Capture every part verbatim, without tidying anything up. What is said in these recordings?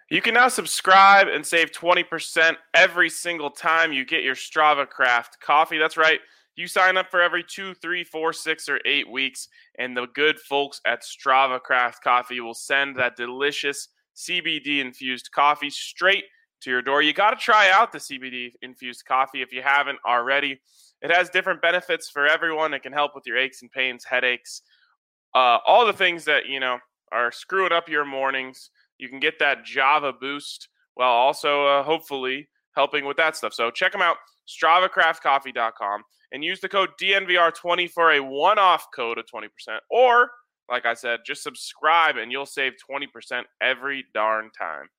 You can now subscribe and save twenty percent every single time you get your Strava Craft coffee. That's right. You sign up for every two, three, four, six, or eight weeks, and the good folks at Strava Craft Coffee will send that delicious C B D-infused coffee straight to your door. You got to try out the C B D-infused coffee if you haven't already. It has different benefits for everyone. It can help with your aches and pains, headaches, uh, all the things that, you know, are screwing up your mornings. You can get that Java boost while also uh, hopefully helping with that stuff. So check them out, strava craft coffee dot com, and use the code D N V R twenty for a one-off code of twenty percent. Or, like I said, just subscribe and you'll save twenty percent every darn time.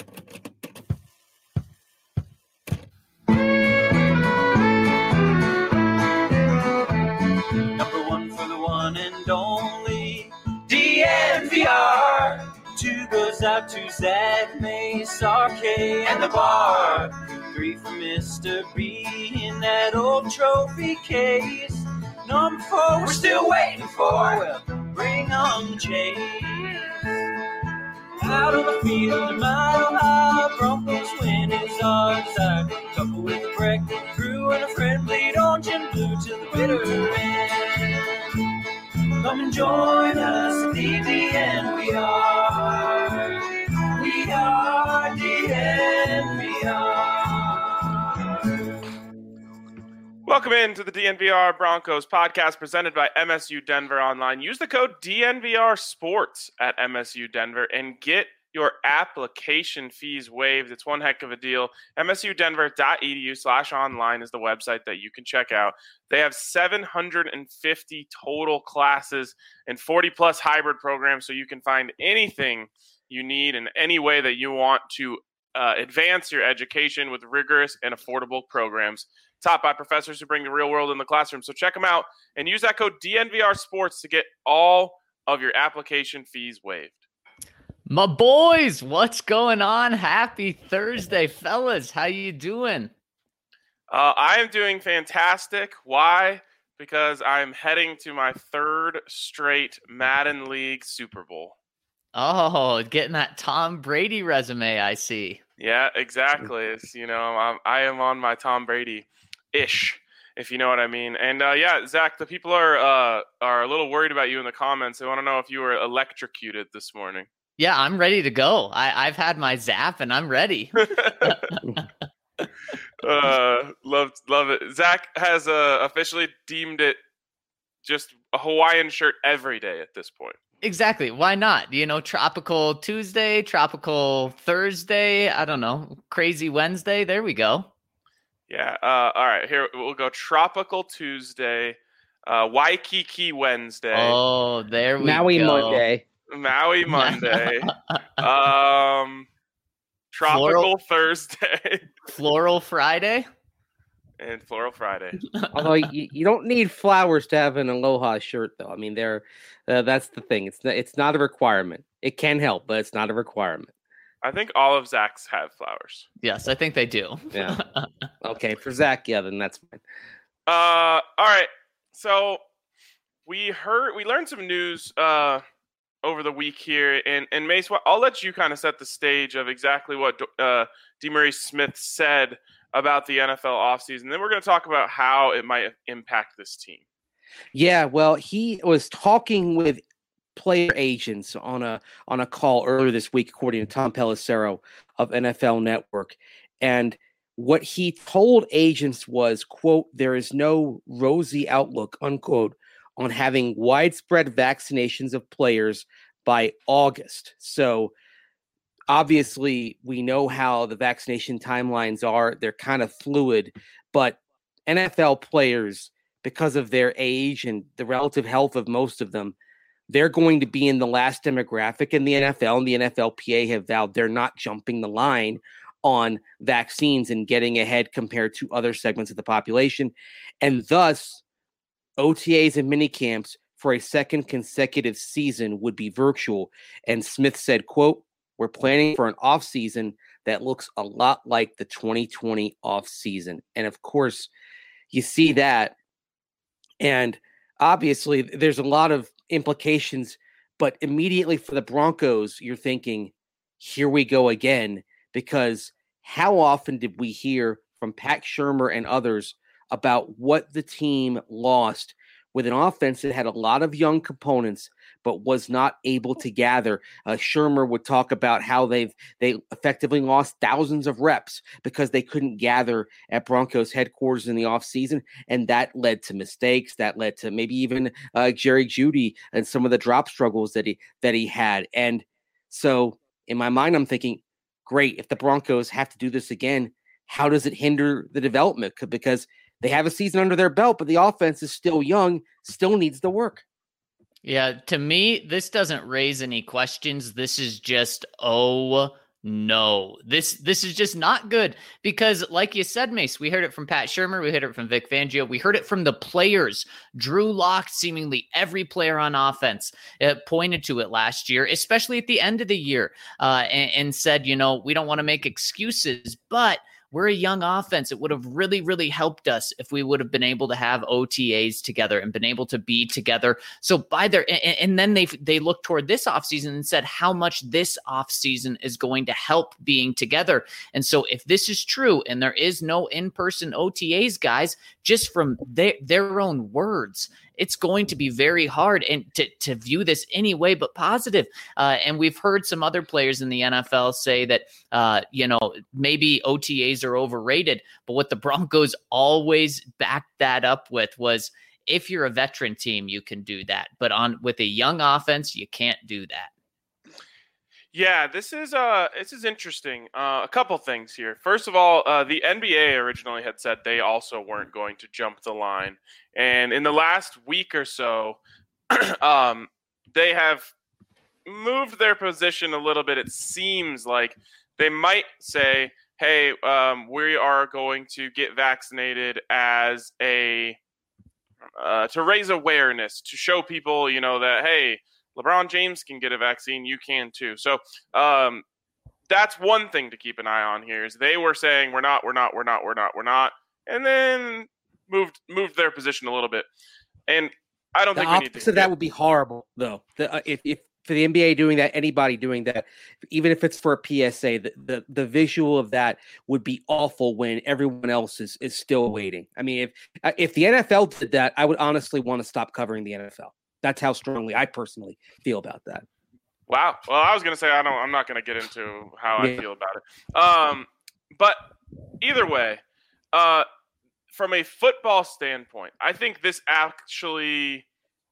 Number one for the one and only D N V R. Two goes out to Zach Mace, R K, and the bar. Three for Mister B in that old trophy case. Number four, we're still waiting for. Well, bring on the chase. Out on the field, a mile high, Broncos win is our desire. Couple with a breakfast crew and a friend bleed orange and blue to the bitter end. Come and join us at the D N V R. We are D N V R. Welcome in to the D N V R Broncos podcast presented by M S U Denver Online. Use the code D N V R Sports at M S U Denver and get your application fees waived. It's one heck of a deal. M S U Denver dot E D U slash online is the website that you can check out. They have seven hundred fifty total classes and forty plus hybrid programs, so you can find anything you need in any way that you want to uh, advance your education with rigorous and affordable programs taught by professors who bring the real world in the classroom. So check them out and use that code D N V R Sports to get all of your application fees waived. My boys, what's going on? Happy Thursday, fellas. How you doing? Uh, I am doing fantastic. Why? Because I'm heading to my third straight Madden League Super Bowl. Oh, getting that Tom Brady resume, I see. Yeah, exactly. It's, you know, I'm, I am on my Tom Brady-ish, if you know what I mean. And, uh, yeah, Zach, the people are uh, are a little worried about you in the comments. They want to know if you were electrocuted this morning. Yeah, I'm ready to go. I, I've had my zap, and I'm ready. uh, love, love it. Zach has uh, officially deemed it just a Hawaiian shirt every day at this point. Exactly. Why not? You know, tropical Tuesday, tropical Thursday. I don't know. Crazy Wednesday. There we go. Yeah. Uh, all right. Here we'll go. Tropical Tuesday, uh, Waikiki Wednesday. Oh, there we Maui go. Monday. Maui Monday. um, Tropical Floral, Thursday. Floral Friday. And Floral Friday. Although you, you don't need flowers to have an Aloha shirt, though. I mean, they're uh, that's the thing. It's not, it's not a requirement. It can help, but it's not a requirement. I think all of Zach's have flowers. Yes, I think they do. Yeah. Okay, for Zach, yeah, then that's fine. Uh, all right. So we heard, we learned some news uh, over the week here, and and Mace, I'll let you kind of set the stage of exactly what uh, DeMaurice Smith said about the N F L offseason. Then we're going to talk about how it might impact this team. Yeah, well, he was talking with player agents on a on a call earlier this week, according to Tom Pelissero of N F L Network. And what he told agents was, quote, there is no rosy outlook, unquote, on having widespread vaccinations of players by August. So obviously, we know how the vaccination timelines are. They're kind of fluid, but N F L players, because of their age and the relative health of most of them, they're going to be in the last demographic in the N F L, and the N F L P A have vowed they're not jumping the line on vaccines and getting ahead compared to other segments of the population. And thus, O T As and minicamps for a second consecutive season would be virtual. And Smith said, quote, we're planning for an offseason that looks a lot like the twenty twenty offseason. And of course, you see that. And obviously, there's a lot of implications. But immediately for the Broncos, you're thinking, here we go again, because how often did we hear from Pat Shurmur and others about what the team lost with an offense that had a lot of young components but was not able to gather? Uh, Shurmur would talk about how they've they effectively lost thousands of reps because they couldn't gather at Broncos headquarters in the offseason, and that led to mistakes. That led to maybe even uh, Jerry Jeudy and some of the drop struggles that he that he had. And so in my mind, I'm thinking, great, if the Broncos have to do this again, how does it hinder the development? Because they have a season under their belt, but the offense is still young, still needs the work. Yeah, to me, this doesn't raise any questions. This is just, oh no, this this is just not good, because like you said, Mace, we heard it from Pat Shurmur, we heard it from Vic Fangio, we heard it from the players. Drew Lock, seemingly every player on offense uh, pointed to it last year, especially at the end of the year, uh, and, and said, you know, we don't want to make excuses, but we're a young offense. It would have really, really helped us if we would have been able to have O T As together and been able to be together. So by their, and, and then they they looked toward this offseason and said how much this offseason is going to help being together. And so if this is true and there is no in-person O T As, guys, just from their, their own words, it's going to be very hard and to, to view this any way but positive. Uh, and we've heard some other players in the N F L say that, uh, you know, maybe O T As are overrated. But what the Broncos always backed that up with was, if you're a veteran team, you can do that. But on with a young offense, you can't do that. Yeah, this is uh, this is interesting. Uh, a couple things here. First of all, uh, the N B A originally had said they also weren't going to jump the line, and in the last week or so, um, they have moved their position a little bit. It seems like they might say, "Hey, um, we are going to get vaccinated as a uh, to raise awareness, to show people, you know, that hey." LeBron James can get a vaccine, you can too. So um, that's one thing to keep an eye on here, is they were saying we're not, we're not, we're not, we're not, we're not, and then moved moved their position a little bit. And I don't the think we need to. So that would be horrible, though. The, uh, if, if for the N B A doing that, anybody doing that, even if it's for a P S A, the, the, the visual of that would be awful when everyone else is, is still waiting. I mean, if if the N F L did that, I would honestly want to stop covering the N F L. That's how strongly I personally feel about that. Wow. Well, I was going to say, I don't, I'm not going to get into how yeah. I feel about it. Um, but either way, uh, from a football standpoint, I think this actually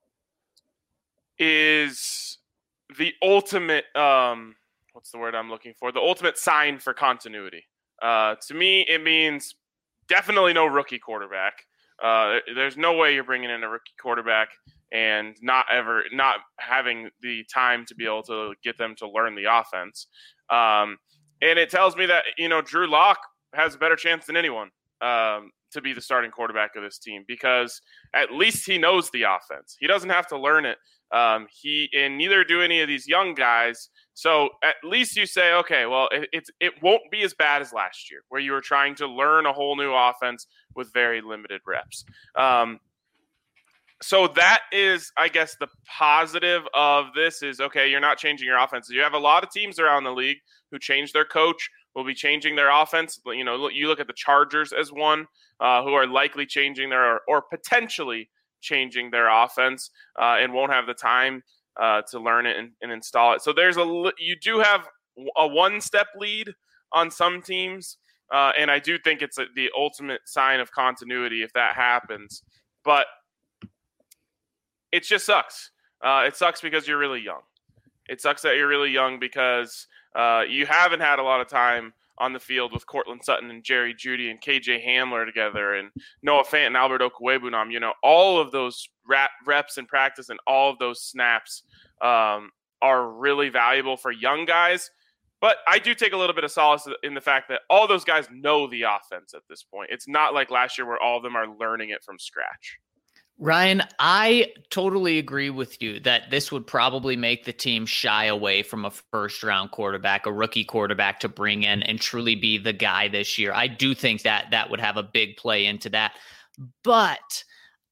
is the ultimate, um, what's the word I'm looking for? The ultimate sign for continuity. Uh, to me, it means definitely no rookie quarterback. Uh, there's no way you're bringing in a rookie quarterback and not ever not having the time to be able to get them to learn the offense. Um, and it tells me that, you know, Drew Lock has a better chance than anyone um, to be the starting quarterback of this team, because at least he knows the offense. He doesn't have to learn it. Um, he and neither do any of these young guys. So at least you say, okay, well, it, it's it won't be as bad as last year, where you were trying to learn a whole new offense with very limited reps. Um, So that is, I guess, the positive of this is, okay, you're not changing your offense. You have a lot of teams around the league who change their coach, will be changing their offense. You know, you look at the Chargers as one uh, who are likely changing their, or potentially changing their offense uh, and won't have the time uh, to learn it and, and install it. So there's a, you do have a one-step lead on some teams, uh, and I do think it's a, the ultimate sign of continuity if that happens. But it just sucks. Uh, it sucks because you're really young. It sucks that you're really young because uh, you haven't had a lot of time on the field with Cortland Sutton and Jerry Jeudy and K J Hamler together and Noah Fant and Albert Okwuegbunam. You know, all of those rap, reps in practice and all of those snaps um, are really valuable for young guys. But I do take a little bit of solace in the fact that all those guys know the offense at this point. It's not like last year where all of them are learning it from scratch. Ryan, I totally agree with you that this would probably make the team shy away from a first-round quarterback, a rookie quarterback to bring in and truly be the guy this year. I do think that that would have a big play into that. But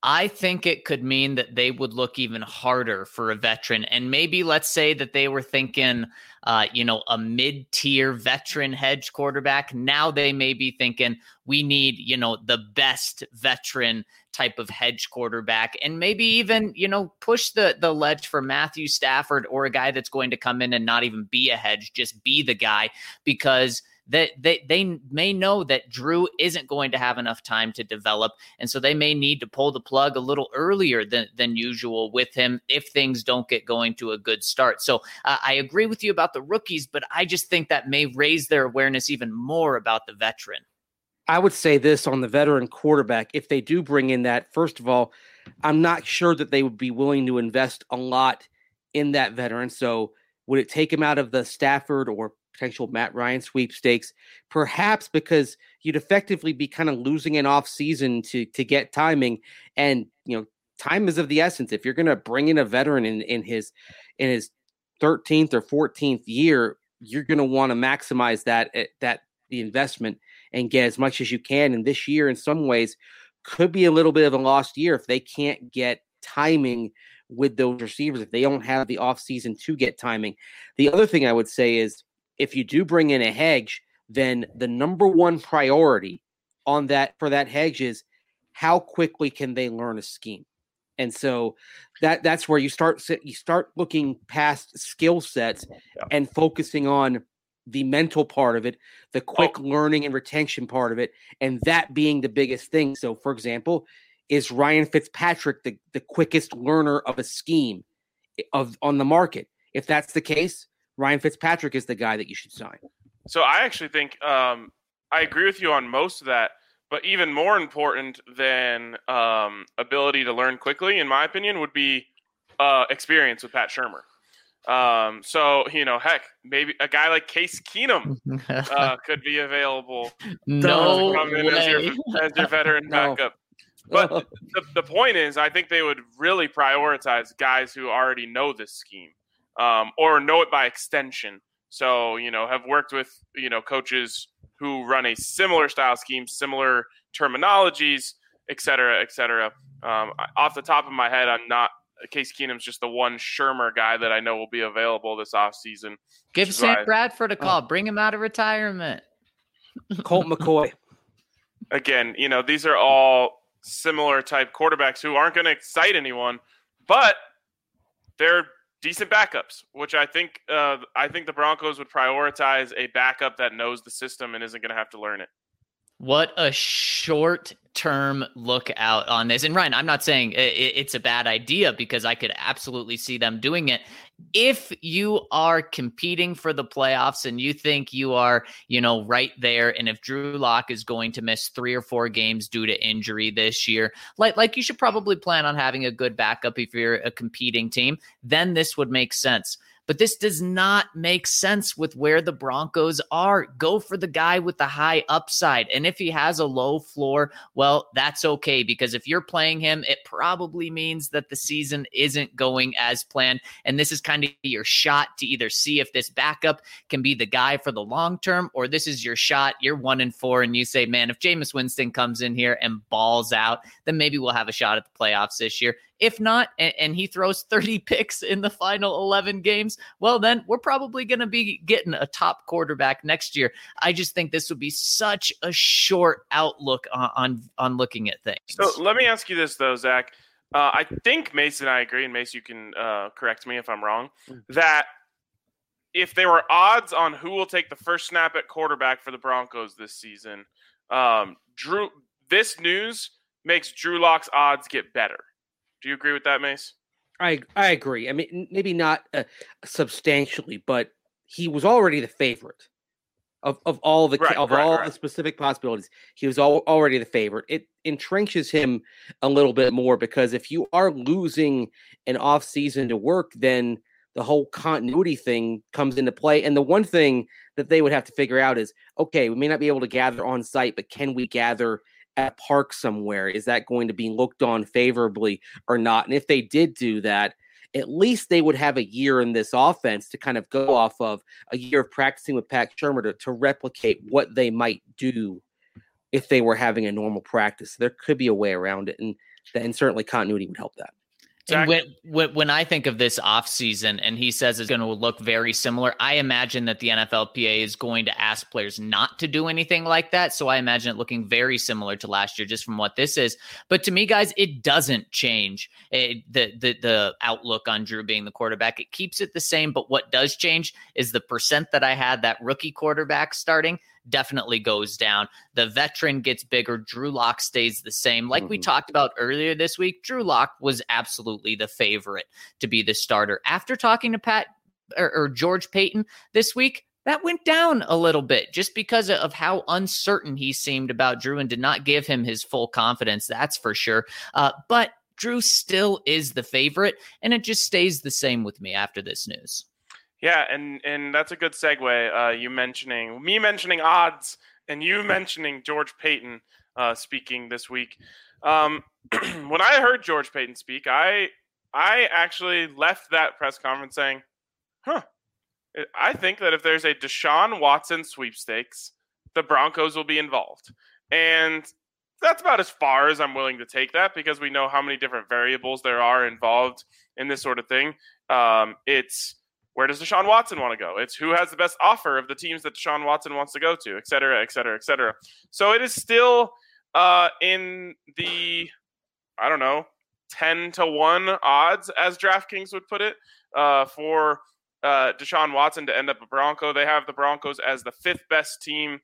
I think it could mean that they would look even harder for a veteran. And maybe let's say that they were thinking, uh, you know, a mid-tier veteran hedge quarterback. Now they may be thinking we need, you know, the best veteran type of hedge quarterback, and maybe even, you know, push the, the ledge for Matthew Stafford or a guy that's going to come in and not even be a hedge, just be the guy, because that they, they may know that Drew isn't going to have enough time to develop. And so they may need to pull the plug a little earlier than, than usual with him if things don't get going to a good start. So uh, I agree with you about the rookies, but I just think that may raise their awareness even more about the veteran. I would say this on the veteran quarterback. If they do bring in that, first of all, I'm not sure that they would be willing to invest a lot in that veteran. So would it take him out of the Stafford or potential Matt Ryan sweepstakes? Perhaps, because you'd effectively be kind of losing an off season to, to get timing. And, you know, time is of the essence. If you're going to bring in a veteran in, in his, in his thirteenth or fourteenth year, you're going to want to maximize that, that the investment and get as much as you can. And this year, in some ways, could be a little bit of a lost year if they can't get timing with those receivers, if they don't have the offseason to get timing. The other thing I would say is, if you do bring in a hedge, then the number one priority on that for that hedge is how quickly can they learn a scheme. And so that that's where you start you start looking past skill sets yeah. and focusing on the mental part of it, the quick oh. learning and retention part of it, and that being the biggest thing. So, for example, is Ryan Fitzpatrick the, the quickest learner of a scheme of on the market? If that's the case, Ryan Fitzpatrick is the guy that you should sign. So I actually think um, I agree with you on most of that, but even more important than um, ability to learn quickly, in my opinion, would be uh, experience with Pat Shurmur. Um, so, you know, heck, maybe a guy like Case Keenum uh, could be available. No come way. in as, your, as your veteran no. backup. But the, the point is, I think they would really prioritize guys who already know this scheme. Um, or know it by extension. So, you know, have worked with, you know, coaches who run a similar style scheme, similar terminologies, et cetera, et cetera. Um, off the top of my head, I'm not – Case Keenum's just the one Shurmur guy that I know will be available this offseason. Give Sam Bradford a call. Oh. Bring him out of retirement. Colt McCoy. Again, you know, these are all similar type quarterbacks who aren't going to excite anyone, but they're – decent backups, which I think uh, I think the Broncos would prioritize a backup that knows the system and isn't going to have to learn it. What a short-term look out on this. And Ryan, I'm not saying it's a bad idea, because I could absolutely see them doing it. If you are competing for the playoffs and you think you are, you know, right there, and if Drew Lock is going to miss three or four games due to injury this year, like, like you should probably plan on having a good backup if you're a competing team, then this would make sense. But this does not make sense with where the Broncos are. Go for the guy with the high upside. And if he has a low floor, well, that's okay, because if you're playing him, it probably means that the season isn't going as planned. And this is kind of your shot to either see if this backup can be the guy for the long term, or this is your shot. You're one and four and you say, man, if Jameis Winston comes in here and balls out, then maybe we'll have a shot at the playoffs this year. If not, and, and he throws thirty picks in the final eleven games, well, then we're probably going to be getting a top quarterback next year. I just think this would be such a short outlook on, on, on looking at things. So let me ask you this, though, Zach. Uh, I think Mace and I agree, and Mace, you can uh, correct me if I'm wrong, that if there were odds on who will take the first snap at quarterback for the Broncos this season, um, Drew, this news makes Drew Lock's odds get better. Do you agree with that, Mace? I I agree. I mean, maybe not uh, substantially, but he was already the favorite of, of all the right, of right, all right. the specific possibilities. He was all, already the favorite. It entrenches him a little bit more, because if you are losing an off season to work, then the whole continuity thing comes into play. And the one thing that they would have to figure out is, okay, we may not be able to gather on site, but can we gather at a park somewhere? Is that going to be looked on favorably or not? And if they did do that, at least they would have a year in this offense to kind of go off of, a year of practicing with Pat Shurmur to, to replicate what they might do if they were having a normal practice. There could be a way around it. And that, and certainly continuity would help that. And when, when when I think of this offseason and he says it's going to look very similar, I imagine that the N F L P A is going to ask players not to do anything like that. So I imagine it looking very similar to last year just from what this is. But to me, guys, it doesn't change it, the, the, the outlook on Drew being the quarterback. It keeps it the same. But what does change is the percent that I had that rookie quarterback starting definitely goes down. The veteran gets bigger. Drew Lock stays the same. Like mm-hmm. we talked about earlier this week, Drew Lock was absolutely the favorite to be the starter. After talking to Pat or, or George Paton this week, that went down a little bit just because of how uncertain he seemed about Drew and did not give him his full confidence. That's for sure. Uh, but Drew still is the favorite, and it just stays the same with me after this news. Yeah, and, and that's a good segue. Uh, you mentioning me mentioning odds and you mentioning George Paton uh, speaking this week. Um, when I heard George Paton speak, I I actually left that press conference saying, "Huh, I think that if there's a Deshaun Watson sweepstakes, the Broncos will be involved." And that's about as far as I'm willing to take that because we know how many different variables there are involved in this sort of thing. Um, it's where does Deshaun Watson want to go? It's who has the best offer of the teams that Deshaun Watson wants to go to, et cetera, et cetera, et cetera. So it is still uh, in the, I don't know, ten to one odds, as DraftKings would put it, uh, for uh, Deshaun Watson to end up a Bronco. They have the Broncos as the fifth best team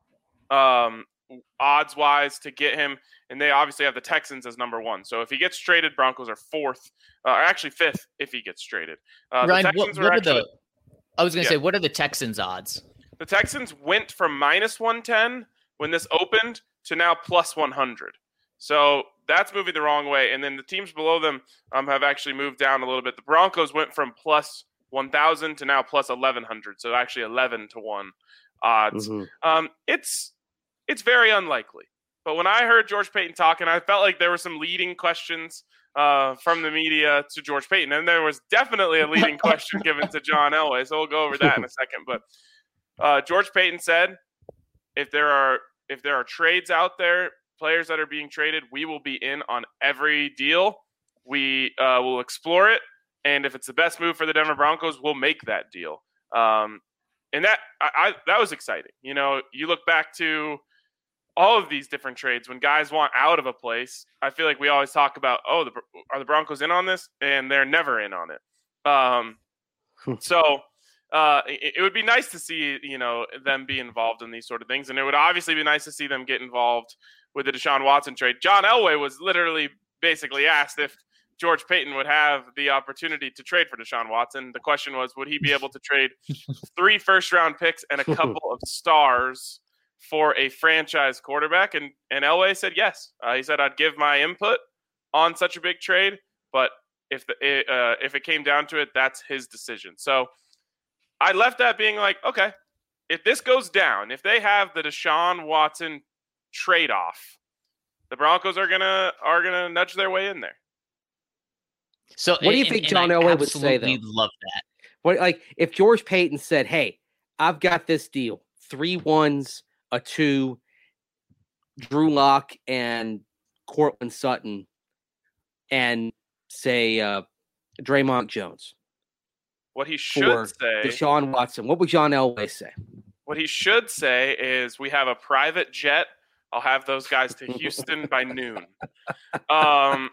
um, odds-wise to get him, and they obviously have the Texans as number one. So if he gets traded, Broncos are fourth, uh, or actually fifth if he gets traded. Uh, Ryan, the Texans what, what are, actually, the? I was going to yeah. say, what are the Texans' odds? The Texans went from minus one ten when this opened to now plus one hundred. So that's moving the wrong way. And then the teams below them um, have actually moved down a little bit. The Broncos went from plus one thousand to now plus eleven hundred. So actually eleven to one odds. Mm-hmm. Um, it's it's very unlikely. But when I heard George Paton talking, I felt like there were some leading questions uh, from the media to George Paton. And there was definitely a leading question given to John Elway. So we'll go over that in a second. But uh, George Paton said, if there are if there are trades out there, players that are being traded, we will be in on every deal. We uh, will explore it. And if it's the best move for the Denver Broncos, we'll make that deal. Um, and that I, I, that was exciting. You know, you look back to all of these different trades when guys want out of a place. I feel like we always talk about, oh, the, are the Broncos in on this? And they're never in on it. Um, so uh, it, it would be nice to see, you know, them be involved in these sort of things. And it would obviously be nice to see them get involved with the Deshaun Watson trade. John Elway was literally basically asked if George Paton would have the opportunity to trade for Deshaun Watson. The question was, would he be able to trade three first-round picks and a couple of stars for a franchise quarterback? And, and Elway said yes. Uh, he said, I'd give my input on such a big trade, but if the uh, if it came down to it, that's his decision. So I left that being like, okay, if this goes down, if they have the Deshaun Watson trade-off, the Broncos are gonna are gonna nudge their way in there. So, what do you and, think and John I Elway would say, though? Love that. What, like, if George Paton said, "Hey, I've got this deal: three ones, a two, Drew Lock and Courtland Sutton, and say uh, Draymond Jones." What he should for say, Deshaun Watson. What would John Elway say? What he should say is, "We have a private jet. I'll have those guys to Houston by noon." Um.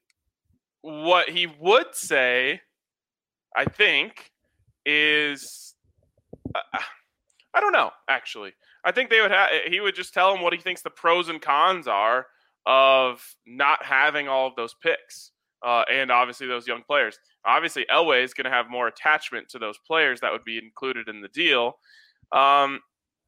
What he would say, I think, is uh, I don't know. Actually, I think they would have. He would just tell him what he thinks the pros and cons are of not having all of those picks, uh, and obviously those young players. Obviously, Elway is going to have more attachment to those players that would be included in the deal. Um,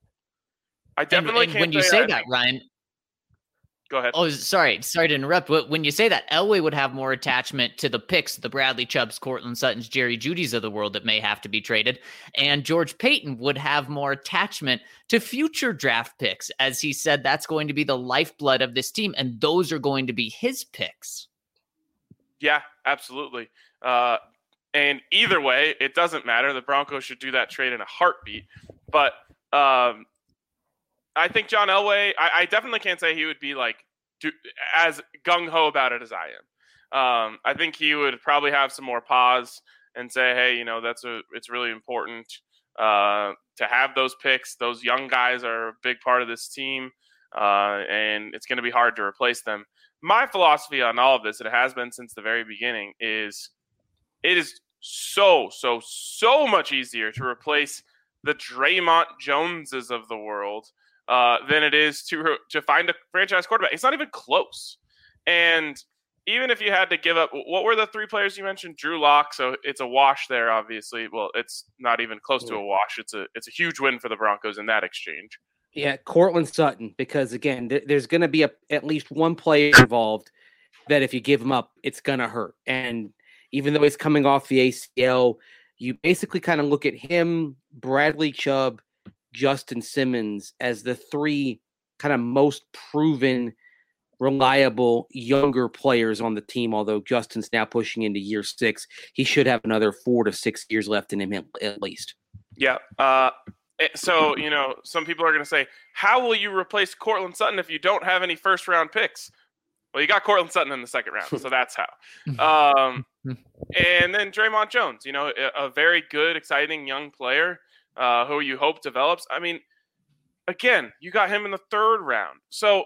I definitely and, and can't when you say, say that, that, Ryan. Go ahead. Oh, sorry. Sorry to interrupt. But when you say that, Elway would have more attachment to the picks, the Bradley Chubbs, Courtland Suttons, Jerry Jeudy's of the world that may have to be traded. And George Paton would have more attachment to future draft picks. As he said, that's going to be the lifeblood of this team. And those are going to be his picks. Yeah, absolutely. Uh, and either way, it doesn't matter. The Broncos should do that trade in a heartbeat. But um, I think John Elway, I, I definitely can't say he would be like do, as gung-ho about it as I am. Um, I think he would probably have some more pause and say, hey, you know, that's a, it's really important uh, to have those picks. Those young guys are a big part of this team, uh, and it's going to be hard to replace them. My philosophy on all of this, and it has been since the very beginning, is it is so, so, so much easier to replace the Draymond Joneses of the world uh, than it is to to find a franchise quarterback. It's not even close. And even if you had to give up, what were the three players you mentioned? Drew Lock, so it's a wash there, obviously. Well, it's not even close to a wash. It's a it's a huge win for the Broncos in that exchange. Yeah, Cortland Sutton, because again, th- there's going to be a, at least one player involved that if you give him up, it's going to hurt. And even though he's coming off the A C L, you basically kind of look at him, Bradley Chubb, Justin Simmons as the three kind of most proven, reliable, younger players on the team. Although Justin's now pushing into year six, he should have another four to six years left in him at, at least. Yeah. Uh, so, you know, some people are going to say, how will you replace Cortland Sutton if you don't have any first round picks? Well, you got Cortland Sutton in the second round, so that's how. Um, and then Draymond Jones, you know, a, a very good, exciting young player uh, who you hope develops. I mean, again, you got him in the third round. So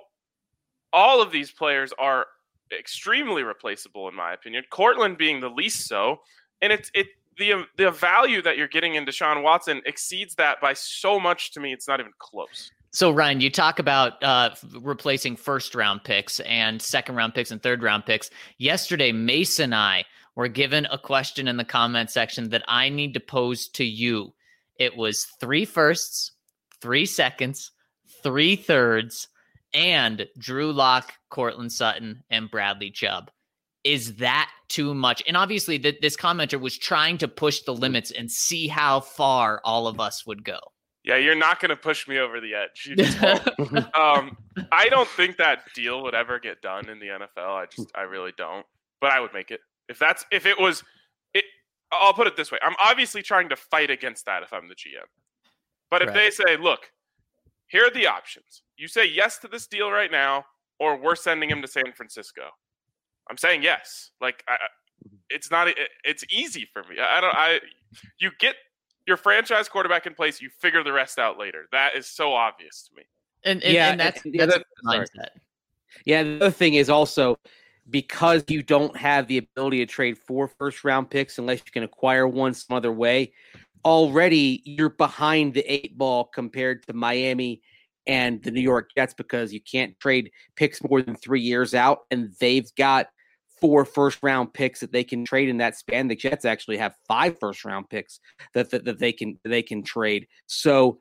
all of these players are extremely replaceable, in my opinion. Cortland being the least so. And it's it the the value that you're getting in Deshaun Watson exceeds that by so much. To me, it's not even close. So, Ryan, you talk about uh, replacing first-round picks and second-round picks and third-round picks. Yesterday, Mace and I were given a question in the comment section that I need to pose to you. It was three firsts, three seconds, three thirds, and Drew Lock, Cortland Sutton, and Bradley Chubb. Is that too much? And obviously, th- this commenter was trying to push the limits and see how far all of us would go. Yeah, you're not going to push me over the edge. You just won't. um, I don't think that deal would ever get done in the N F L. I just, I really don't. But I would make it if that's if it was. It, I'll put it this way: I'm obviously trying to fight against that if I'm the G M. But if right. they say, "Look, here are the options. You say yes to this deal right now, or we're sending him to San Francisco," I'm saying yes. Like, I, it's not. It, it's easy for me. I don't. I. You get your franchise quarterback in place, you figure the rest out later. That is so obvious to me. And, and, yeah, and that's, and that's other, a mindset. Yeah, the other thing is also because you don't have the ability to trade four first-round picks unless you can acquire one some other way, already you're behind the eight ball compared to Miami and the New York Jets because you can't trade picks more than three years out, and they've got four first-round picks that they can trade in that span. The Jets actually have five first-round picks that, that that they can they can trade. So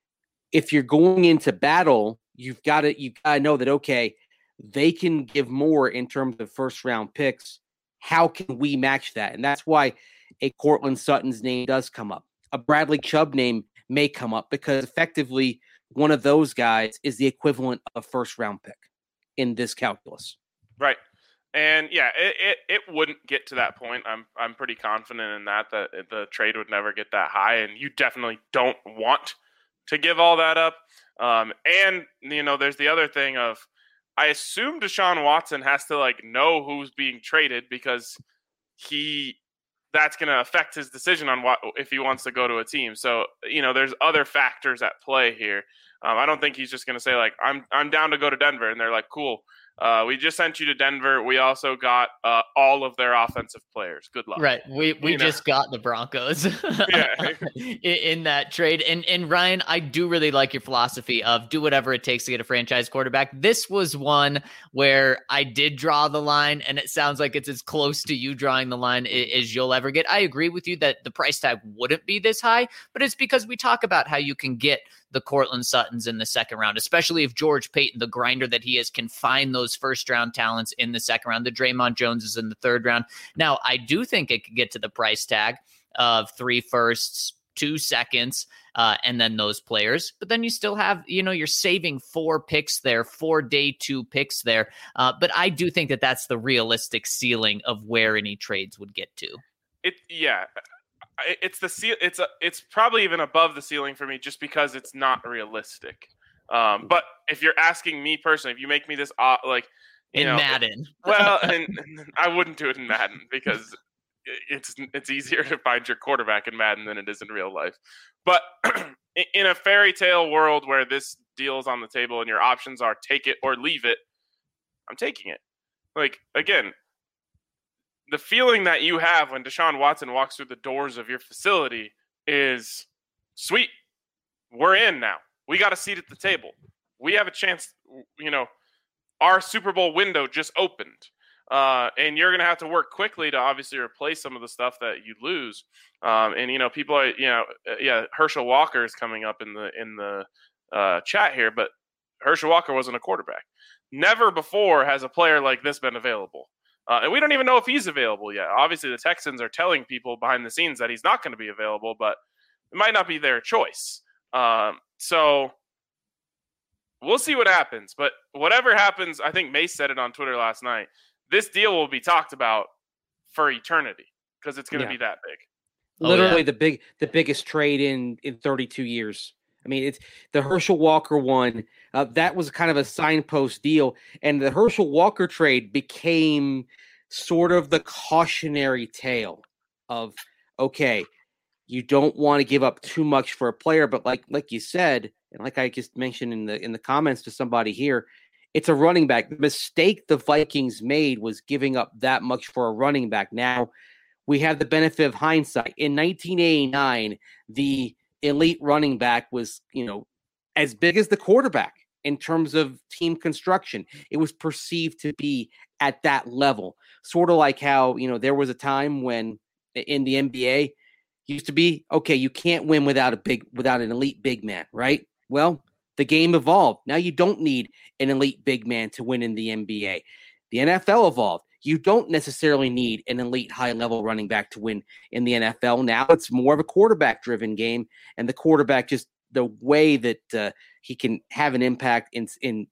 if you're going into battle, you've got to you got to know that okay, they can give more in terms of first-round picks. How can we match that? And that's why a Cortland Sutton's name does come up. A Bradley Chubb name may come up because effectively one of those guys is the equivalent of a first-round pick in this calculus. Right. And yeah, it, it, it wouldn't get to that point. I'm I'm pretty confident in that, that the trade would never get that high. And you definitely don't want to give all that up. Um, and, you know, there's the other thing of, I assume Deshaun Watson has to like know who's being traded because he, that's going to affect his decision on what, if he wants to go to a team. So, you know, there's other factors at play here. Um, I don't think he's just going to say like, I'm, I'm down to go to Denver. And they're like, cool. Uh, we just sent you to Denver. We also got uh, all of their offensive players. Good luck. Right. We we you just know? got the Broncos yeah. in, in that trade. And and Ryan, I do really like your philosophy of do whatever it takes to get a franchise quarterback. This was one where I did draw the line, and it sounds like it's as close to you drawing the line as you'll ever get. I agree with you that the price tag wouldn't be this high, but it's because we talk about how you can get the Cortland Suttons in the second round, especially if George Payton, the grinder that he is, can find those first round talents in the second round. The Draymond Jones is in the third round. Now, I do think it could get to the price tag of three firsts, two seconds, uh, and then those players. But then you still have, you know, you're saving four picks there, four day two picks there. Uh, but I do think that that's the realistic ceiling of where any trades would get to. It, yeah. It's the ce- It's a, It's probably even above the ceiling for me, just because it's not realistic. Um, but if you're asking me personally, if you make me this, uh, like, you in know, Madden. well, and, and I wouldn't do it in Madden because it's it's easier to find your quarterback in Madden than it is in real life. But in a fairy tale world where this deal is on the table and your options are take it or leave it, I'm taking it. Like, again, the feeling that you have when Deshaun Watson walks through the doors of your facility is, sweet, we're in now. We got a seat at the table. We have a chance, you know, our Super Bowl window just opened. Uh, and you're going to have to work quickly to obviously replace some of the stuff that you lose. Um, and, you know, people are, you know, yeah, Herschel Walker is coming up in the, in the uh, chat here, but Herschel Walker wasn't a quarterback. Never before has a player like this been available. Uh, and we don't even know if he's available yet. Obviously, the Texans are telling people behind the scenes that he's not going to be available, but it might not be their choice. Um, so we'll see what happens. But whatever happens, I think Mace said it on Twitter last night, this deal will be talked about for eternity because it's going to Yeah. be that big. Literally Oh, yeah. the big, the biggest trade in in thirty-two years. I mean, it's the Herschel Walker one. Uh, that was kind of a signpost deal, and the Herschel Walker trade became sort of the cautionary tale of, okay, you don't want to give up too much for a player, but like like you said, and like I just mentioned in the in the comments to somebody here, it's a running back. The mistake the Vikings made was giving up that much for a running back. Now we have the benefit of hindsight. In nineteen eighty-nine, the elite running back was, you know, as big as the quarterback in terms of team construction. It was perceived to be at that level. Sort of like how, you know, there was a time when in the N B A used to be, okay, you can't win without a big, without an elite big man, right? Well, the game evolved. Now you don't need an elite big man to win in the N B A. The N F L evolved. You don't necessarily need an elite high-level running back to win in the N F L. Now it's more of a quarterback-driven game, and the quarterback just the way that uh, he can have an impact in in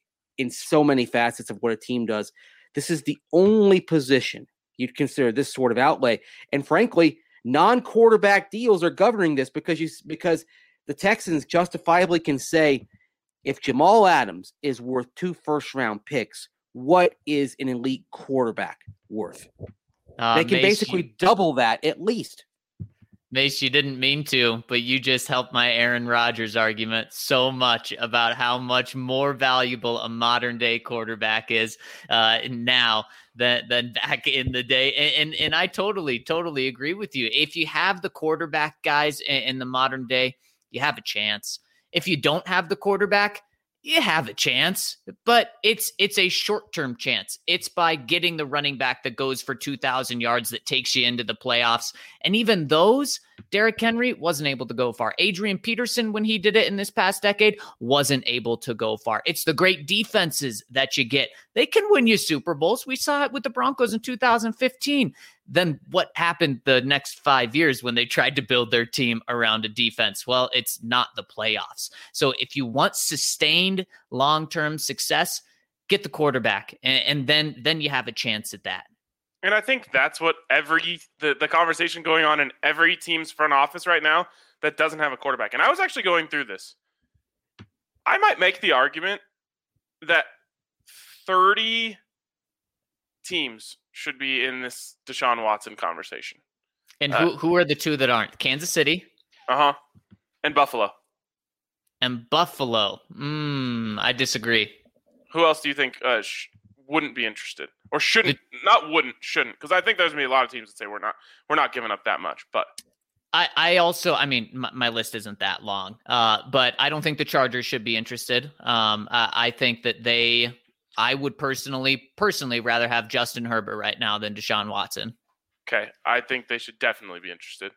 in so many facets of what a team does. This is the only position you'd consider this sort of outlay, and frankly, non-quarterback deals are governing this because you because the Texans justifiably can say, if Jamal Adams is worth two first-round picks, what is an elite quarterback worth? Uh, they can Mace, basically you, double that at least. Mace, you didn't mean to, but you just helped my Aaron Rodgers argument so much about how much more valuable a modern day quarterback is uh, now than, than back in the day. And, and and I totally, totally agree with you. If you have the quarterback guys in, in the modern day, you have a chance. If you don't have the quarterback, you have a chance, but it's it's a short-term chance. It's by getting the running back that goes for two thousand yards that takes you into the playoffs. And even those, Derrick Henry wasn't able to go far. Adrian Peterson, when he did it in this past decade, wasn't able to go far. It's the great defenses that you get. They can win you Super Bowls. We saw it with the Broncos in two thousand fifteen. Then what happened the next five years when they tried to build their team around a defense? Well, it's not the playoffs. So if you want sustained long-term success, get the quarterback, and, and then then you have a chance at that. And I think that's what every the, the conversation going on in every team's front office right now that doesn't have a quarterback. And I was actually going through this. I might make the argument that thirty teams should be in this Deshaun Watson conversation. And who, uh, who are the two that aren't? Kansas City. Uh-huh. And Buffalo. And Buffalo. Mm, I disagree. Who else do you think uh, sh- wouldn't be interested? Or shouldn't, the, not wouldn't, shouldn't. Because I think there's going to be a lot of teams that say we're not we're not giving up that much. But I, I also, I mean, my, my list isn't that long. Uh, but I don't think the Chargers should be interested. Um, I, I think that they... I would personally, personally rather have Justin Herbert right now than Deshaun Watson. Okay, I think they should definitely be interested.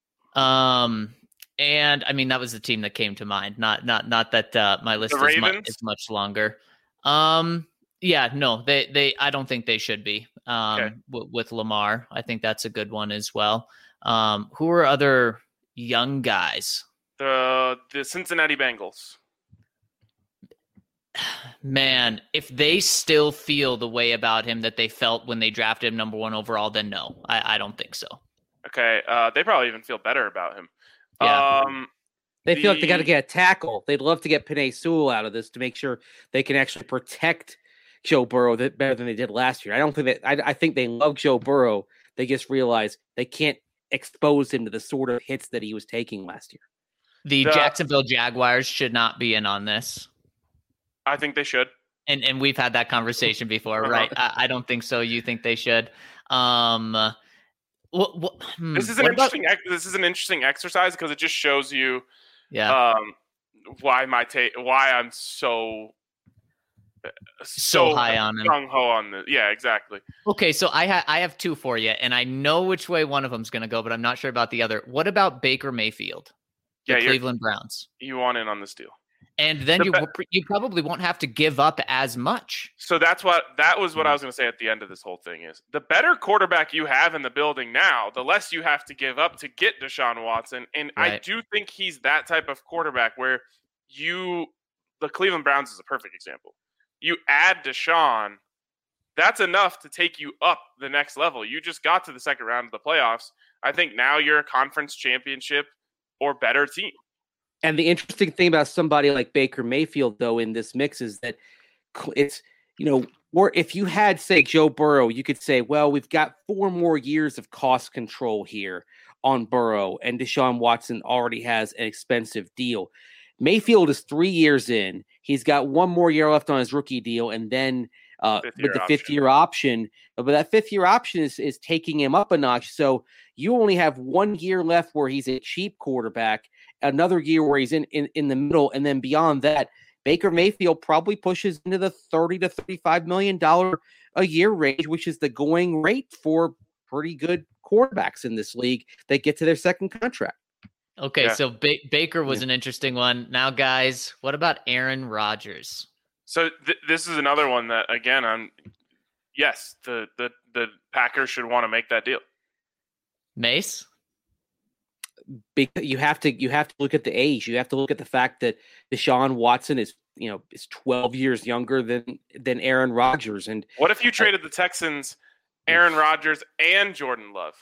Um, and I mean that was the team that came to mind. Not, not, not that uh, my list is much, is much longer. Um, yeah, no, they, they. I don't think they should be. Um, okay. w- with Lamar, I think that's a good one as well. Um, who are other young guys? The the Cincinnati Bengals. Man, if they still feel the way about him that they felt when they drafted him number one overall, then no, I, I don't think so. Okay, uh, they probably even feel better about him. Yeah. Um, They the, feel like they got to get a tackle. They'd love to get Penei Sewell out of this to make sure they can actually protect Joe Burrow that better than they did last year. I don't think that. I, I think they love Joe Burrow. They just realize they can't expose him to the sort of hits that he was taking last year. The, the Jacksonville Jaguars should not be in on this. I think they should. And and we've had that conversation before, uh-huh. right? I, I don't think so. You think they should? Um, what, what, hmm, this is an what about- interesting. This is an interesting exercise because it just shows you, yeah, um, why my take, why I'm so so, so high on him. gung ho on this. Yeah, exactly. Okay, so I ha- I have two for you, and I know which way one of them's going to go, but I'm not sure about the other. What about Baker Mayfield, the Yeah, you're- Cleveland Browns? You want in on this deal. And then The you be- you probably won't have to give up as much. So that's what that was what I Mhm. was going to say at the end of this whole thing is the better quarterback you have in the building now, the less you have to give up to get Deshaun Watson. And I Right. do think he's that type of quarterback where you, the Cleveland Browns is a perfect example. You add Deshaun, that's enough to take you up the next level. You just got to the second round of the playoffs. I think now you're a conference championship or better team. And the interesting thing about somebody like Baker Mayfield, though, in this mix is that it's, you know, or if you had, say, Joe Burrow, you could say, well, we've got four more years of cost control here on Burrow, and Deshaun Watson already has an expensive deal. Mayfield is three years in. He's got one more year left on his rookie deal, and then uh, with the fifth-year option. But that fifth-year option is, is taking him up a notch. So you only have one year left where he's a cheap quarterback, another year where he's in, in, in the middle, and then beyond that, Baker Mayfield probably pushes into the thirty to thirty-five million dollars a year range, which is the going rate for pretty good quarterbacks in this league that get to their second contract. Okay, Yeah. so ba- Baker was Yeah. an interesting one. Now, guys, what about Aaron Rodgers? So th- this is another one that, again, I'm yes, the the the Packers should want to make that deal. Mace? Because you have to you have to look at the age. You have to look at the fact that Deshaun Watson is, you know, is twelve years younger than than Aaron Rodgers. And What if you traded the Texans, Aaron Rodgers, and Jordan Love?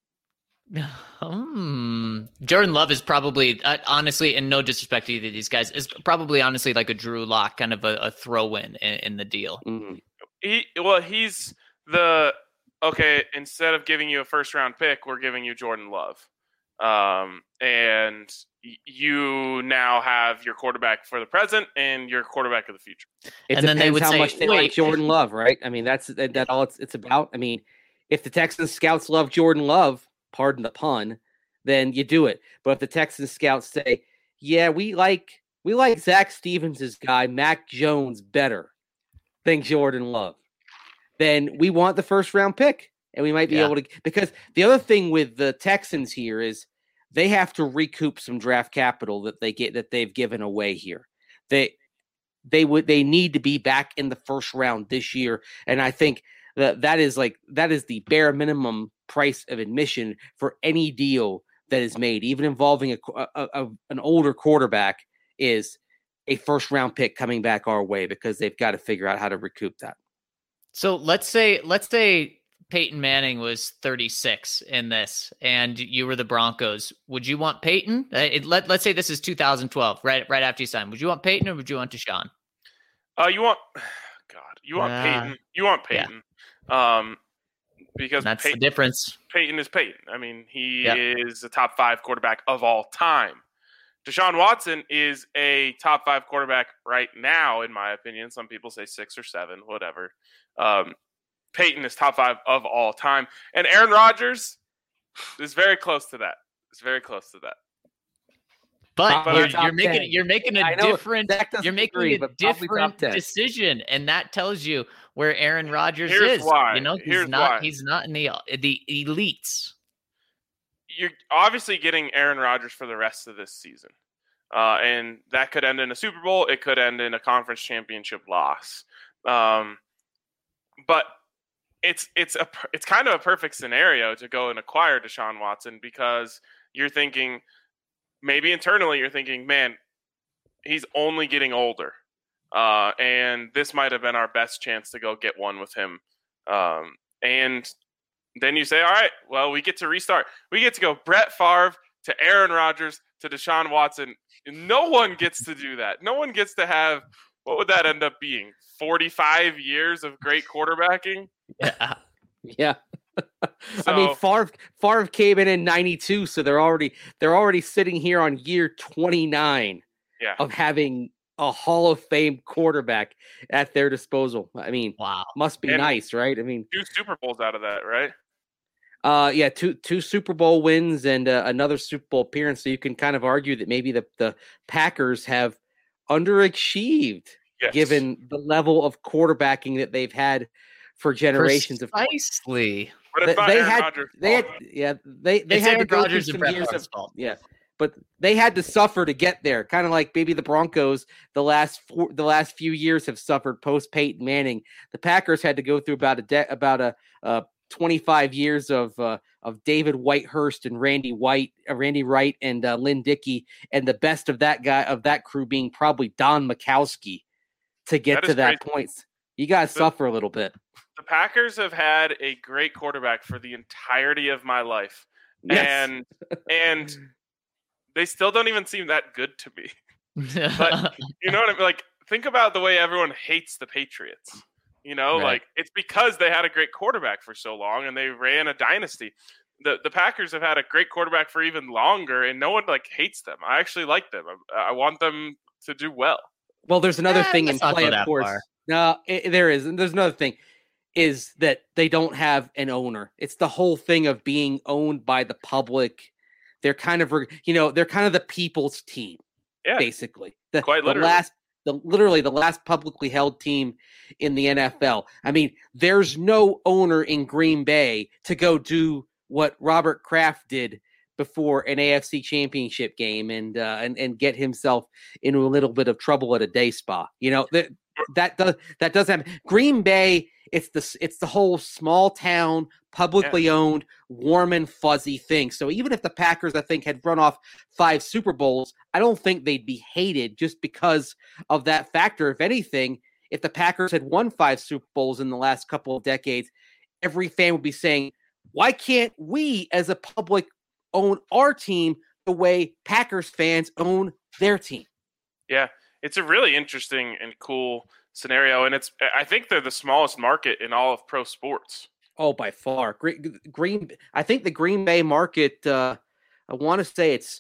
Hmm. Jordan Love is probably, uh, honestly, and no disrespect to either of these guys, is probably honestly like a Drew Lock kind of a, a throw-in in, in the deal. mm, He well, he's the okay. Instead of giving you a first round pick, we're giving you Jordan Love, um, and y- you now have your quarterback for the present and your quarterback of the future. it And depends then they would how say, much they wait. like Jordan Love, right? I mean, that's that, that all it's it's about. I mean, if the Texans scouts love Jordan Love, pardon the pun, then you do it. But if the Texans scouts say, yeah, we like we like Zach Stevens' guy, Mac Jones, better than Jordan Love, then we want the first round pick. And we might be Yeah. able to, because the other thing with the Texans here is they have to recoup some draft capital that they get that they've given away here. They they would they need to be back in the first round this year. And I think that that is like that is the bare minimum price of admission for any deal that is made, even involving a, a, a an older quarterback, is a first round pick coming back our way, because they've got to figure out how to recoup that. So let's say let's say Peyton Manning was thirty-six in this, and you were the Broncos. Would you want Peyton? Uh, it, let Let's say this is two thousand twelve, right? Right after you signed. Would you want Peyton or would you want Deshaun? Uh, you want God, you want Ah. Peyton. You want Yeah. Peyton. Um, because That's Peyton, the difference. Peyton is Peyton. I mean, he Yep. is a top five quarterback of all time. Deshaun Watson is a top five quarterback right now, in my opinion. Some people say six or seven, whatever. Um, Peyton is top five of all time. And Aaron Rodgers is very close to that. It's very close to that. But Probably you're, top you're making ten. you're making a I know different Zach doesn't you're making agree, a but probably top different ten. decision, and that tells you where Aaron Rodgers Here's is. why. You know, he's Here's not why. he's not in the the elites. You're obviously getting Aaron Rodgers for the rest of this season. Uh, and that could end in a Super Bowl. It could end in a conference championship loss. Um, but it's it's a it's kind of a perfect scenario to go and acquire Deshaun Watson, because you're thinking, maybe internally you're thinking, man, he's only getting older, uh, and this might have been our best chance to go get one with him. Um, and then you say, all right, well, we get to restart. We get to go Brett Favre to Aaron Rodgers to Deshaun Watson. No one gets to do that. No one gets to have, what would that end up being? forty-five years of great quarterbacking? Yeah. Yeah. So, I mean, Favre, Favre came in in ninety-two, so they're already they're already sitting here on year twenty-nine yeah. of having a Hall of Fame quarterback at their disposal. I mean, Wow. must be And nice, right? I mean, two Super Bowls out of that, right? uh, yeah, two two Super Bowl wins and uh, another Super Bowl appearance. So you can kind of argue that maybe the, the Packers have underachieved Yes. given the level of quarterbacking that they've had for generations of Precisely. But it's They- not they Aaron had- Rodgers' they had, fault. yeah, they they It's had Aaron to go Rodgers through and some Brett years Favre's of fault. yeah, but they had to suffer to get there. Kind of like maybe the Broncos the last four, the last few years have suffered post Peyton Manning. The Packers had to go through about a de- about a uh, twenty-five years of uh, of David Whitehurst and Randy White, uh, Randy Wright and uh, Lynn Dickey, and the best of that guy of that crew being probably Don Mikowski to get That to is that point. You got to The- suffer a little bit. The Packers have had a great quarterback for the entirety of my life. Yes. And and they still don't even seem that good to me. But you know what I mean? Like, think about the way everyone hates the Patriots. You know, Right. like it's because they had a great quarterback for so long and they ran a dynasty. The the Packers have had a great quarterback for even longer, and no one like hates them. I actually like them. I, I want them to do well. Well, there's another Eh, thing in let's not play, go of that course. far. No, it, there is. And there's another thing is that they don't have an owner. It's the whole thing of being owned by the public. They're kind of, re- you know, they're kind of the people's team, Yeah, basically. The, quite the literally. last, the literally the last publicly held team in the N F L. I mean, there's no owner in Green Bay to go do what Robert Kraft did before an A F C championship game and uh, and and get himself into a little bit of trouble at a day spa. You know, that that does that does happen. Green Bay, it's the it's the whole small town, publicly owned, warm and fuzzy thing. So even if the Packers, I think, had run off five Super Bowls, I don't think they'd be hated just because of that factor. If anything, if the Packers had won five Super Bowls in the last couple of decades, every fan would be saying, why can't we as a public own our team the way Packers fans own their team? Yeah, it's a really interesting and cool scenario, and it's I think they're the smallest market in all of pro sports. Oh, by far. Green, Green I think the Green Bay market, uh, I want to say it's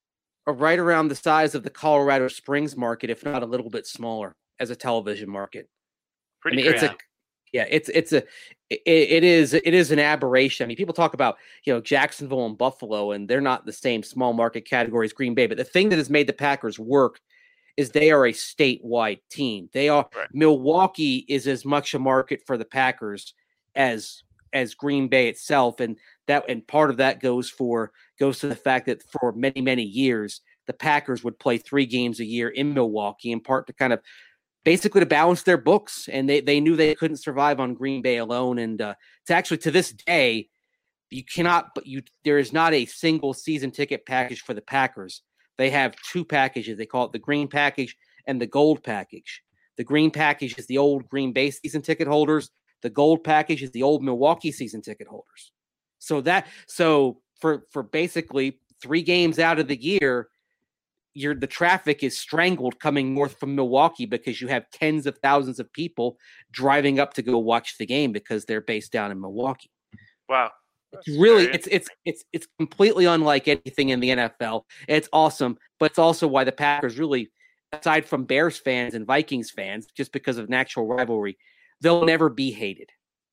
right around the size of the Colorado Springs market, if not a little bit smaller as a television market. Pretty I mean, crazy. it's a yeah, it's it's a it, it is it is an aberration. I mean, people talk about, you know, Jacksonville and Buffalo, and they're not the same small market category as Green Bay. But the thing that has made the Packers work is they are a statewide team. They are Right. Milwaukee is as much a market for the Packers as as Green Bay itself, and that and part of that goes for goes to the fact that for many many years the Packers would play three games a year in Milwaukee, in part to kind of basically to balance their books, and they, they knew they couldn't survive on Green Bay alone. And uh, to actually to this day, you cannot, but you there is not a single season ticket package for the Packers. They have two packages. They call it the green package and the gold package. The green package is the old Green Bay season ticket holders. The gold package is the old Milwaukee season ticket holders. So that so for for basically three games out of the year, You're, the traffic is strangled coming north from Milwaukee because you have tens of thousands of people driving up to go watch the game because they're based down in Milwaukee. Wow. It's really very it's it's it's it's completely unlike anything in the N F L. It's awesome, but it's also why the Packers really, aside from Bears fans and Vikings fans, just because of natural rivalry, they'll never be hated.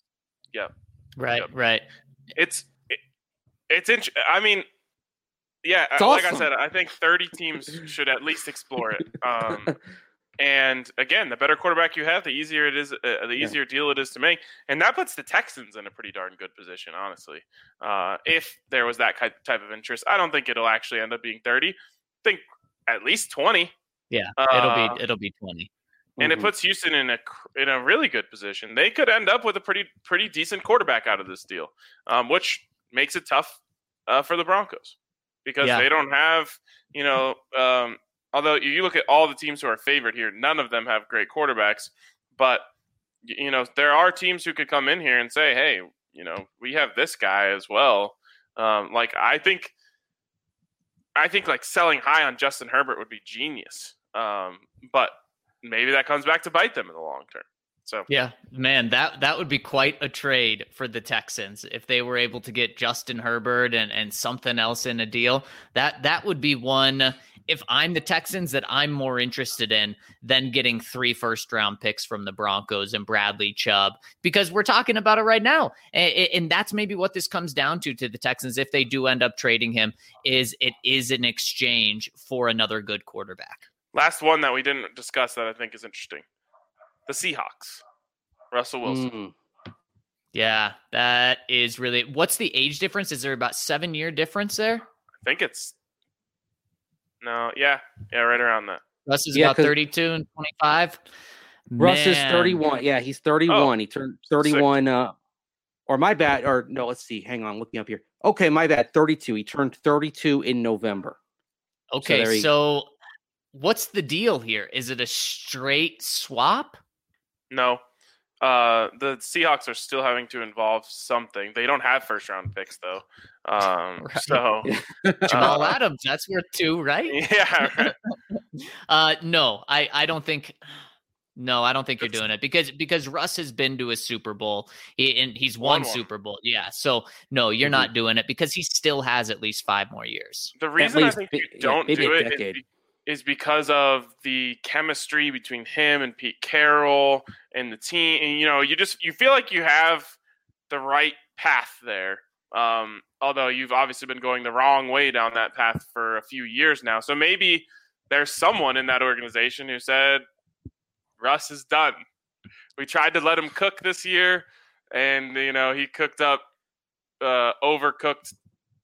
Right, Yep. right. It's it, it's int- I mean, yeah, It's uh, like I awesome. said, I think thirty teams should at least explore it. Um, and again, the better quarterback you have, the easier it is, uh, the Yeah. easier deal it is to make, and that puts the Texans in a pretty darn good position, honestly. Uh, if there was that ki- type of interest, I don't think it'll actually end up being thirty. I think at least twenty. Yeah, Uh, it'll be it'll be twenty. And Mhm. it puts Houston in a cr- in a really good position. They could end up with a pretty pretty decent quarterback out of this deal, um, which makes it tough uh, for the Broncos because Yeah. they don't have, you know, um, although you look at all the teams who are favored here, none of them have great quarterbacks. But y- you know, there are teams who could come in here and say, hey, you know, we have this guy as well. Um, like I think I think like selling high on Justin Herbert would be genius. Um, but maybe that comes back to bite them in the long term. So yeah, man, that that would be quite a trade for the Texans if they were able to get Justin Herbert and, and something else in a deal. That that would be one, if I'm the Texans, that I'm more interested in than getting three first round picks from the Broncos and Bradley Chubb, because we're talking about it right now. And, and that's maybe what this comes down to to the Texans if they do end up trading him, is it is an exchange for another good quarterback. Last one that we didn't discuss that I think is interesting. The Seahawks, Russell Wilson. Mm. Yeah, that is really. What's the age difference? Is there about seven year difference there? I think it's no, yeah, yeah, right around that. Russ is Yeah, about thirty-two and twenty-five. Russ is Man. thirty-one. Yeah, he's thirty-one. Oh, he turned thirty-one. Uh, or my bad. Or no, let's see. Hang on, looking up here. Okay, my bad. thirty-two. He turned thirty-two in November. Okay, So, so what's the deal here? Is it a straight swap? No, uh, the Seahawks are still having to involve something. They don't have first round picks though. Um, Right. So Jamal uh, Adams, that's worth two, right? yeah, right. Uh, no, I, I don't think. No, I don't think you're It's- doing it because because Russ has been to a Super Bowl. He and he's Won won one. Super Bowl. Yeah, so no, you're Mhm. not doing it because he still has at least five more years. The reason least I think bi- you yeah, don't maybe do a it is, decade. be- is because of the chemistry between him and Pete Carroll and the team. And you know, you just you feel like you have the right path there. Um, although you've obviously been going the wrong way down that path for a few years now. So maybe there's someone in that organization who said, Russ is done. We tried to let him cook this year, and you know he cooked up uh, overcooked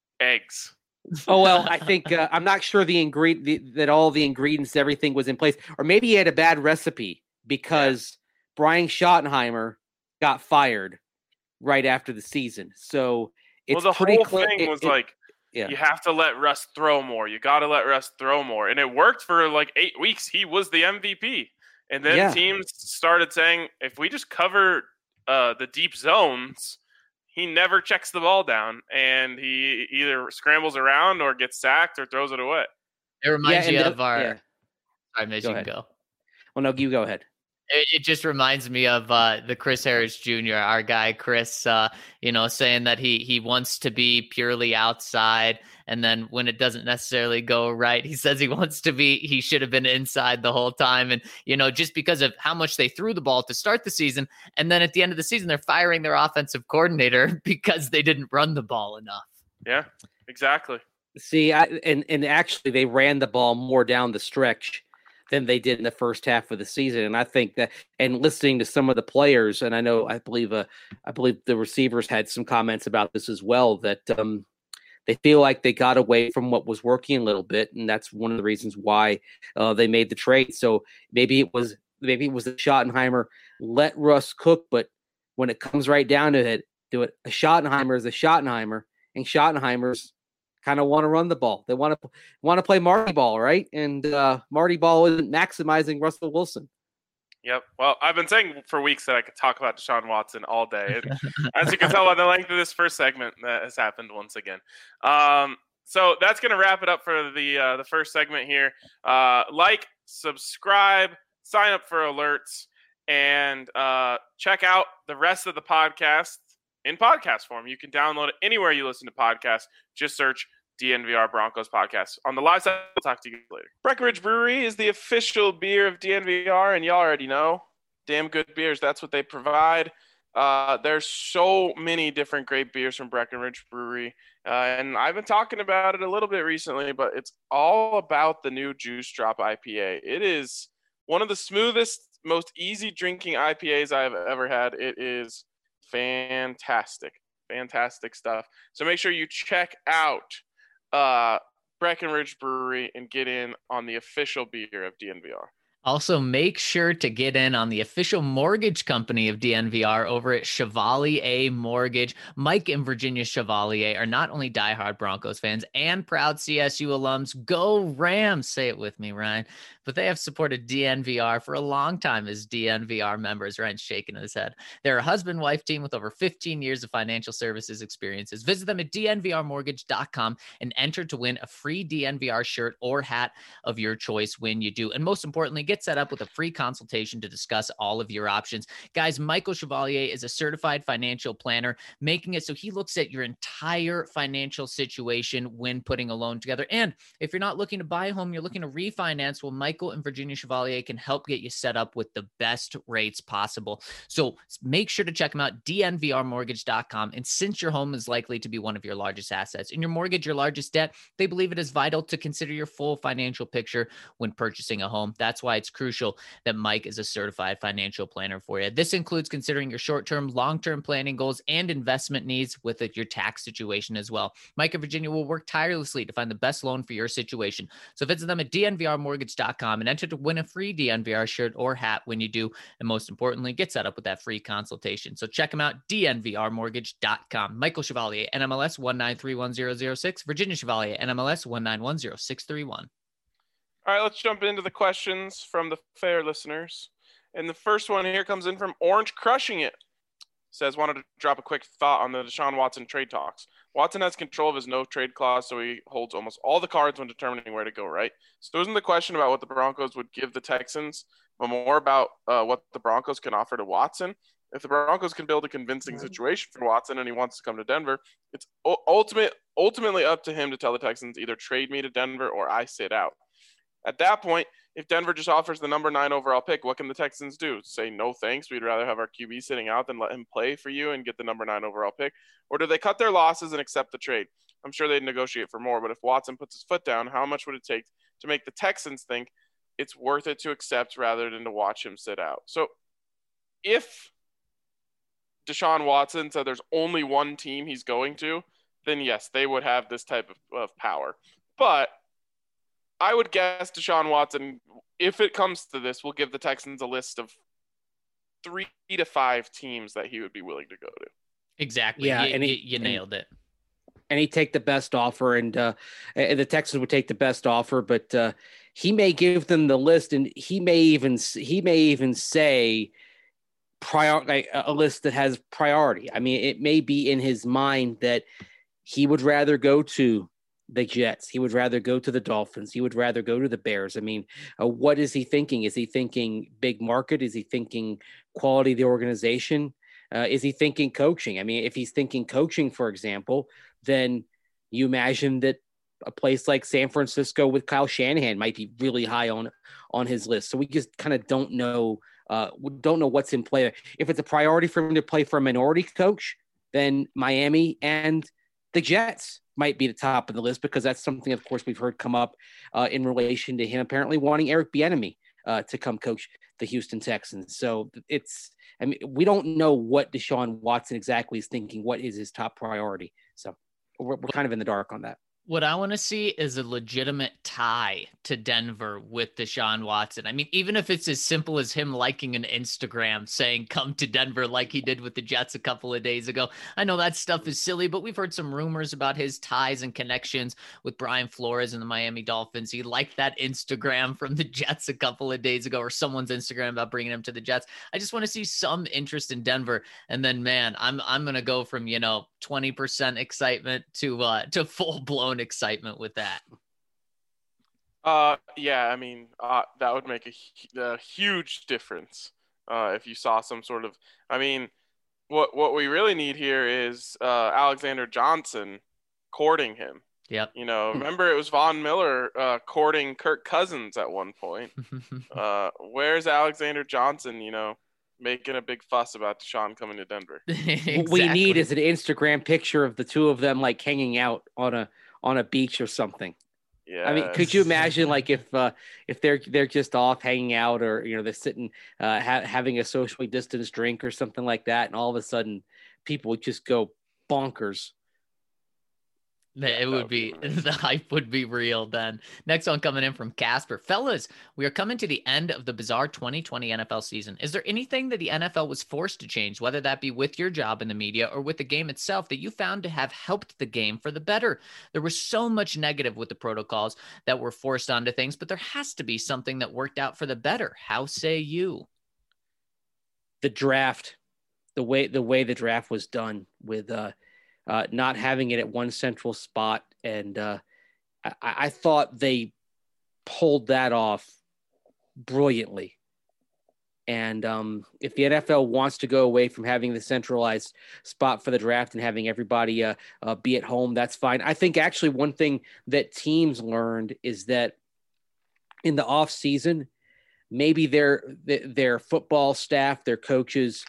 eggs. Oh well, I think uh, I'm not sure the ingredient the, that all the ingredients, everything was in place, or maybe he had a bad recipe because Brian Schottenheimer got fired right after the season. So it's well, the pretty whole clear. thing it- was it- like, yeah. you have to let Russ throw more. You got to let Russ throw more, and it worked for like eight weeks. He was the M V P, and then Yeah. teams started saying, if we just cover uh, the deep zones, he never checks the ball down, and he either scrambles around or gets sacked or throws it away. It reminds and you the- of our. yeah. Sorry, Mitch, Go you can ahead. go. Well, no, you go ahead. It, it just reminds me of uh, the Chris Harris Junior, our guy Chris, uh, you know, saying that he he wants to be purely outside, and then when it doesn't necessarily go right, he says he wants to be. He should have been inside the whole time, and you know, just because of how much they threw the ball to start the season, and then at the end of the season, they're firing their offensive coordinator because they didn't run the ball enough. Yeah, exactly. See, I, and and actually, they ran the ball more down the stretch than they did in the first half of the season. And I think that, and listening to some of the players, and I know, I believe, uh, I believe the receivers had some comments about this as well, that um, they feel like they got away from what was working a little bit, and that's one of the reasons why uh, they made the trade. So maybe it was, maybe it was the Schottenheimer let Russ cook, but when it comes right down to it, do it. A Schottenheimer is a Schottenheimer, and Schottenheimers kind of want to run the ball. They want to want to play Marty ball, right? And uh, Marty ball isn't maximizing Russell Wilson. Yep. Well, I've been saying for weeks that I could talk about Deshaun Watson all day. And as you can tell by the length of this first segment, that has happened once again. Um, so that's going to wrap it up for the uh, the first segment here. Uh, like, subscribe, sign up for alerts, and uh, check out the rest of the podcast in podcast form. You can download it anywhere you listen to podcasts. Just search D N V R Broncos podcast. On the live side, we'll talk to you later. Breckenridge Brewery is the official beer of D N V R, and y'all already know. Damn good beers. That's what they provide. Uh, there's so many different great beers from Breckenridge Brewery, uh, and I've been talking about it a little bit recently, but it's all about the new Juice Drop I P A. It is one of the smoothest, most easy drinking I P As I've ever had. It is fantastic, fantastic stuff. So make sure you check out uh, Breckenridge Brewery and get in on the official beer of D N V R. Also, make sure to get in on the official mortgage company of D N V R over at Chevalier Mortgage. Mike and Virginia Chevalier are not only diehard Broncos fans and proud C S U alums. Go Rams! Say it with me, Ryan. but they have supported D N V R for a long time as D N V R members. Ryan's shaking his head. They're a husband-wife team with over fifteen years of financial services experiences. Visit them at D N V R mortgage dot com and enter to win a free D N V R shirt or hat of your choice when you do. And most importantly, get set up with a free consultation to discuss all of your options. Guys, Michael Chevalier is a certified financial planner, making it so he looks at your entire financial situation when putting a loan together. And if you're not looking to buy a home, you're looking to refinance, well, Michael and Virginia Chevalier can help get you set up with the best rates possible. So make sure to check them out, D N V R mortgage dot com. And since your home is likely to be one of your largest assets and your mortgage your largest debt, they believe it is vital to consider your full financial picture when purchasing a home. That's why it's crucial that Mike is a certified financial planner for you. This includes considering your short-term, long-term planning goals and investment needs with your tax situation as well. Mike and Virginia will work tirelessly to find the best loan for your situation. So visit them at D N V R mortgage dot com and enter to win a free D N V R shirt or hat when you do. And most importantly, get set up with that free consultation. So check them out, D N V R mortgage dot com. Michael Chevalier, N M L S one nine three one zero zero six, Virginia Chevalier, N M L S one nine one zero six three one. All right, let's jump into the questions from the fair listeners. And the first one here comes in from Orange Crushing It. Says, wanted to drop a quick thought on the Deshaun Watson trade talks. Watson has control of his no trade clause, so he holds almost all the cards when determining where to go, right? So isn't the question about what the Broncos would give the Texans, but more about uh, what the Broncos can offer to Watson? If the Broncos can build a convincing situation for Watson and he wants to come to Denver, it's ultimate, ultimately up to him to tell the Texans either trade me to Denver or I sit out. At that point, if Denver just offers the number nine overall pick, what can the Texans do? Say, no thanks, we'd rather have our Q B sitting out than let him play for you and get the number nine overall pick? Or do they cut their losses and accept the trade? I'm sure they'd negotiate for more, but if Watson puts his foot down, how much would it take to make the Texans think it's worth it to accept rather than to watch him sit out? So if Deshaun Watson said there's only one team he's going to, then yes, they would have this type of, of power. But I would guess Deshaun Watson, if it comes to this, will give the Texans a list of three to five teams that he would be willing to go to. Exactly. Yeah, you, and he, you, you nailed and, it. And he'd take the best offer, and uh, and the Texans would take the best offer, but uh, he may give them the list, and he may even he may even say prior like, a list that has priority. I mean, it may be in his mind that he would rather go to the Jets. He would rather go to the Dolphins. He would rather go to the Bears. I mean, uh, what is he thinking? Is he thinking big market? Is he thinking quality of the organization? Uh, is he thinking coaching? I mean, if he's thinking coaching, for example, then you imagine that a place like San Francisco with Kyle Shanahan might be really high on, on his list. So we just kind of don't know, uh, don't know what's in play. If it's a priority for him to play for a minority coach, then Miami and the Jets might be the top of the list, because that's something, of course, we've heard come up uh, in relation to him apparently wanting Eric Bieniemy uh, to come coach the Houston Texans. So it's, I mean, we don't know what Deshaun Watson exactly is thinking. What is his top priority? So we're, we're kind of in the dark on that. What I want to see is a legitimate tie to Denver with Deshaun Watson. I mean, even if it's as simple as him liking an Instagram saying, come to Denver, like he did with the Jets a couple of days ago. I know that stuff is silly, but we've heard some rumors about his ties and connections with Brian Flores and the Miami Dolphins. He liked that Instagram from the Jets a couple of days ago, or someone's Instagram about bringing him to the Jets. I just want to see some interest in Denver. And then, man, I'm, I'm going to go from, you know, twenty percent excitement to, uh, to full blown excitement with that. Uh, yeah, I mean, uh, that would make a, a huge difference uh, if you saw some sort of. I mean, what what we really need here is uh, Alexander Johnson courting him. Yep. You know, remember it was Von Miller uh, courting Kirk Cousins at one point. uh, where's Alexander Johnson? You know, making a big fuss about Deshaun coming to Denver. Exactly. What we need is an Instagram picture of the two of them like hanging out on a on a beach or something. Yeah. I mean, could you imagine like if uh, if they're they're just off hanging out, or you know they're sitting uh, ha- having a socially distanced drink or something like that, and all of a sudden people would just go bonkers. Yeah, it would, would be, be the hype would be real then. Next one coming in from Casper. Fellas, we are coming to the end of the bizarre twenty twenty N F L season. Is there anything that the N F L was forced to change, whether that be with your job in the media or with the game itself, that you found to have helped the game for the better? There was so much negative with the protocols that were forced onto things, but there has to be something that worked out for the better. How say you? The draft, the way the way the draft was done with uh Uh, not having it at one central spot. And uh, I, I thought they pulled that off brilliantly. And um, if the N F L wants to go away from having the centralized spot for the draft and having everybody uh, uh, be at home, that's fine. I think actually one thing that teams learned is that in the off season, maybe their, their football staff, their coaches,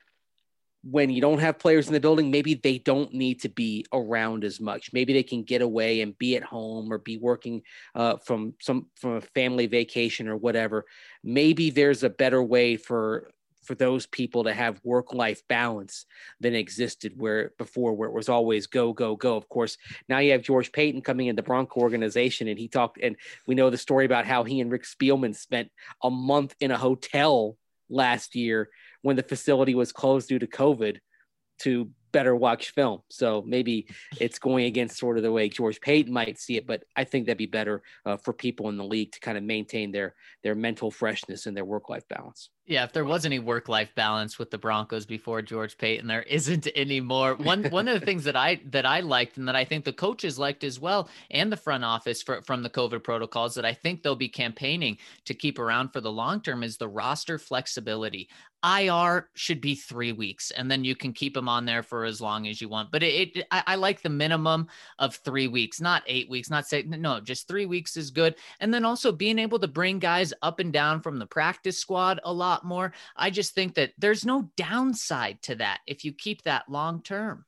when you don't have players in the building, maybe they don't need to be around as much. Maybe they can get away and be at home or be working uh, from some from a family vacation or whatever. Maybe there's a better way for for those people to have work-life balance than existed where before, where it was always go, go, go. Of course, now you have George Payton coming in the Bronco organization, and he talked, and we know the story about how he and Rick Spielman spent a month in a hotel last year when the facility was closed due to COVID to better watch film. So maybe it's going against sort of the way George Payton might see it, but I think that'd be better uh, for people in the league to kind of maintain their, their mental freshness and their work-life balance. Yeah, if there was any work-life balance with the Broncos before George Payton, there isn't anymore. One one of the things that I that I liked and that I think the coaches liked as well, and the front office for, from the COVID protocols that I think they'll be campaigning to keep around for the long term is the roster flexibility. I R should be three weeks, and then you can keep them on there for as long as you want. But it, it I, I like the minimum of three weeks, not eight weeks, not say no, just three weeks is good. And then also being able to bring guys up and down from the practice squad a lot more. I just think that there's no downside to that if you keep that long term.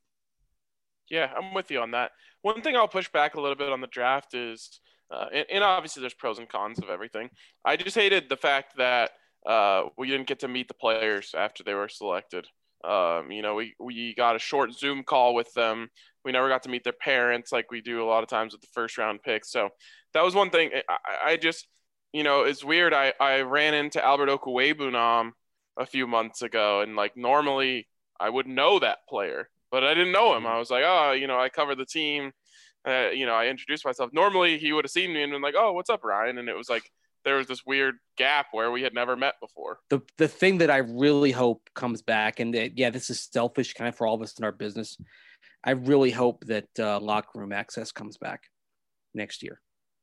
Yeah, I'm with you on that. One thing I'll push back a little bit on the draft is, uh, and, and obviously there's pros and cons of everything. I just hated the fact that uh, we didn't get to meet the players after they were selected. Um, you know, we, we got a short Zoom call with them. We never got to meet their parents like we do a lot of times with the first round picks. So that was one thing. I, I just, you know, it's weird. I, I ran into Albert Okwuegbunam a few months ago, and like normally I would know that player, but I didn't know him. I was like, oh, you know, I cover the team. Uh, you know, I introduced myself. Normally he would have seen me and been like, oh, what's up, Ryan? And it was like, there was this weird gap where we had never met before. The the thing that I really hope comes back, and that, yeah, this is selfish kind of for all of us in our business. I really hope that uh, locker room access comes back next year.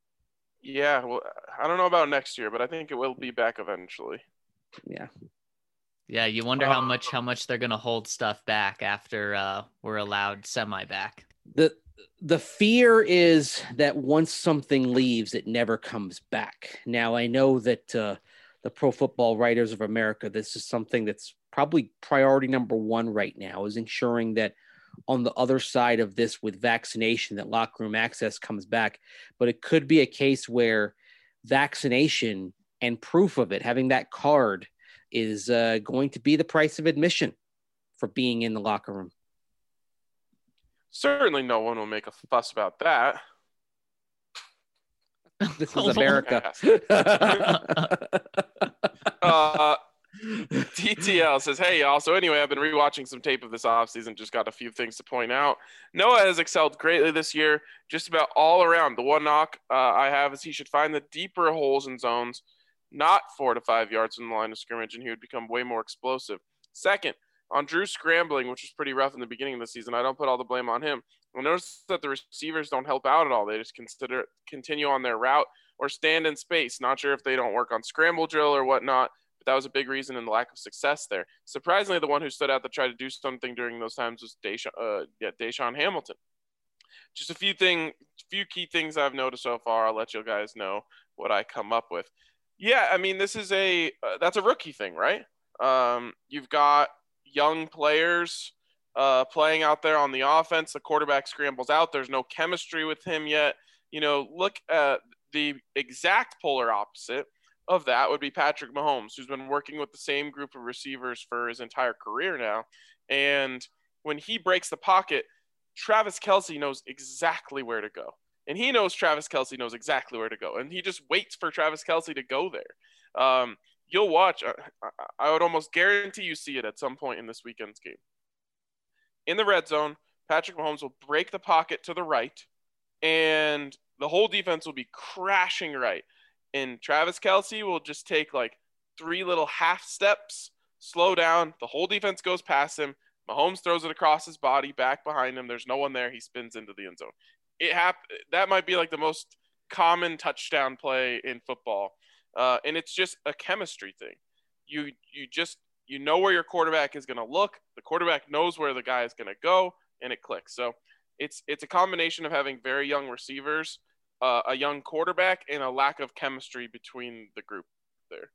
Yeah, well, I don't know about next year, but I think it will be back eventually. Yeah. Yeah, you wonder how much how much they're going to hold stuff back after uh, we're allowed semi back. The the fear is that once something leaves, it never comes back. Now, I know that uh, the Pro Football Writers of America, this is something that's probably priority number one right now, is ensuring that on the other side of this with vaccination, that locker room access comes back. But it could be a case where vaccination and proof of it, having that card, is uh, going to be the price of admission for being in the locker room. Certainly no one will make a fuss about that. This is America. uh, D T L says, hey, y'all. So anyway, I've been rewatching some tape of this offseason. Just got a few things to point out. Noah has excelled greatly this year, just about all around. The one knock uh, I have is he should find the deeper holes in zones, not four to five yards from the line of scrimmage, and he would become way more explosive. Second, on Drew scrambling, which was pretty rough in the beginning of the season, I don't put all the blame on him. I notice that the receivers don't help out at all. They just consider continue on their route or stand in space. Not sure if they don't work on scramble drill or whatnot, but that was a big reason in the lack of success there. Surprisingly, the one who stood out that tried to do something during those times was Deshaun, uh, yeah, Deshaun Hamilton. Just a few thing, few key things I've noticed so far. I'll let you guys know what I come up with. Yeah, I mean, this is a uh, that's a rookie thing, right? Um, you've got young players uh, playing out there on the offense. The quarterback scrambles out. There's no chemistry with him yet. You know, look at the exact polar opposite of that would be Patrick Mahomes, who's been working with the same group of receivers for his entire career now. And when he breaks the pocket, Travis Kelce knows exactly where to go. And he knows Travis Kelce knows exactly where to go. And he just waits for Travis Kelce to go there. Um, you'll watch. I, I would almost guarantee you see it at some point in this weekend's game. In the red zone, Patrick Mahomes will break the pocket to the right, and the whole defense will be crashing right. And Travis Kelce will just take like three little half steps, slow down. The whole defense goes past him. Mahomes throws it across his body, back behind him. There's no one there. He spins into the end zone. It hap- That might be like the most common touchdown play in football. Uh, and it's just a chemistry thing. You you just you know where your quarterback is going to look. The quarterback knows where the guy is going to go, and it clicks. So it's it's a combination of having very young receivers, uh, a young quarterback, and a lack of chemistry between the group there.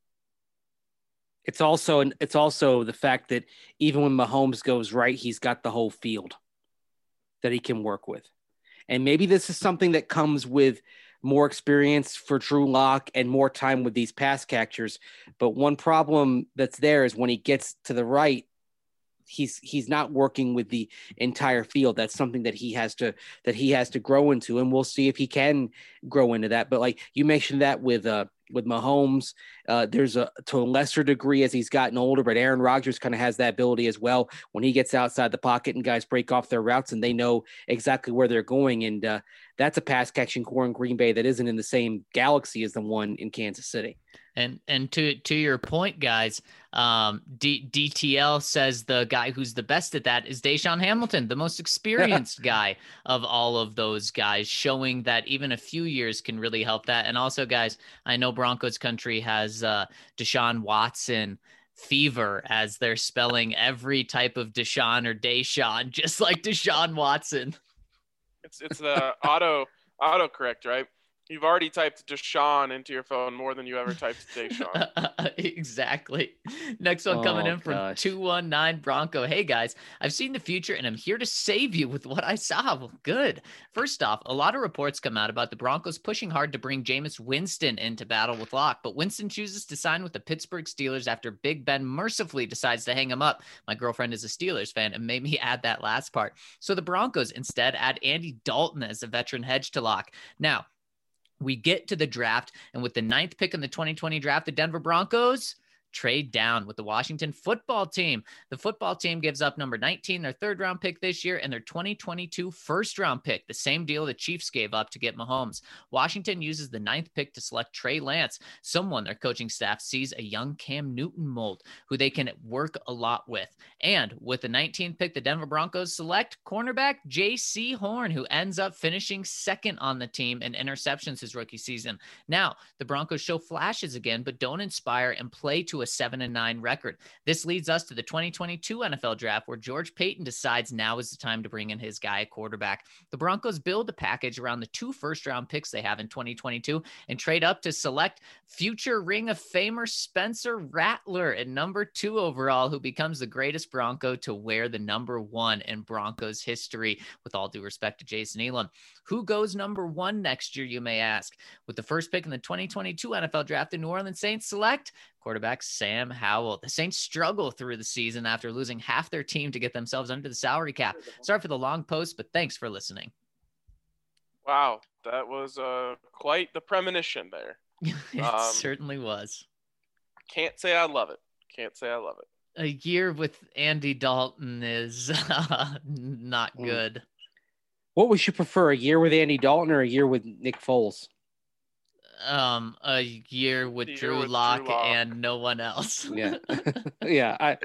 It's also it's also the fact that even when Mahomes goes right, he's got the whole field that he can work with. And maybe this is something that comes with more experience for Drew Lock and more time with these pass catchers. But one problem that's there is when he gets to the right, he's he's not working with the entire field. That's something that he has to that he has to grow into, and we'll see if he can grow into that. But like you mentioned that with uh with Mahomes, uh, there's a to a lesser degree as he's gotten older, but Aaron Rodgers kind of has that ability as well when he gets outside the pocket and guys break off their routes and they know exactly where they're going. And uh, that's a pass catching core in Green Bay that isn't in the same galaxy as the one in Kansas City. And and to to your point, guys, um, D, DTL says the guy who's the best at that is Deshaun Hamilton, the most experienced guy of all of those guys, showing that even a few years can really help that. And also, guys, I know Broncos country has uh, Deshaun Watson fever as they're spelling every type of Deshaun or Deshaun, just like Deshaun Watson. It's it's the auto auto correct, right? You've already typed Deshaun into your phone more than you ever typed Deshaun. Exactly. Next one coming Oh, in from gosh. two one nine Bronco. Hey, guys, I've seen the future and I'm here to save you with what I saw. Well, good. First off, a lot of reports come out about the Broncos pushing hard to bring Jameis Winston into battle with Locke, but Winston chooses to sign with the Pittsburgh Steelers after Big Ben mercifully decides to hang him up. My girlfriend is a Steelers fan and made me add that last part. So the Broncos instead add Andy Dalton as a veteran hedge to Locke. Now, we get to the draft, and with the ninth pick in the twenty twenty draft, the Denver Broncos trade down with the Washington football team. The football team gives up number nineteen, their third round pick this year, and their twenty twenty-two first round pick, the same deal the Chiefs gave up to get Mahomes. Washington uses the ninth pick to select Trey Lance, someone their coaching staff sees a young Cam Newton mold who they can work a lot with. And with the nineteenth pick, the Denver Broncos select cornerback J C Horn, who ends up finishing second on the team in interceptions his rookie season. Now, the Broncos show flashes again, but don't inspire and play to a seven and nine record. This leads us to the twenty twenty-two N F L draft, where George Payton decides now is the time to bring in his guy at quarterback. The Broncos build a package around the two first round picks they have in twenty twenty-two and trade up to select future Ring of Famer Spencer Rattler at number two overall, who becomes the greatest Bronco to wear the number one in Broncos history, with all due respect to Jason Elam. Who goes number one next year, you may ask? With the first pick in the twenty twenty-two N F L draft, the New Orleans Saints select quarterback Sam Howell. The Saints struggle through the season after losing half their team to get themselves under the salary cap. Sorry for the long post, but thanks for listening. Wow, that was uh, quite the premonition there. It Um, certainly was. Can't say I love it. Can't say I love it. A year with Andy Dalton is uh, not Mm. good. What would you prefer, a year with Andy Dalton or a year with Nick Foles? Um, a year with A year Drew with Drew Lock Lock. and no one else. Yeah. yeah. I,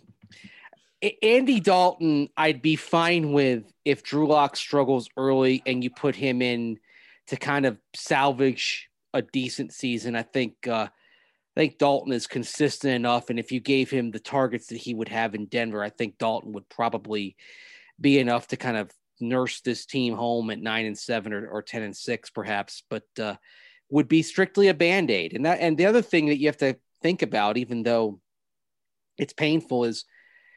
A- Andy Dalton, I'd be fine with if Drew Lock struggles early and you put him in to kind of salvage a decent season. I think, uh, I think Dalton is consistent enough. And if you gave him the targets that he would have in Denver, I think Dalton would probably be enough to kind of nurse this team home at nine and seven or, or ten and six, perhaps, but, uh, would be strictly a Band-Aid. And that, and the other thing that you have to think about, even though it's painful, is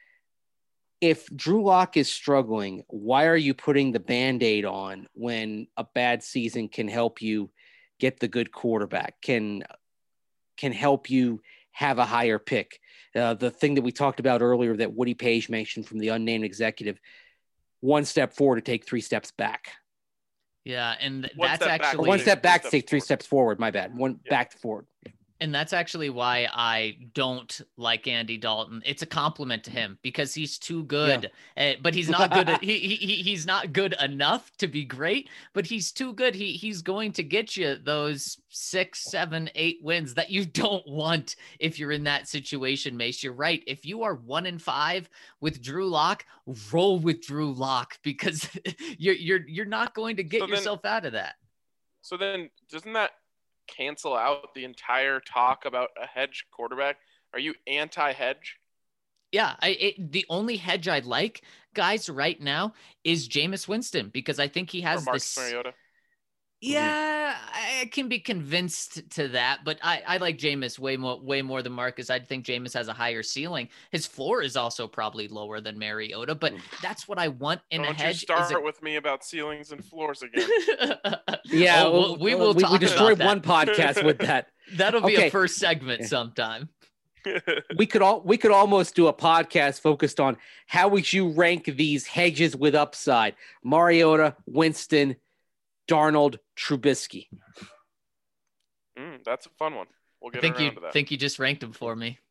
if Drew Lock is struggling, why are you putting the Band-Aid on when a bad season can help you get the good quarterback, can, can help you have a higher pick? Uh, the thing that we talked about earlier that Woody Page mentioned from the unnamed executive, one step forward to take three steps back. Yeah, and th- One that's step back. actually Or one step back to Three take three steps steps forward. My bad. One Yeah. back to forward. And that's actually why I don't like Andy Dalton. It's a compliment to him because he's too good, uh, but he's not good. At, he, he he's not good enough to be great, but he's too good. He he's going to get you those six, seven, eight wins that you don't want if you're in that situation, Mace. You're right. If you are one in five with Drew Lock, roll with Drew Lock because you're you're you're not going to get So then- yourself out of that. So then, doesn't that cancel out the entire talk about a hedge quarterback? Are you anti-hedge? Yeah, I it, the only hedge I like, guys, right now is Jameis Winston because I think he Or has Marcus this. Mariota? Yeah, I can be convinced to that, but I, I like Jameis way more way more than Marcus. I think Jameis has a higher ceiling. His floor is also probably lower than Mariota, but that's what I want in Don't a hedge. you start is a... with me about ceilings and floors again. Yeah, Oh, we'll- we will we, talk we about destroyed that. one podcast with that. That'll be Okay. a first segment Yeah. sometime. We could all we could almost do a podcast focused on how would you rank these hedges with upside: Mariota, Winston, Darnold, Trubisky. Mm, that's a fun one. We'll I get think around you to that. think you just ranked him for me.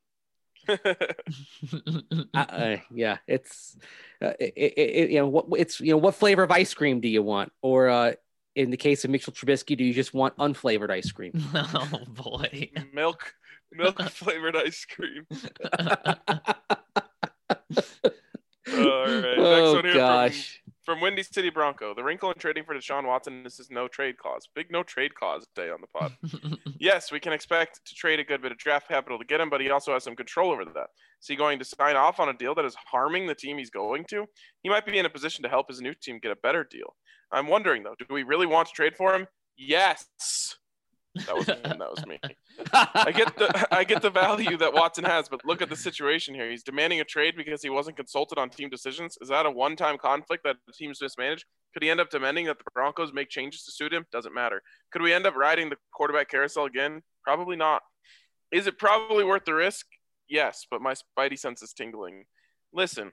Uh, uh, yeah, it's uh, it, it, it, you know what it's you know what flavor of ice cream do you want, or uh, in the case of Mitchell Trubisky, do you just want unflavored ice cream? Oh boy. milk, milk flavored ice cream. All right. Next Oh one here gosh. from, from Windy City Bronco. The wrinkle in trading for Deshaun Watson is his no trade clause. Big no trade clause day on the pod. Yes, we can expect to trade a good bit of draft capital to get him, but he also has some control over that. Is he going to sign off on a deal that is harming the team he's going to? He might be in a position to help his new team get a better deal. I'm wondering, though, do we really want to trade for him? Yes. That was me. That was me. I get the I get the value that Watson has, but look at the situation here. He's demanding a trade because he wasn't consulted on team decisions. Is that a one-time conflict that the team's mismanaged? Could he end up demanding that the Broncos make changes to suit him? Doesn't matter. Could we end up riding the quarterback carousel again? Probably not. Is it probably worth the risk? Yes, but my spidey sense is tingling. Listen,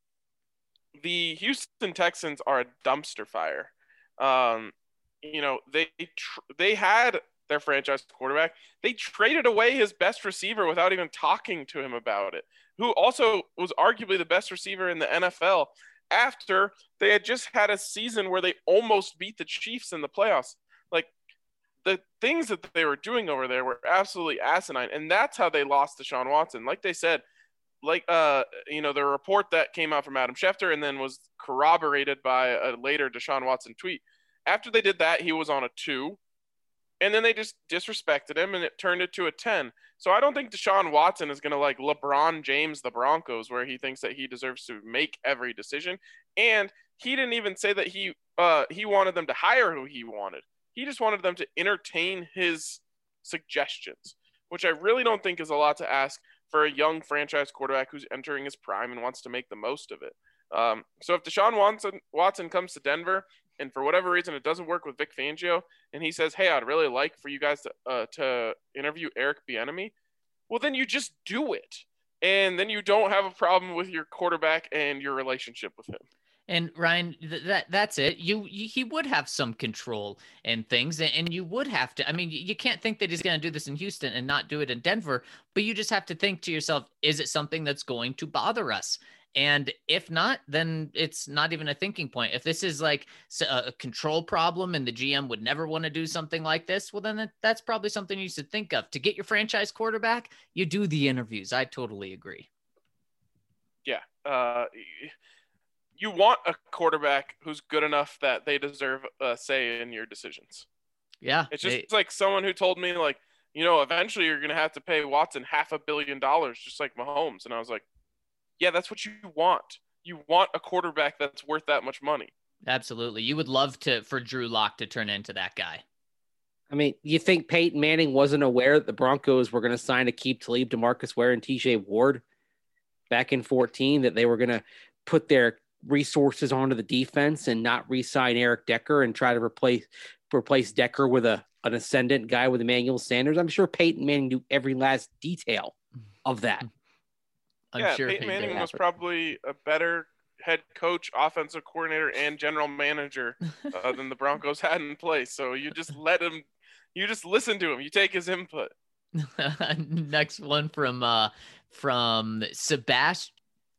the Houston Texans are a dumpster fire. Um, you know, they tr- they had their franchise quarterback. They traded away his best receiver without even talking to him about it, who also was arguably the best receiver in the N F L after they had just had a season where they almost beat the Chiefs in the playoffs. Like, the things that they were doing over there were absolutely asinine, and that's how they lost to Deshaun Watson. Like they said, like uh, you know, the report that came out from Adam Schefter and then was corroborated by a later Deshaun Watson tweet. After they did that, he was on a two. And then they just disrespected him, and it turned it to a ten. So I don't think Deshaun Watson is going to like LeBron James the Broncos, where he thinks that he deserves to make every decision. And he didn't even say that he uh, he wanted them to hire who he wanted. He just wanted them to entertain his suggestions, which I really don't think is a lot to ask for a young franchise quarterback who's entering his prime and wants to make the most of it. Um, so if Deshaun Watson, Watson comes to Denver, and for whatever reason it doesn't work with Vic Fangio, and he says, hey, I'd really like for you guys to uh, to interview Eric Bieniemy, well, then you just do it. And then you don't have a problem with your quarterback and your relationship with him. And Ryan, th- that that's it. You, you he would have some control and things, and, and you would have to. I mean, you, you can't think that he's going to do this in Houston and not do it in Denver. But you just have to think to yourself: is it something that's going to bother us? And if not, then it's not even a thinking point. If this is like a control problem and the G M would never want to do something like this, well, then that, that's probably something you should think of. To get your franchise quarterback, you do the interviews. I totally agree. Yeah. Uh, you want a quarterback who's good enough that they deserve a say in your decisions. Yeah. It's just it, like someone who told me, like, you know, eventually you're going to have to pay Watson half a billion dollars, just like Mahomes. And I was like, yeah, that's what you want. You want a quarterback that's worth that much money. Absolutely. You would love to for Drew Lock to turn into that guy. I mean, you think Peyton Manning wasn't aware that the Broncos were going to sign Aqib Talib, DeMarcus Ware, and T J Ward back in fourteen, that they were going to put their resources onto the defense and not re-sign Eric Decker and try to replace replace Decker with a an ascendant guy with Emmanuel Sanders? I'm sure Peyton Manning knew every last detail of that. I'm yeah, sure Peyton he Manning did. was probably a better head coach, offensive coordinator, and general manager uh, than the Broncos had in place. So you just let him, you just listen to him. You take his input. Next one from uh from Sebastian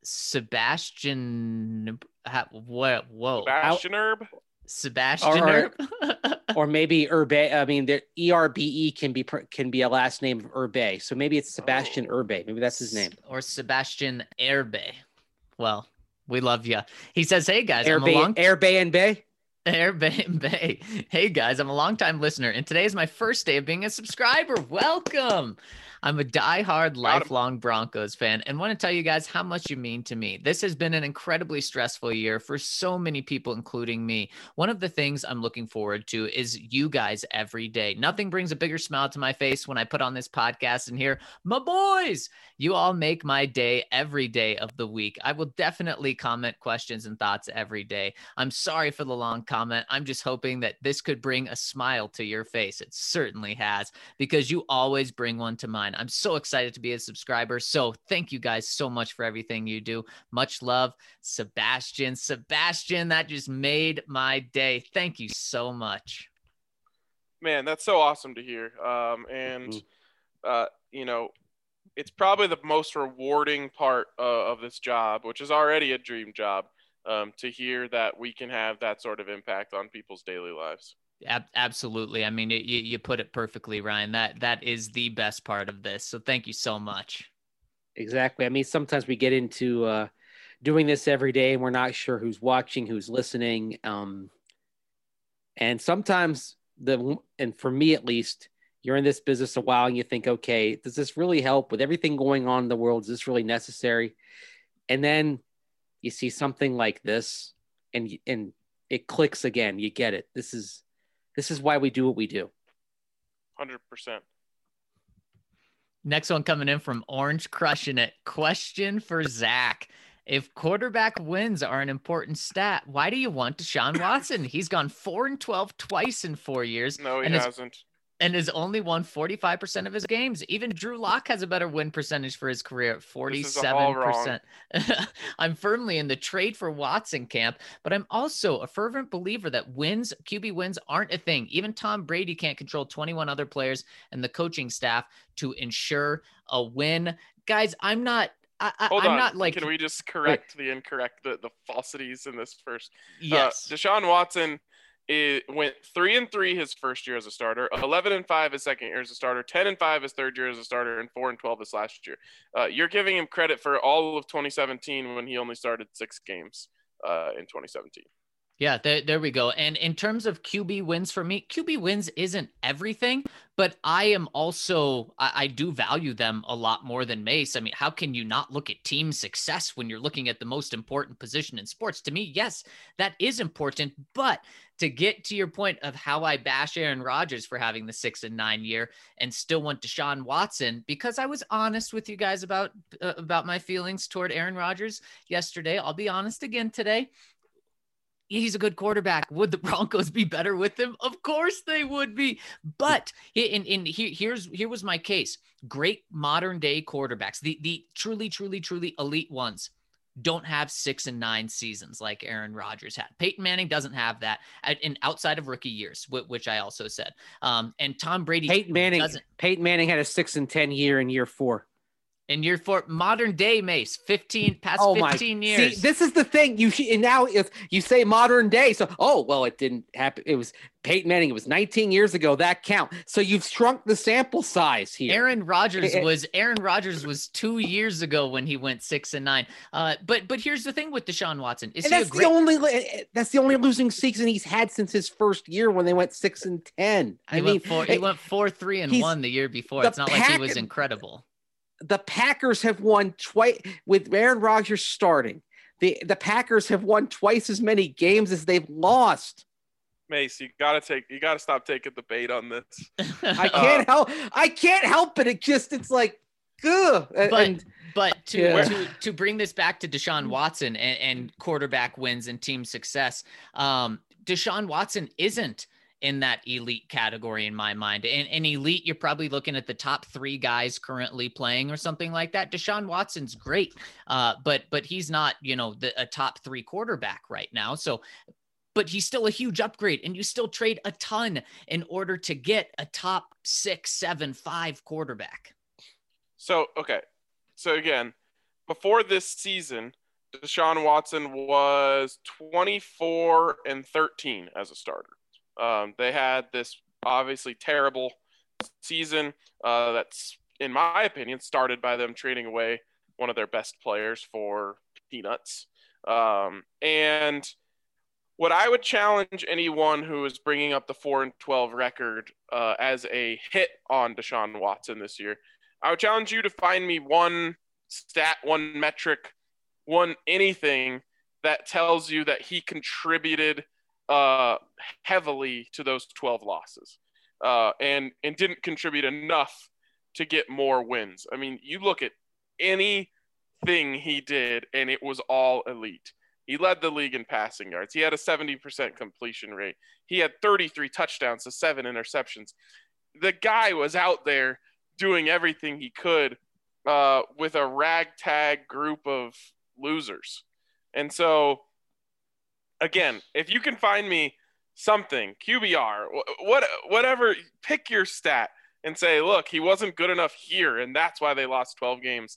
Sebastian what whoa Sebastian Herb. Sebastian Or- Herb? Or maybe Urbe. I mean, the E R B E can be pr- can be a last name of Urbe. So maybe it's Sebastian Oh. Urbe. Maybe that's his name. Or Sebastian Herbe. Well, we love you. He says, "Hey guys, I'm a Urbe, long Urbe and Bay. Airbnb Bay. Hey guys, I'm a longtime listener, and today is my first day of being a subscriber. Welcome. I'm a diehard, lifelong Broncos fan, and want to tell you guys how much you mean to me. This has been an incredibly stressful year for so many people, including me. One of the things I'm looking forward to is you guys every day. Nothing brings a bigger smile to my face when I put on this podcast and hear, my boys, you all make my day every day of the week. I will definitely comment questions and thoughts every day. I'm sorry for the long comment. I'm just hoping that this could bring a smile to your face. It certainly has, because you always bring one to mine. I'm so excited to be a subscriber. So thank you guys so much for everything you do. Much love, Sebastian. Sebastian, that just made my day. Thank you so much. Man, that's so awesome to hear. Um, and, Mm-hmm. uh, you know, it's probably the most rewarding part uh, of this job, which is already a dream job, um, to hear that we can have that sort of impact on people's daily lives. Ab- absolutely. I mean, you, you put it perfectly, Ryan. That that is the best part of this. So thank you so much. Exactly. I mean, sometimes we get into uh, doing this every day and we're not sure who's watching, who's listening. Um, and sometimes the, and for me at least, you're in this business a while and you think, okay, does this really help with everything going on in the world? Is this really necessary? And then you see something like this and, and it clicks again. You get it. This is, this is why we do what we do. one hundred percent. Next one coming in from Orange Crushing It. Question for Zach. If quarterback wins are an important stat, why do you want Deshaun Watson? He's gone four and twelve twice in four years. No, he and is, hasn't. and has only won forty-five percent of his games. Even Drew Lock has a better win percentage for his career at forty-seven percent. I'm firmly in the trade for Watson camp, but I'm also a fervent believer that wins, Q B wins aren't a thing. Even Tom Brady can't control twenty-one other players and the coaching staff to ensure a win. Guys, I'm not I, I, Hold I'm on. not like Can we just correct Wait. the incorrect, the, the falsities in this first? Yes. Uh, Deshaun Watson it went three and three his first year as a starter, eleven and five his second year as a starter, ten and five his third year as a starter, and four and twelve his last year. Uh, you're giving him credit for all of twenty seventeen when he only started six games uh, in twenty seventeen. Yeah, there, there we go. And in terms of Q B wins for me, Q B wins isn't everything, but I am also, I, I do value them a lot more than Mace. I mean, how can you not look at team success when you're looking at the most important position in sports? To me, yes, that is important. But to get to your point of how I bash Aaron Rodgers for having the six and nine year and still want Deshaun Watson, because I was honest with you guys about, uh, about my feelings toward Aaron Rodgers yesterday. I'll be honest again today. He's a good quarterback. Would the Broncos be better with him? Of course they would be. But in, in here, here's here was my case. Great modern day quarterbacks, the the truly, truly, truly elite ones, don't have six and nine seasons like Aaron Rodgers had. Peyton Manning doesn't have that in outside of rookie years, which I also said. Um, and Tom Brady Peyton Manning doesn't. Peyton Manning had a six and ten year in year four. And you're for modern day Mace, fifteen past oh fifteen my. years. See, this is the thing. You should, and now if you say modern day, so oh well, it didn't happen. It was Peyton Manning. It was nineteen years ago. That count. So you've shrunk the sample size here. Aaron Rodgers was Aaron Rodgers was two years ago when he went six and nine. Uh, but but here's the thing with Deshaun Watson. Is and he that's a great- the only that's the only losing season he's had since his first year when they went six and ten. He I went mean, four, he went four three and one the year before. It's not Pack- like he was incredible. The Packers have won twice with Aaron Rodgers starting. The the Packers have won twice as many games as they've lost. Mace, you gotta take you gotta stop taking the bait on this. I can't uh, help I can't help it. It just it's like ugh. But and, but to, yeah. to to bring this back to Deshaun Watson and, and quarterback wins and team success, um, Deshaun Watson isn't in that elite category in my mind. And, and elite, you're probably looking at the top three guys currently playing or something like that. Deshaun Watson's great, uh, but but he's not, you know, the, a top three quarterback right now. So, but he's still a huge upgrade, and you still trade a ton in order to get a top six, seven, five quarterback. So, okay. So again, before this season, Deshaun Watson was twenty-four and thirteen as a starter. Um, they had this obviously terrible season uh, that's, in my opinion, started by them trading away one of their best players for peanuts. Um, and what I would challenge anyone who is bringing up the four and twelve record uh, as a hit on Deshaun Watson this year, I would challenge you to find me one stat, one metric, one anything that tells you that he contributed uh, heavily to those twelve losses uh, and, and didn't contribute enough to get more wins. I mean, you look at anything he did, and it was all elite. He led the league in passing yards. He had a seventy percent completion rate. He had thirty-three touchdowns to seven interceptions. The guy was out there doing everything he could uh, with a ragtag group of losers. And so, again, if you can find me something, Q B R, what, whatever, pick your stat and say, look, he wasn't good enough here, and that's why they lost twelve games.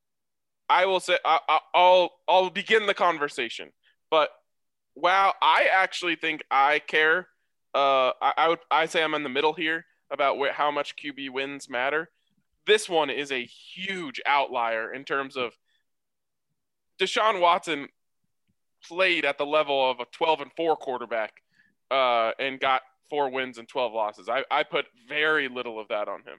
I will say I, I'll I'll begin the conversation. But wow, I actually think I care. Uh, I, I would I say I'm in the middle here about where, how much Q B wins matter. This one is a huge outlier in terms of Deshaun Watson played at the level of a twelve and four quarterback uh, and got four wins and twelve losses. I, I put very little of that on him.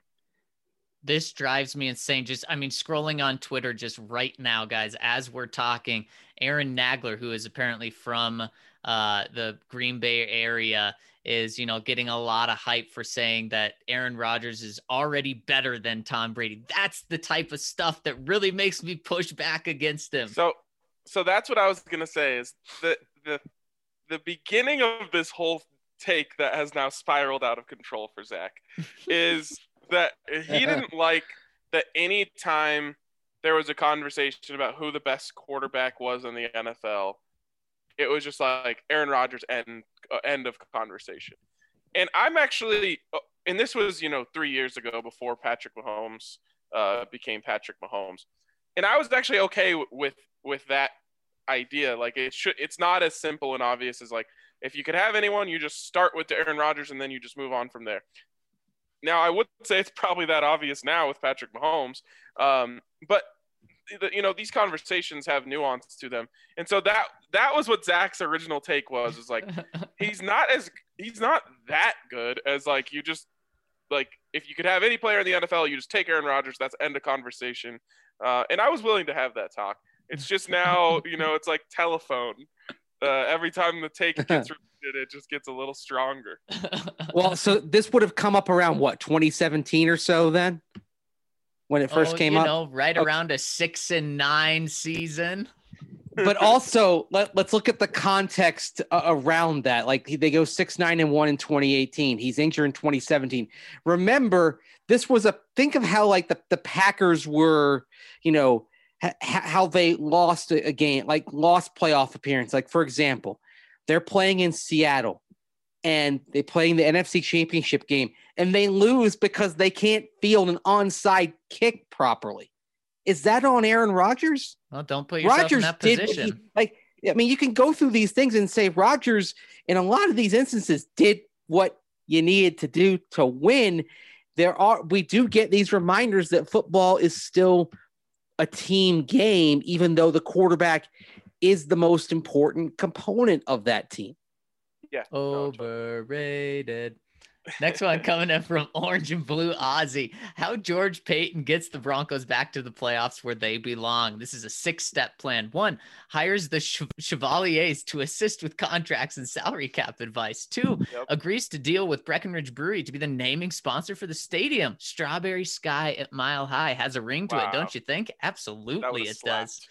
This drives me insane. Just, I mean, scrolling on Twitter just right now, guys, as we're talking, Aaron Nagler, who is apparently from uh, the Green Bay area, is, you know, getting a lot of hype for saying that Aaron Rodgers is already better than Tom Brady. That's the type of stuff that really makes me push back against him. So, so that's what I was going to say is the, the, the beginning of this whole take that has now spiraled out of control for Zach is that he didn't like that any time there was a conversation about who the best quarterback was in the N F L, it was just like Aaron Rodgers end, uh, end of conversation. And I'm actually, and this was, you know, three years ago before Patrick Mahomes uh, became Patrick Mahomes. And I was actually okay with, with that idea. Like it should, it's not as simple and obvious as like, if you could have anyone, you just start with Aaron Rodgers and then you just move on from there. Now, I would say it's probably that obvious now with Patrick Mahomes, um, but you know these conversations have nuance to them, and so that that was what Zach's original take was. Is like he's not as he's not that good as like you just like if you could have any player in the N F L, you just take Aaron Rodgers. That's end of conversation, uh, and I was willing to have that talk. It's just now you know it's like telephone. Uh, every time the take gets repeated, it just gets a little stronger. Well, so this would have come up around what, twenty seventeen or so then? When it first oh, came you up? know, right okay. around a six and nine season. But also, let, let's look at the context uh, around that. Like they go six, nine, and one in twenty eighteen. He's injured in twenty seventeen. Remember, this was a think of how like the, the Packers were, you know, how they lost a game, like lost playoff appearance. Like, for example, they're playing in Seattle and they play in the N F C Championship game and they lose because they can't field an onside kick properly. Is that on Aaron Rodgers? Well, don't put yourself Rodgers in that did position. He, like, I mean, you can go through these things and say Rodgers, in a lot of these instances, did what you needed to do to win. There are, we do get these reminders that football is still a team game, even though the quarterback is the most important component of that team. Yeah. Overrated. Next one coming in from Orange and Blue Ozzy. How George Payton gets the Broncos back to the playoffs where they belong. This is a six-step plan. One, hires the Chev- Chevaliers to assist with contracts and salary cap advice. Two, yep. agrees to deal with Breckenridge Brewery to be the naming sponsor for the stadium. Strawberry Sky at Mile High has a ring to wow. it, don't you think? Absolutely it slapped. does.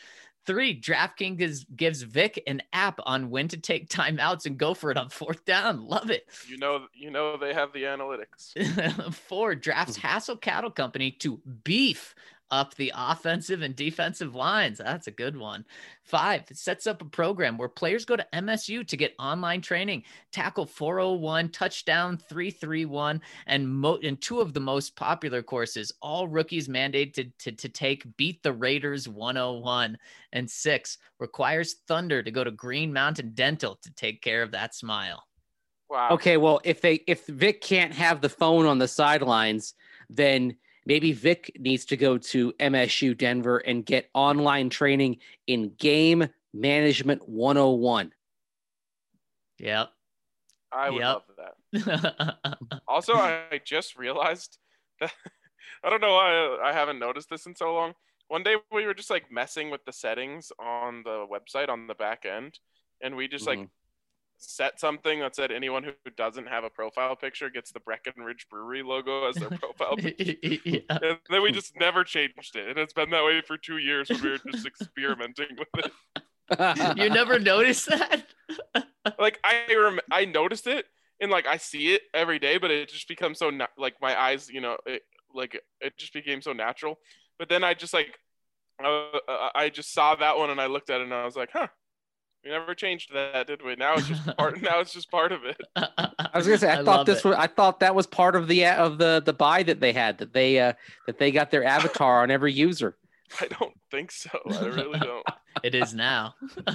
Three, DraftKings gives, gives Vic an app on when to take timeouts and go for it on fourth down. Love it. You know, you know they have the analytics. Four, drafts Hassel Cattle Company to beef up the offensive and defensive lines. That's a good one. Five, it sets up a program where players go to M S U to get online training, tackle four oh one, touchdown three thirty-one, and, mo- and two of the most popular courses, all rookies mandated to, to, to take Beat the Raiders one oh one. And six, requires Thunder to go to Green Mountain Dental to take care of that smile. Wow. Okay, well, if they if Vic can't have the phone on the sidelines, then maybe Vic needs to go to M S U Denver and get online training in game management one oh one. Yep. I would Yep. love that. Also, I just realized that I don't know why I haven't noticed this in so long. One day we were just like messing with the settings on the website on the back end, and we just like Mhm. set something that said anyone who doesn't have a profile picture gets the Breckenridge Brewery logo as their profile picture. Yeah. And then we just never changed it, and it's been that way for two years when we were just experimenting with it. You never noticed that? Like I rem- I noticed it, and like I see it every day, but it just becomes so na- like my eyes, you know, it, like it just became so natural. But then I just like uh, I just saw that one, and I looked at it, and I was like, huh. We never changed that, did we? Now it's just part. Now it's just part of it. I was gonna say, I, I thought love this it. was, I thought that was part of the of the the buy that they had that they uh that they got their avatar on every user. I don't think so. I really don't. It is now.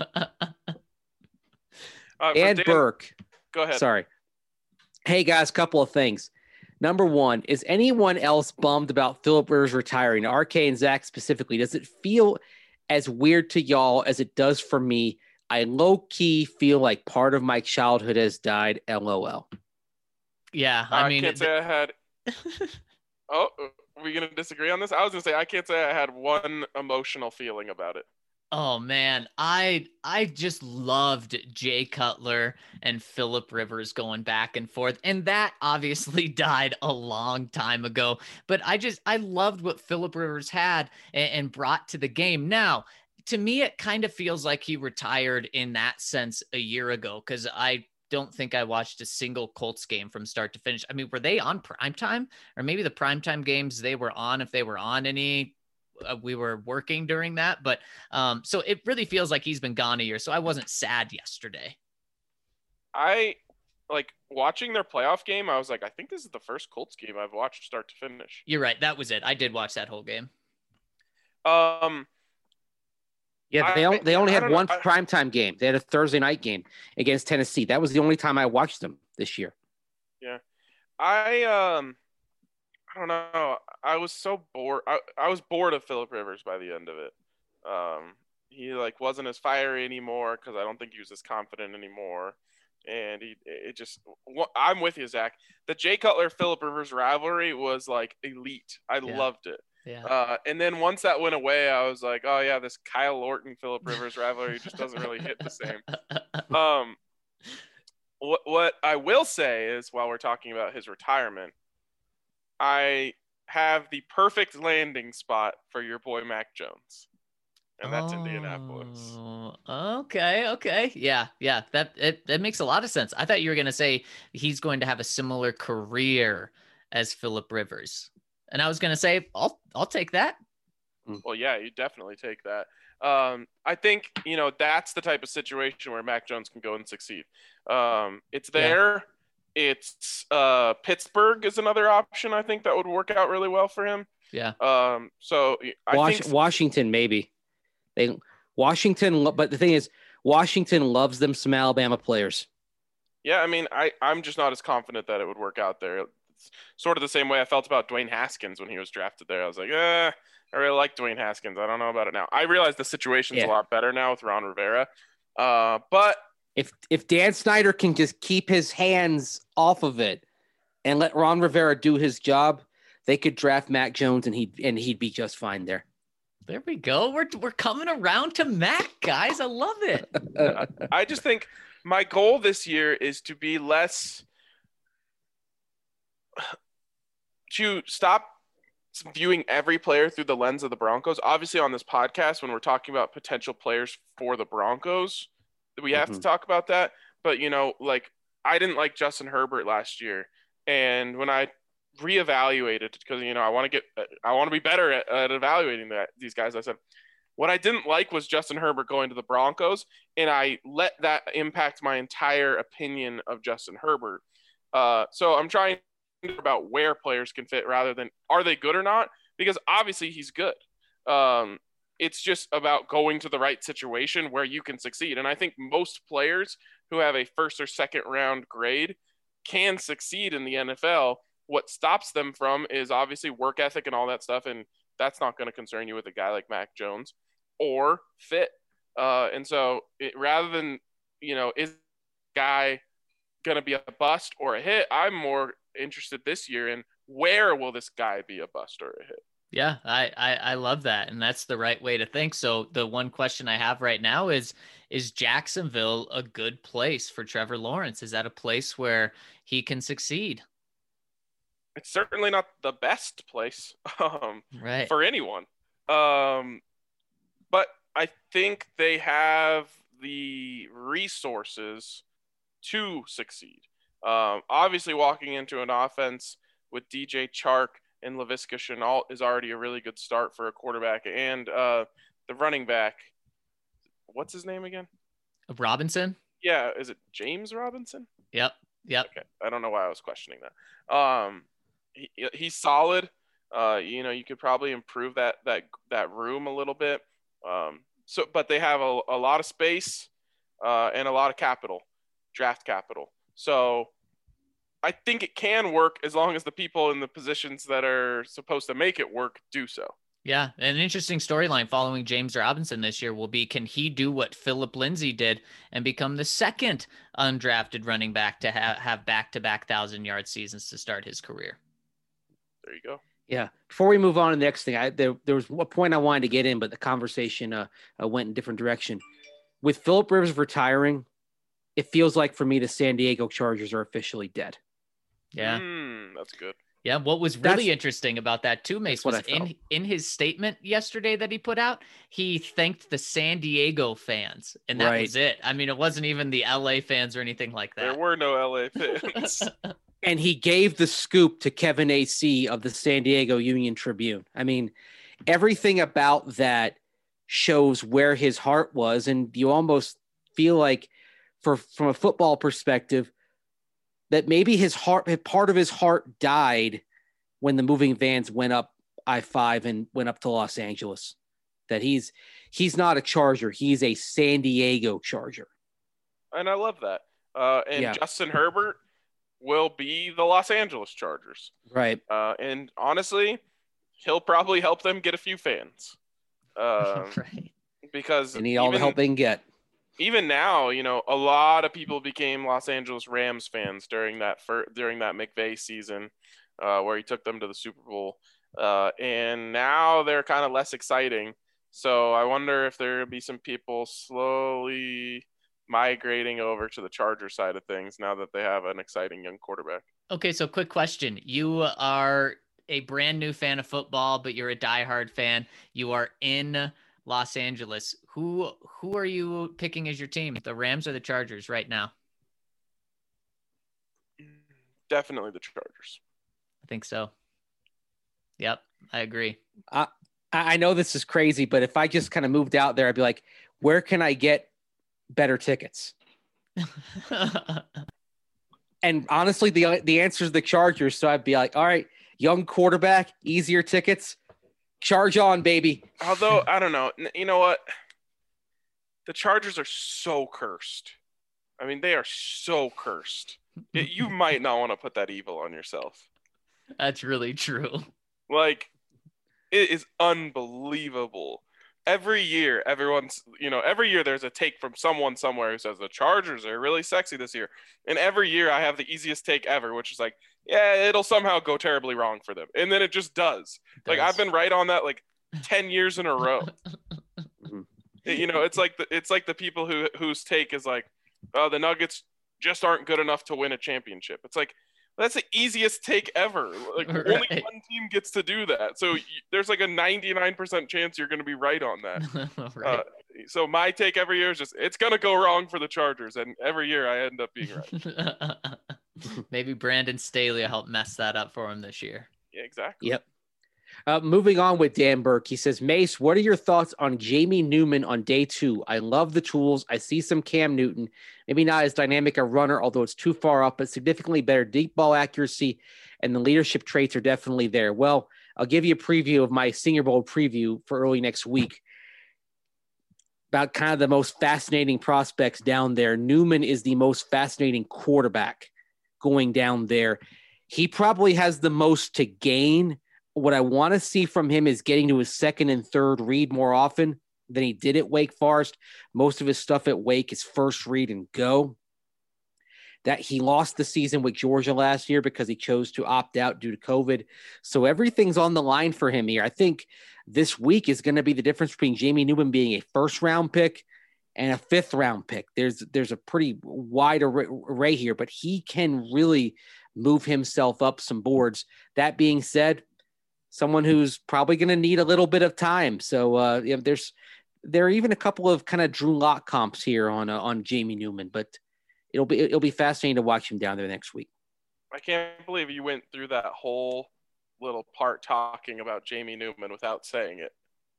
Uh, for And Dan- Burke, go ahead. sorry. Hey guys, couple of things. Number one, is anyone else bummed about Philip Rivers retiring? R K and Zach specifically, does it feel as weird to y'all as it does for me? I low key feel like part of my childhood has died. L O L. Yeah, I, I mean, can't it- say I had. Oh, are we gonna disagree on this? I was gonna say I can't say I had one emotional feeling about it. oh man, I I just loved Jay Cutler and Philip Rivers going back and forth, and that obviously died a long time ago. But I just I loved what Philip Rivers had and, and brought to the game. Now, to me, it kind of feels like he retired in that sense a year ago because I don't think I watched a single Colts game from start to finish. I mean, were they on primetime, or maybe the primetime games they were on, if they were on any? Uh, we were working during that, but um, so it really feels like he's been gone a year. So I wasn't sad yesterday. I like watching their playoff game. I was like, I think this is the first Colts game I've watched start to finish. You're right. That was it. I did watch that whole game. Um, Yeah, they I- only, they only I had don't know. one I- primetime game. They had a Thursday night game against Tennessee. That was the only time I watched them this year. I um, I don't know. I was so bored. I, I was bored of Philip Rivers by the end of it. Um, he like wasn't as fiery anymore because I don't think he was as confident anymore. And he, it just, I'm with you, Zach. The Jay Cutler Philip Rivers rivalry was like elite. I Yeah. loved it. Yeah. Uh, and then once that went away, I was like, oh yeah, this Kyle Orton Philip Rivers rivalry just doesn't really hit the same. Um, what what I will say is, while we're talking about his retirement, I have the perfect landing spot for your boy Mac Jones, and that's Indianapolis. Oh, okay, okay, yeah, yeah. That it, that makes a lot of sense. I thought you were gonna say he's going to have a similar career as Philip Rivers, and I was gonna say I'll I'll take that. Well, yeah, you definitely take that. Um, I think, you know, that's the type of situation where Mac Jones can go and succeed. Um, it's Yeah. there. It's uh, Pittsburgh is another option. I think that would work out really well for him. Yeah. Um, so I Wash, think Washington, maybe. They Washington, lo- but the thing is, Washington loves them some Alabama players. Yeah, I mean, I, I'm just not as confident that it would work out there. It's sort of the same way I felt about Dwayne Haskins when he was drafted there. I was like, eh, I really like Dwayne Haskins. I don't know about it now. I realize the situation's Yeah. a lot better now with Ron Rivera. Uh, but If if Dan Snyder can just keep his hands off of it and let Ron Rivera do his job, they could draft Mac Jones and he'd and he'd be just fine there. There we go. We're we're coming around to Mac, guys. I love it. I just think my goal this year is to be less to stop viewing every player through the lens of the Broncos. Obviously, on this podcast, when we're talking about potential players for the Broncos, we have Mhm. to talk about that. But, you know, like, I didn't like Justin Herbert last year. And when I reevaluated, because, you know, I want to get, I want to be better at, at evaluating that, these guys, I said, what I didn't like was Justin Herbert going to the Broncos, and I let that impact my entire opinion of Justin Herbert. Uh, so I'm trying to think about where players can fit rather than are they good or not, because obviously he's good. Um, it's just about going to the right situation where you can succeed. And I think most players who have a first or second round grade can succeed in the N F L. What stops them from is obviously work ethic and all that stuff, and that's not going to concern you with a guy like Mac Jones, or fit. Uh, and so it, rather than, you know, is guy going to be a bust or a hit, I'm more interested this year in where will this guy be a bust or a hit. Yeah, I, I, I love that. And that's the right way to think. So the one question I have right now is, is Jacksonville a good place for Trevor Lawrence? Is that a place where he can succeed? It's certainly not the best place um, right. for anyone. Um, but I think they have the resources to succeed. Um, obviously, walking into an offense with D J Chark and Laviska Shenault is already a really good start for a quarterback. And uh, the running back, what's his name again? Robinson? Yeah, is it James Robinson? Yep, yep. Okay, I don't know why I was questioning that. Um, he, he's solid. Uh, you know, you could probably improve that that that room a little bit. Um, so, but they have a, a lot of space uh, and a lot of capital, draft capital. So I think it can work as long as the people in the positions that are supposed to make it work do so. Yeah, an interesting storyline following James Robinson this year will be, can he do what Philip Lindsay did and become the second undrafted running back to ha- have back-to-back thousand-yard seasons to start his career? There you go. Yeah. Before we move on to the next thing, I, there, there was a point I wanted to get in, but the conversation uh, uh, went in a different direction. With Phillip Rivers retiring, it feels like for me the San Diego Chargers are officially dead. Yeah. Mm, that's good. Yeah, what was really That's, interesting about that too, Mace, was in, in his statement yesterday that he put out, he thanked the San Diego fans, and that right. was it. I mean, it wasn't even the L A fans or anything like that. There were no L A fans. And he gave the scoop to Kevin A C of the San Diego Union Tribune. I mean, everything about that shows where his heart was, and you almost feel like, for from a football perspective, that maybe his heart, part of his heart died when the moving vans went up I five and went up to Los Angeles. That he's he's not a Charger. He's a San Diego Charger. And I love that. Uh, and yeah. Justin Herbert will be the Los Angeles Chargers. Right. Uh, and honestly, he'll probably help them get a few fans. Uh, right. Because they need all even, the help they can get. Even now, you know, a lot of people became Los Angeles Rams fans during that fir- during that McVay season, uh, where he took them to the Super Bowl, uh, and now they're kind of less exciting. So I wonder if there will be some people slowly migrating over to the Charger side of things now that they have an exciting young quarterback. Okay, so quick question: you are a brand new fan of football, but you're a diehard fan. You are in Los Angeles. Who who are you picking as your team? The Rams or the Chargers right now? Definitely the Chargers. I think so. Yep, I agree. Uh, I know this is crazy, but if I just kind of moved out there, I'd be like, where can I get better tickets? And honestly, the the answer is the Chargers. So I'd be like, all right, young quarterback, easier tickets. Charge on, baby. Although, I don't know. You know what? The Chargers are so cursed. I mean, they are so cursed. It, you might not want to put that evil on yourself. That's really true. Like, it is unbelievable. Every year, everyone's, you know, every year there's a take from someone somewhere who says the Chargers are really sexy this year. And every year I have the easiest take ever, which is like, yeah, it'll somehow go terribly wrong for them. And then it just does. It like, does. I've been right on that like ten years in a row. it, you know, it's like the, it's like the people who whose take is like, oh, the Nuggets just aren't good enough to win a championship. It's like, That's the easiest take ever. Like Right. only one team gets to do that. So y- there's like a ninety-nine percent chance you're going to be right on that. Right. Uh, so my take every year is just it's going to go wrong for the Chargers, and every year I end up being right. Maybe Brandon Staley will help mess that up for him this year. Yeah, exactly. Yep. Uh, moving on with Dan Burke, he says, Mace, what are your thoughts on Jamie Newman on day two? I love the tools. I see some Cam Newton, maybe not as dynamic a runner, although it's too far up, but significantly better deep ball accuracy, and the leadership traits are definitely there. Well, I'll give you a preview of my Senior Bowl preview for early next week about kind of the most fascinating prospects down there. Newman is the most fascinating quarterback going down there. He probably has the most to gain. What I want to see from him is getting to his second and third read more often than he did at Wake Forest. Most of his stuff at Wake is first read and go. That he lost the season with Georgia last year because he chose to opt out due to COVID. So everything's on the line for him here. I think this week is going to be the difference between Jamie Newman being a first round pick and a fifth round pick. There's, there's a pretty wide array here, but he can really move himself up some boards. That being said, someone who's probably going to need a little bit of time. So uh, you know, there's there are even a couple of kind of Drew Lock comps here on uh, on Jamie Newman, but it'll be it'll be fascinating to watch him down there next week. I can't believe you went through that whole little part talking about Jamie Newman without saying it.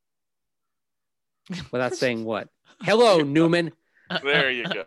Without saying what? Hello, Newman. There you go.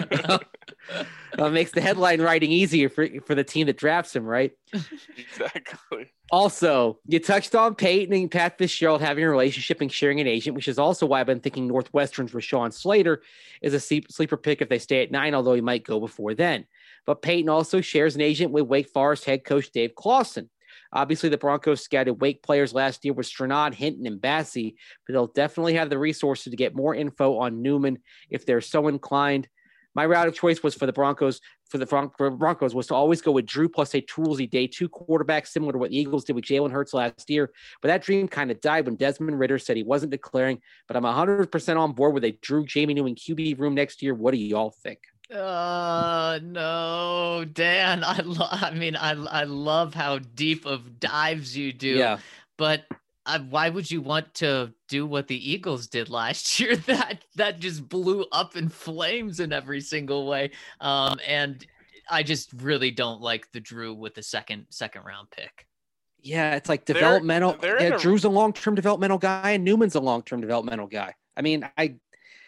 Well, it makes the headline writing easier for, for the team that drafts him, right? Exactly. Also, you touched on Peyton and Pat Fitzgerald having a relationship and sharing an agent, which is also why I've been thinking Northwestern's Rashawn Slater is a sleeper pick if they stay at nine, although he might go before then. But Peyton also shares an agent with Wake Forest head coach Dave Clawson. Obviously, the Broncos scouted Wake players last year with Strnad, Hinton, and Bassey, but they'll definitely have the resources to get more info on Newman if they're so inclined. My route of choice was for the Broncos, for the Broncos was to always go with Drew plus a toolsy day two quarterback, similar to what the Eagles did with Jalen Hurts last year. But that dream kind of died when Desmond Ridder said he wasn't declaring. But I'm one hundred percent on board with a Drew Jamie Newman Q B room next year. What do y'all think? Uh no, Dan. I lo- I mean, I I love how deep of dives you do. Yeah. But I, why would you want to do what the Eagles did last year? That that just blew up in flames in every single way. Um, and I just really don't like the Drew with the second second round pick. Yeah, it's like developmental. They're, they're yeah, a... Drew's a long-term developmental guy, and Newman's a long-term developmental guy. I mean, I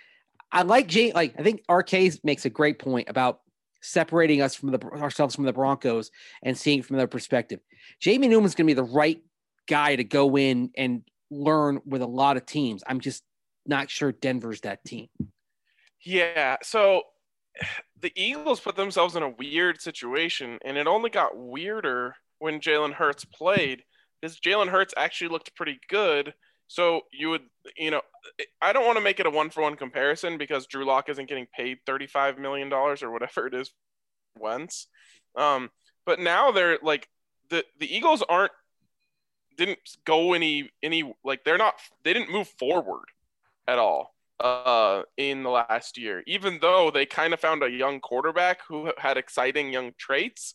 I like Jay. Like I think R K makes a great point about separating us from the ourselves from the Broncos and seeing it from their perspective. Jamie Newman's going to be the right guy to go in and learn with a lot of teams. I'm just not sure Denver's that team. Yeah. So the Eagles put themselves in a weird situation, and it only got weirder when Jalen Hurts played, because Jalen Hurts actually looked pretty good. So you would, you know, I don't want to make it a one-for-one comparison because Drew Lock isn't getting paid thirty-five million dollars or whatever it is once. Um, but now they're like, the, the Eagles aren't, didn't go any, any, like they're not, they didn't move forward at all uh, in the last year, even though they kind of found a young quarterback who had exciting young traits.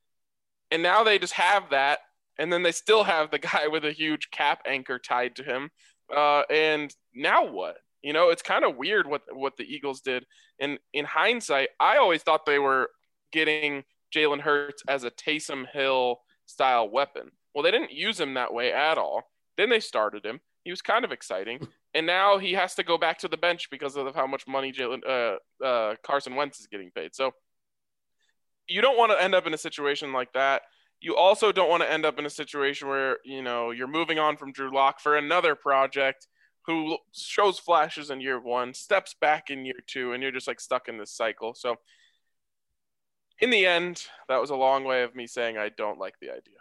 And now they just have that. And then they still have the guy with a huge cap anchor tied to him. Uh, and now what? You know, it's kind of weird what, what the Eagles did. And in hindsight, I always thought they were getting Jalen Hurts as a Taysom Hill style weapon. Well, they didn't use him that way at all. Then they started him. He was kind of exciting. And now he has to go back to the bench because of how much money Jalen uh, uh, Carson Wentz is getting paid. So you don't want to end up in a situation like that. You also don't want to end up in a situation where, you know, you're moving on from Drew Lock for another project who shows flashes in year one, steps back in year two, and you're just like stuck in this cycle. So in the end, that was a long way of me saying I don't like the idea.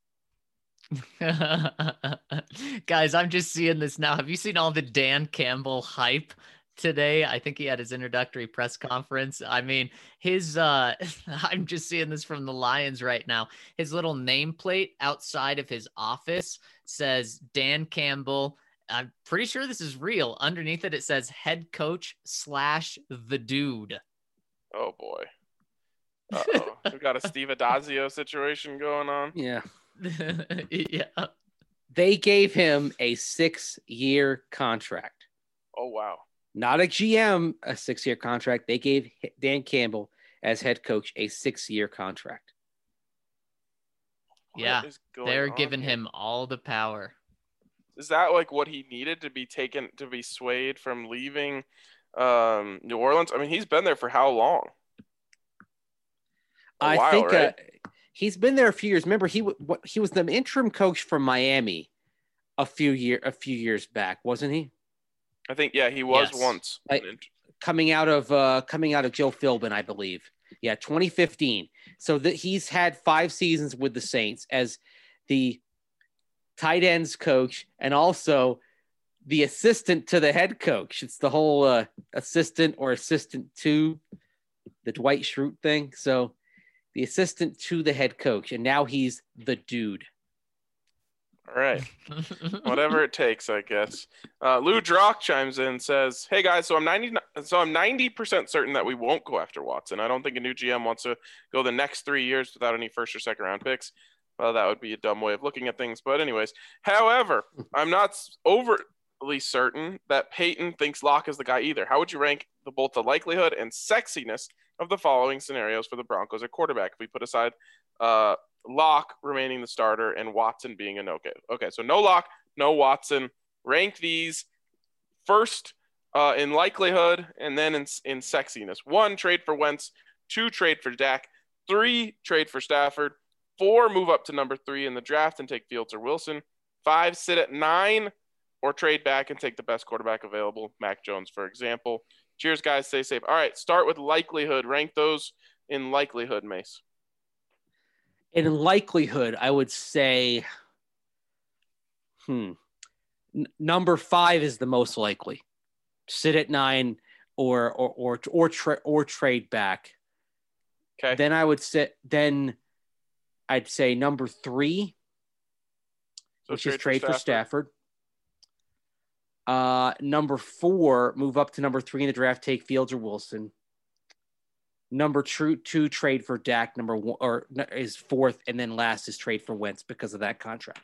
Guys, I'm just seeing this now. Have you seen all the Dan Campbell hype today? I think he had his introductory press conference. I mean, his uh I'm just seeing this from the Lions right now. His little nameplate outside of his office says Dan Campbell. I'm pretty sure this is real. Underneath it, it says head coach slash the dude. Oh boy. Uh-oh. We got a Steve Adazio situation going on. Yeah. Yeah. They gave him a six-year contract. Oh, wow. Not a G M, a six-year contract. They gave Dan Campbell, as head coach, a six-year contract. What Yeah. is going They're on giving here? him all the power. Is that like what he needed to be taken, to be swayed from leaving um, New Orleans? I mean, he's been there for how long? A I while, think right? uh, he's been there a few years. Remember, he w- what, he was the interim coach for Miami a few year a few years back, wasn't he? I think, yeah, he was Yes. once. Like, coming out of uh, coming out of Joe Philbin, I believe. Yeah, twenty fifteen. So that he's had five seasons with the Saints as the tight ends coach and also the assistant to the head coach. It's the whole uh, assistant or assistant to the Dwight Schrute thing. So the assistant to the head coach, and now he's the dude. All right. Whatever it takes, I guess. Uh, Lou Drock chimes in and says, "Hey guys, so I'm ninety, so I'm ninety percent certain that we won't go after Watson. I don't think a new G M wants to go the next three years without any first or second round picks. Well, that would be a dumb way of looking at things. But anyways, however, I'm not overly certain that Peyton thinks Locke is the guy either. How would you rank the, both the likelihood and sexiness of the following scenarios for the Broncos at quarterback? If we put aside uh, Locke remaining the starter and Watson being a no-go. Okay, so no Locke, no Watson. Rank these first uh, in likelihood and then in, in sexiness. One, trade for Wentz. Two, trade for Dak. Three, trade for Stafford. Four, move up to number three in the draft and take Fields or Wilson. Five, sit at nine or trade back and take the best quarterback available, Mac Jones, for example. Cheers, guys. Stay safe. All right, start with likelihood. Rank those in likelihood, Mace. In likelihood, I would say, hmm, N- number five is the most likely. Sit at nine, or or or or, tra- or trade back. Okay. Then I would sit. Then I'd say number three, So which is for trade for Stafford. Uh, number four, move up to number three in the draft, take Fields or Wilson. Number two, two trade for Dak. Number one or is fourth, and then last is trade for Wentz because of that contract.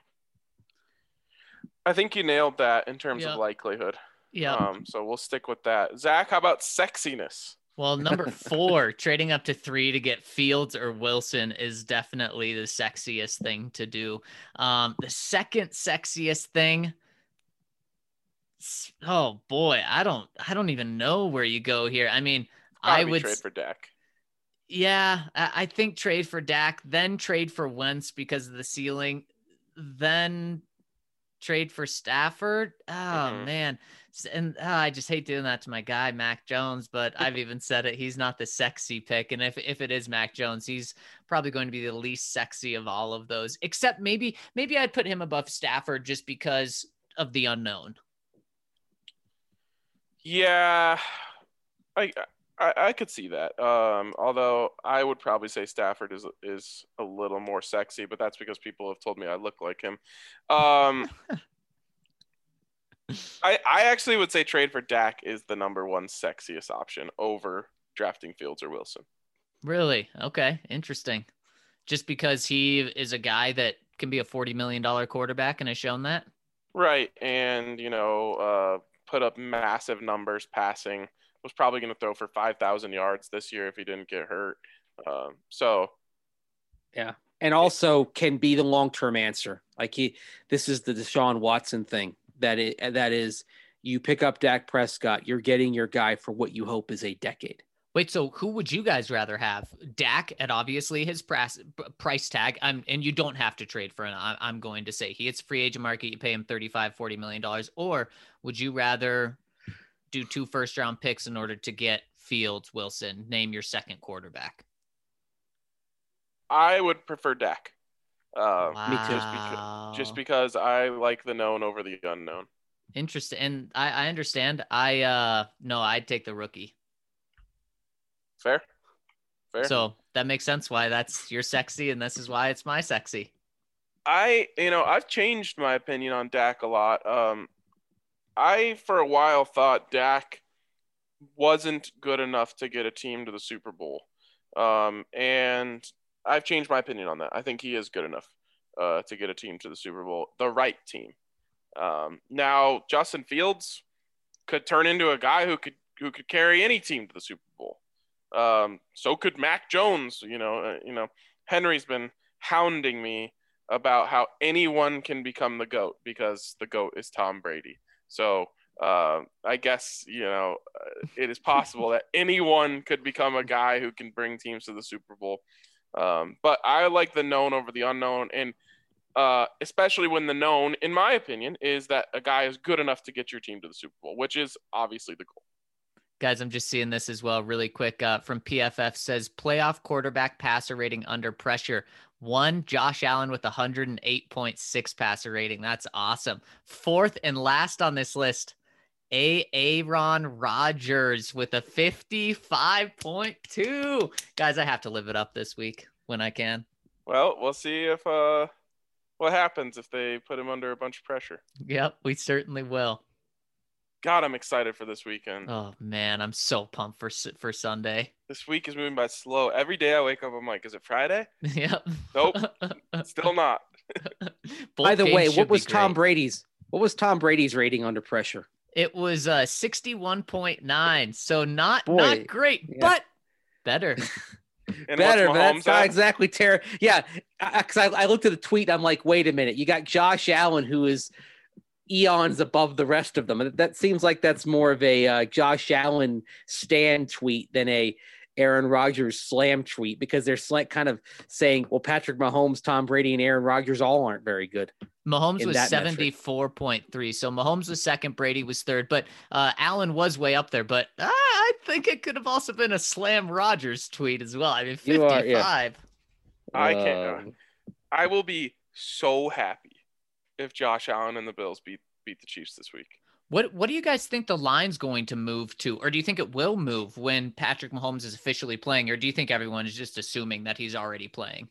I think you nailed that in terms Yep. of likelihood. Yeah. Um, so we'll stick with that. Zach, how about sexiness? Well, number four, trading up to three to get Fields or Wilson is definitely the sexiest thing to do. Um, the second sexiest thing, oh boy, I don't, I don't even know where you go here. I mean, Gotta I be would trade for Dak. Yeah, I I think trade for Dak, then trade for Wentz because of the ceiling, then trade for Stafford. Oh Mhm. man, S- and ah, I just hate doing that to my guy Mac Jones. But I've even said it; he's not the sexy pick, and if if it is Mac Jones, he's probably going to be the least sexy of all of those. Except maybe maybe I'd put him above Stafford just because of the unknown. Yeah, I, I I could see that. Um, although I would probably say Stafford is is a little more sexy, but that's because people have told me I look like him. Um, I I actually would say trade for Dak is the number one sexiest option over drafting Fields or Wilson. Really? Okay, interesting. Just because he is a guy that can be a forty million dollars quarterback and has shown that. Right, and you know, uh, put up massive numbers passing. Was probably going to throw for five thousand yards this year if he didn't get hurt. Um, so, Yeah, and also can be the long-term answer. Like he, this is the Deshaun Watson thing. That is, that is, you pick up Dak Prescott, you're getting your guy for what you hope is a decade. Wait, so who would you guys rather have? Dak at obviously his price price tag. I'm, and you don't have to trade for him. I'm going to say he hits free agent market. You pay him thirty-five, forty million dollars. Or would you rather do two first round picks in order to get Fields, Wilson, name your second quarterback? I would prefer Dak. Uh, wow. Me too. Just because, just because I like the known over the unknown. Interesting. And I, I understand. I uh no, I'd take the rookie. Fair. Fair. So that makes sense why that's your sexy, and this is why it's my sexy. I, you know, I've changed my opinion on Dak a lot. Um, I, for a while, thought Dak wasn't good enough to get a team to the Super Bowl. Um, and I've changed my opinion on that. I think he is good enough uh, to get a team to the Super Bowl, the right team. Um, now, Justin Fields could turn into a guy who could who could carry any team to the Super Bowl. Um, so could Mac Jones. You know, uh, you know, Henry's been hounding me about how anyone can become the GOAT because the GOAT is Tom Brady. So uh, I guess, you know, uh, it is possible that anyone could become a guy who can bring teams to the Super Bowl. Um, but I like the known over the unknown. And uh, especially when the known, in my opinion, is that a guy is good enough to get your team to the Super Bowl, which is obviously the goal. Guys, I'm just seeing this as well really quick uh, from P F F says playoff quarterback passer rating under pressure. One, Josh Allen with one hundred eight point six passer rating. That's awesome. Fourth and last on this list, A. Aaron Rodgers with a fifty-five point two. Guys, I have to live it up this week when I can. Well, we'll see if uh, what happens if they put him under a bunch of pressure. Yep, we certainly will. God, I'm excited for this weekend. Oh, man, I'm so pumped for for Sunday. This week is moving by slow. Every day I wake up, I'm like, is it Friday? Yep. Nope, still not. Both By the way, games what should was be Tom great. Brady's? What was Tom Brady's rating under pressure? It was uh, sixty-one point nine, so not Boy, not great, yeah. but better. And Better, what's but that's Mahomes not at? exactly terrible. Yeah, because I, I, I looked at the tweet. I'm like, wait a minute. You got Josh Allen, who is eons above the rest of them. And that seems like that's more of a uh, Josh Allen stan tweet than a Aaron Rodgers slam tweet, because they're like kind of saying, well, Patrick Mahomes, Tom Brady, and Aaron Rodgers all aren't very good. Mahomes in was that metric. seventy-four point three. So Mahomes was second, Brady was third, but uh, Allen was way up there. But uh, I think it could have also been a slam Rodgers tweet as well. I mean, You are, fifty-five. yeah. I can't. Um, I will be so happy if Josh Allen and the Bills beat beat the Chiefs this week. What What do you guys think the line's going to move to? Or do you think it will move when Patrick Mahomes is officially playing? Or do you think everyone is just assuming that he's already playing?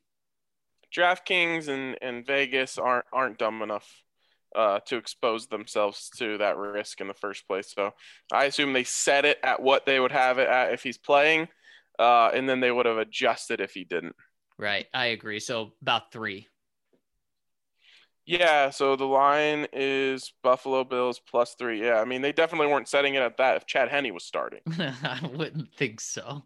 DraftKings and, and Vegas aren't aren't dumb enough uh, to expose themselves to that risk in the first place. So I assume they set it at what they would have it at if he's playing, uh, and then they would have adjusted if he didn't. Right. I agree. So about three. Yeah, so the line is Buffalo Bills plus three. Yeah, I mean, they definitely weren't setting it at that if Chad Henne was starting. I wouldn't think so.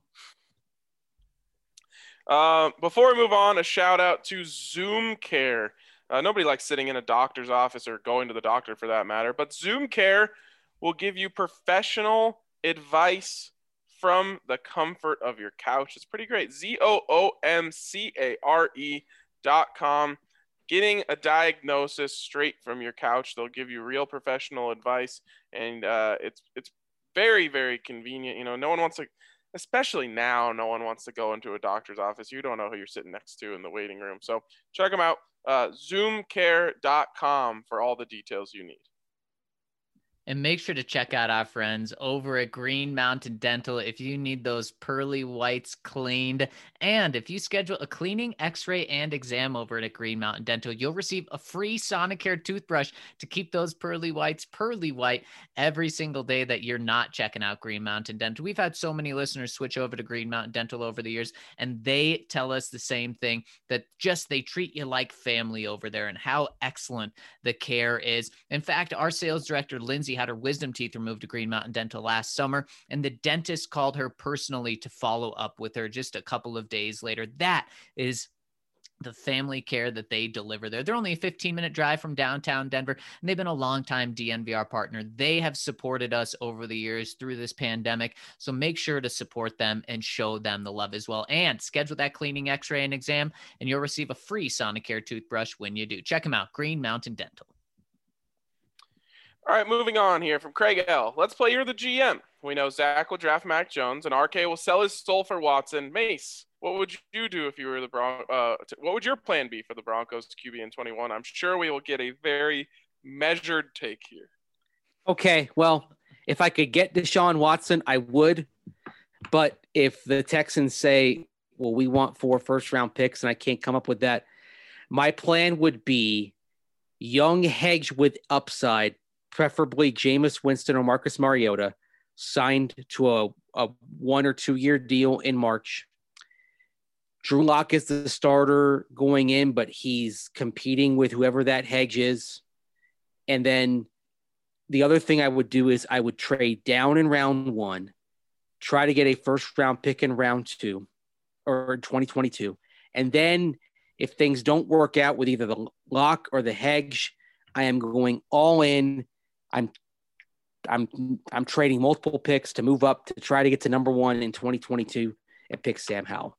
Uh, before we move on, a shout out to Zoom Care. Uh, nobody likes sitting in a doctor's office or going to the doctor for that matter, but Zoom Care will give you professional advice from the comfort of your couch. It's pretty great. Z O O M C A R E dot com. Getting a diagnosis straight from your couch. They'll give you real professional advice, and uh, it's it's very, very convenient. You know, no one wants to, especially now, no one wants to go into a doctor's office. You don't know who you're sitting next to in the waiting room. So check them out, uh, zoom care dot com for all the details you need. And make sure to check out our friends over at Green Mountain Dental if you need those pearly whites cleaned. And if you schedule a cleaning, x-ray, and exam over at Green Mountain Dental, you'll receive a free Sonicare toothbrush to keep those pearly whites pearly white every single day that you're not checking out Green Mountain Dental. We've had so many listeners switch over to Green Mountain Dental over the years, and they tell us the same thing, that just they treat you like family over there and how excellent the care is. In fact, our sales director, Lindsay, had her wisdom teeth removed to Green Mountain Dental last summer, and the dentist called her personally to follow up with her just a couple of days later. That is the family care that they deliver there. They're only a fifteen minute drive from downtown Denver, and they've been a longtime D N V R partner. They have supported us over the years through this pandemic. So make sure to support them and show them the love as well. And schedule that cleaning, x-ray, and exam, and you'll receive a free Sonicare toothbrush when you do. Check them out, Green Mountain Dental. All right, moving on here from Craig L. Let's play You're the G M. We know Zach will draft Mac Jones, and R K will sell his soul for Watson. Mace, what would you do if you were the Bron- uh, t- what would your plan be for the Broncos Q B in twenty-one? I'm sure we will get a very measured take here. Okay, well, if I could get Deshaun Watson, I would. But if the Texans say, well, we want four first-round picks, and I can't come up with that, my plan would be young hedge with upside, preferably Jameis Winston or Marcus Mariota, signed to a, a one or two year deal in March. Drew Lock is the starter going in, but he's competing with whoever that hedge is. And then the other thing I would do is I would trade down in round one, try to get a first round pick in round two or twenty twenty-two. And then if things don't work out with either the lock or the hedge, I am going all in. I'm I'm I'm trading multiple picks to move up to try to get to number one in twenty twenty-two and pick Sam Howell.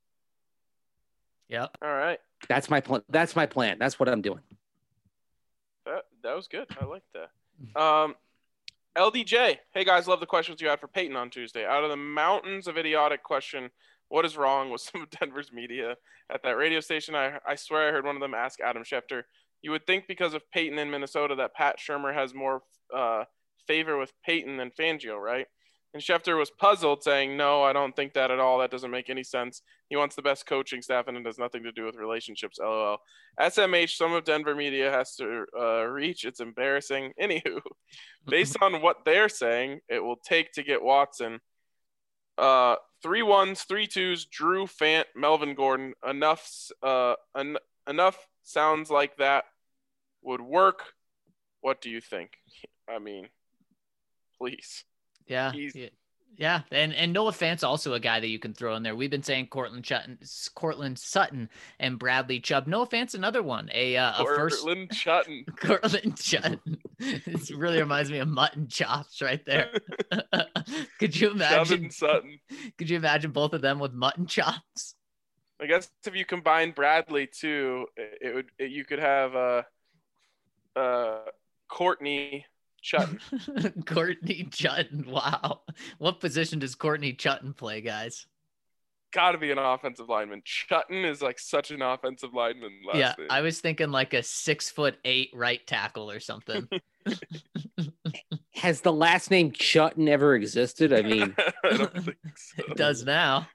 Yep. All right. That's my plan. That's my plan. That's what I'm doing. That that was good. I like that. Um, L D J. Hey guys, love the questions you had for Peyton on Tuesday. Out of the mountains of idiotic question, what is wrong with some of Denver's media at that radio station? I I swear I heard one of them ask Adam Schefter. You would think because of Peyton in Minnesota that Pat Shurmur has more uh, favor with Peyton than Fangio, right? And Schefter was puzzled, saying, no, I don't think that at all. That doesn't make any sense. He wants the best coaching staff, and it has nothing to do with relationships, LOL. S M H, some of Denver media has to uh, reach. It's embarrassing. Anywho, based on what they're saying, it will take to get Watson. Uh, three ones, three twos, Drew, Fant, Melvin Gordon. Enough, uh, en- enough sounds like that would work. What do you think? I mean, please. Yeah, He's- yeah, yeah, and and Noah Fant's also a guy that you can throw in there. We've been saying Cortland Sutton, Cortland Sutton, and Bradley Chubb. Noah Fant's another one. A uh, a first Cortland Sutton. Cortland Sutton. This really reminds me of mutton chops right there. Could you imagine? Sutton. Could you imagine both of them with mutton chops? I guess if you combine Bradley too, it would it, you could have uh uh Courtney Chutton. Courtney Chutton. Wow. What position does Courtney Chutton play, guys? Got to be an offensive lineman. Chutton is like such an offensive lineman. Last Yeah, name. I was thinking like a six foot eight right tackle or something. Has the last name Chutton ever existed? I mean, I don't think so. It does now.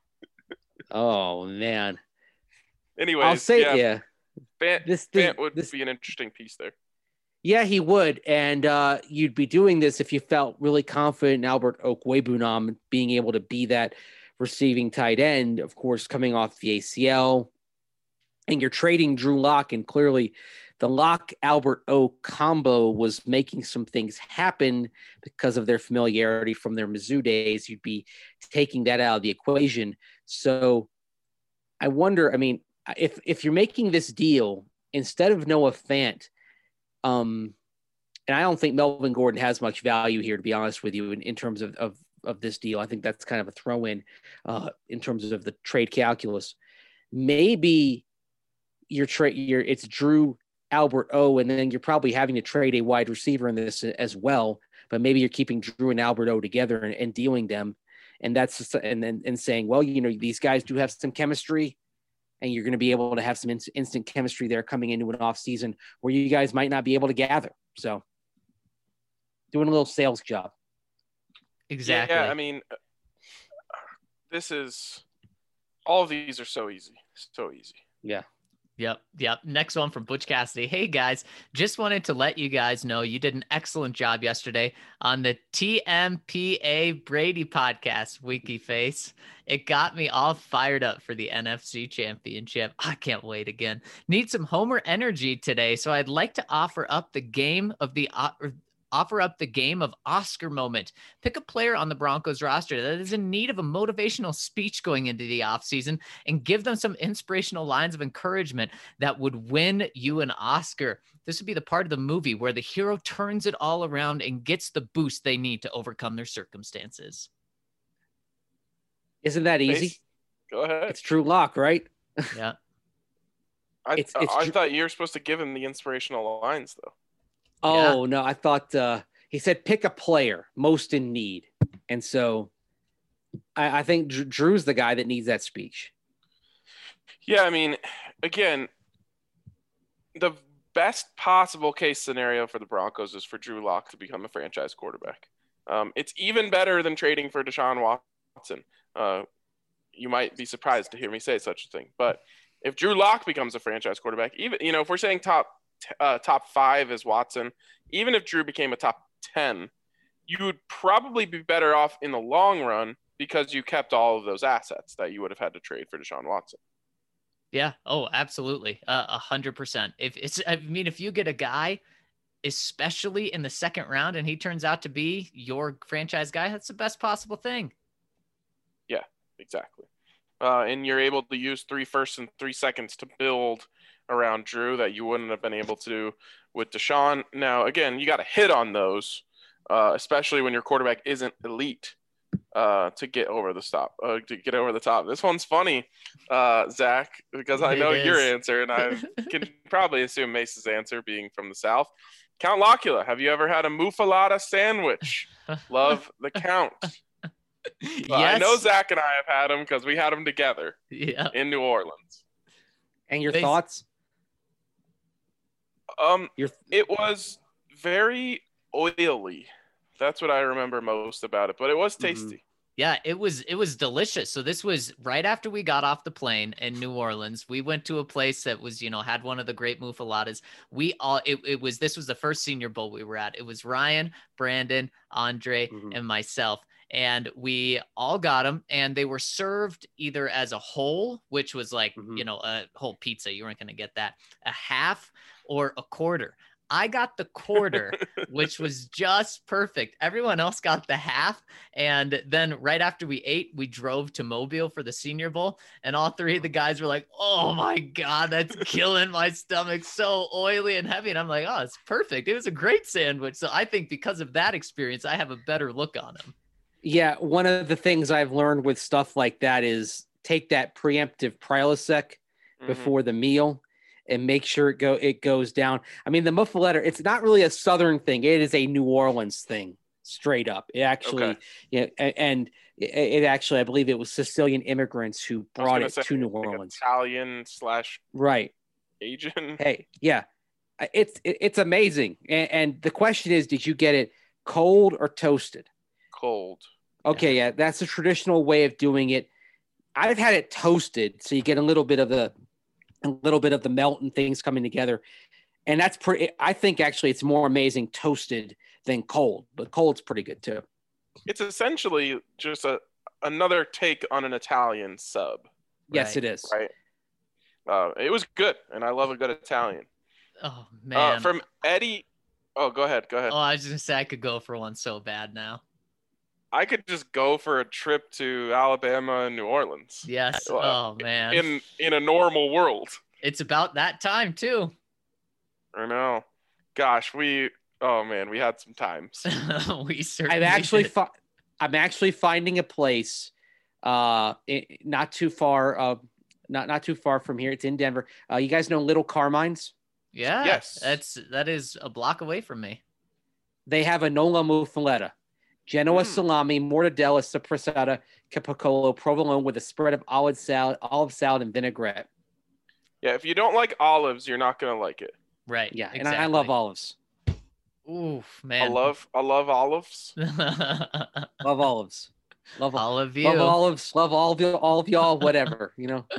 oh man. Anyways, I'll say yeah, yeah. Fant, This, this, Fant would this be an interesting piece there. Yeah, he would. And uh, you'd be doing this if you felt really confident in Albert Okwebunam being able to be that receiving tight end, of course, coming off the A C L. And you're trading Drew Lock, and clearly the Lock-Albert O combo was making some things happen because of their familiarity from their Mizzou days. You'd be taking that out of the equation. So I wonder, I mean, if if you're making this deal, instead of Noah Fant, Um, and I don't think Melvin Gordon has much value here, to be honest with you, in, in terms of, of, of this deal. I think that's kind of a throw in, uh, in terms of the trade calculus. Maybe you're trade, you're it's Drew, Albert O, and then you're probably having to trade a wide receiver in this as well. But maybe you're keeping Drew and Albert O together and, and dealing them, and that's just, and then and saying, well, you know, these guys do have some chemistry. And you're going to be able to have some in- instant chemistry there coming into an off season where you guys might not be able to gather. So doing a little sales job. Exactly. Yeah, I mean, this is all of these are so easy, so easy. Yeah. Yep. Yep. Next one from Butch Cassidy. Hey guys, just wanted to let you guys know you did an excellent job yesterday on the T M P A Brady podcast, Wiki Face. It got me all fired up for the N F C Championship. I can't wait again. Need some Homer energy today, so I'd like to offer up the game of the uh, offer up the game of Oscar moment. Pick a player on the Broncos roster that is in need of a motivational speech going into the offseason and give them some inspirational lines of encouragement that would win you an Oscar. This would be the part of the movie where the hero turns it all around and gets the boost they need to overcome their circumstances. Isn't that easy? Base, go ahead. It's Drew Lock, right? Yeah. I, it's- it's I Drew- thought you were supposed to give him the inspirational lines, though. Oh, no. I thought uh, he said pick a player most in need. And so I, I think Dr- Drew's the guy that needs that speech. Yeah, I mean, again, the best possible case scenario for the Broncos is for Drew Lock to become a franchise quarterback. Um, it's even better than trading for Deshaun Watson. Uh, you might be surprised to hear me say such a thing, but if Drew Lock becomes a franchise quarterback, even, you know, if we're saying top uh, top five is Watson, even if Drew became a top ten, you would probably be better off in the long run because you kept all of those assets that you would have had to trade for Deshaun Watson. Yeah. Oh, absolutely. Uh, A hundred percent. If it's, I mean, if you get a guy, especially in the second round, and he turns out to be your franchise guy, that's the best possible thing. Yeah, exactly. Uh, and you're able to use three firsts and three seconds to build around Drew that you wouldn't have been able to do with Deshaun. Now, again, you got to hit on those, uh, especially when your quarterback isn't elite, uh, to get over the stop, uh, to get over the top. This one's funny, uh, Zach, because I It know your is. answer, and I can probably assume Mace's answer being from the South. Count Locula, have you ever had a muffalata sandwich? Love the Count. Well, Yes. I know Zach and I have had them because we had them together Yeah. in New Orleans. And your They- thoughts? Um, Your it was very oily. That's what I remember most about it, but it was Mhm. tasty. Yeah, it was it was delicious. So this was right after we got off the plane in New Orleans. We went to a place that was, you know, had one of the great muffaladas. We all it, it was this was the first Senior Bowl we were at. It was Ryan, Brandon, Andre, Mhm. and myself. And we all got them, and they were served either as a whole, which was like, Mhm. you know, a whole pizza. You weren't going to get that, a half or a quarter. I got the quarter, which was just perfect. Everyone else got the half. And then right after we ate, we drove to Mobile for the Senior Bowl. And all three of the guys were like, oh my God, that's killing my stomach. So oily and heavy. And I'm like, oh, it's perfect. It was a great sandwich. So I think because of that experience, I have a better look on them. Yeah, one of the things I've learned with stuff like that is take that preemptive Prilosec Mhm. before the meal and make sure it go it goes down. I mean, the muffaletta, it's not really a Southern thing. It is a New Orleans thing, straight up. It actually, Okay. yeah, a- and it, it actually, I believe it was Sicilian immigrants who I was brought gonna it say, to New like Orleans. Italian slash Right. Asian. Hey, yeah, I- it's it, it's amazing. And, and the question is, did you get it cold or toasted? Cold. Okay, yeah, that's a traditional way of doing it. I've had it toasted, so you get a little bit of the a little bit of the melt and things coming together. And that's pretty I think actually it's more amazing toasted than cold, but cold's pretty good too. It's essentially just a another take on an Italian sub, Yes, Right. it is. right? Uh, it was good, and I love a good Italian. Oh, Uh, man. from Eddie. Oh, go ahead. Go ahead. oh, I was just going to say I could go for one so bad now. I could just go for a trip to Alabama and New Orleans. Yes. Well, Oh, man. In in a normal world. It's about that time, too. I know. Gosh, we. Oh man, we had some times. we certainly I'm actually did. fi- I'm actually finding a place uh i- not too far uh not not too far from here. It's in Denver. Uh you guys know Little Carmine's? Yeah. Yes. That's that is a block away from me. They have a Nola Muffaletta, Genoa Mm. salami, mortadella, sopressata, capicola, provolone with a spread of olive salad, olive salad and vinaigrette. Yeah, if you don't like olives, you're not gonna like it. Right. Yeah, and exactly. I, I love olives. Oof, I man. love I love olives. Love olives. Love all of you. love olives. Love all of you, all of y'all. Whatever, you know.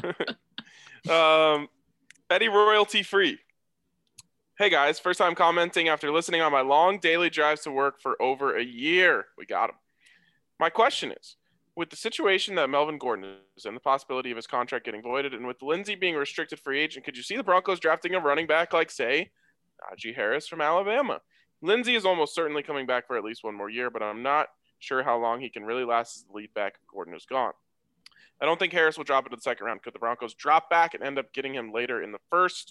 Um, Eddie royalty free. Hey guys, first time commenting after listening on my long daily drives to work for over a year. We got him. My question is, with the situation that Melvin Gordon is and the possibility of his contract getting voided, and with Lindsey being a restricted free agent, could you see the Broncos drafting a running back like, say, Najee Harris from Alabama? Lindsey is almost certainly coming back for at least one more year, but I'm not sure how long he can really last as the lead back if Gordon is gone. I don't think Harris will drop into the second round. Could the Broncos drop back and end up getting him later in the first?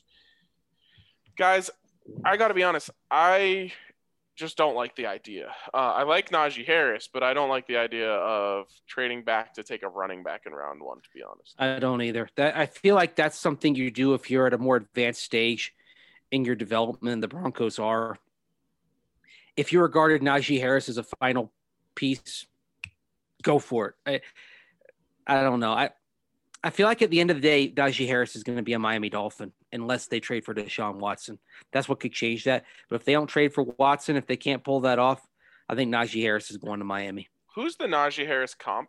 Guys, I got to be honest. I just don't like the idea. Uh, I like Najee Harris, but I don't like the idea of trading back to take a running back in round one, to be honest. I don't either. That I feel like that's something you do if you're at a more advanced stage in your development. The Broncos are. If you regarded Najee Harris as a final piece, go for it. I, I don't know. I I feel like at the end of the day, Najee Harris is going to be a Miami Dolphin unless they trade for Deshaun Watson. That's what could change that. But if they don't trade for Watson, if they can't pull that off, I think Najee Harris is going to Miami. Who's the Najee Harris comp?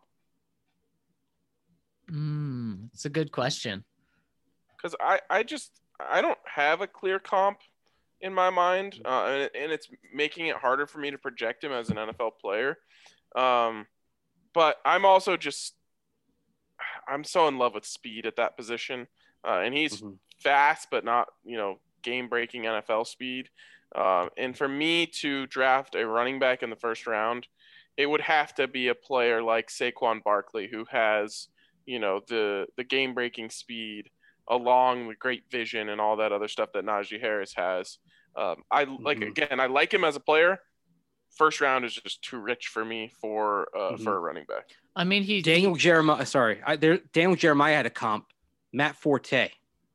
Mm, it's a good question. Because I, I just I don't have a clear comp in my mind, uh, and, and it's making it harder for me to project him as an N F L player. Um, but I'm also just I'm so in love with speed at that position. uh, and he's Mhm. fast, but not, you know, game-breaking N F L speed. Um, and for me to draft a running back in the first round, it would have to be a player like Saquon Barkley, who has, you know, the the game-breaking speed along with great vision and all that other stuff that Najee Harris has. Um, I like Mhm. again, I like him as a player. First round is just too rich for me for uh, Mhm. for a running back. I mean, he Daniel he- Jeremiah. Sorry, I, there. Daniel Jeremiah had a comp. Matt Forte.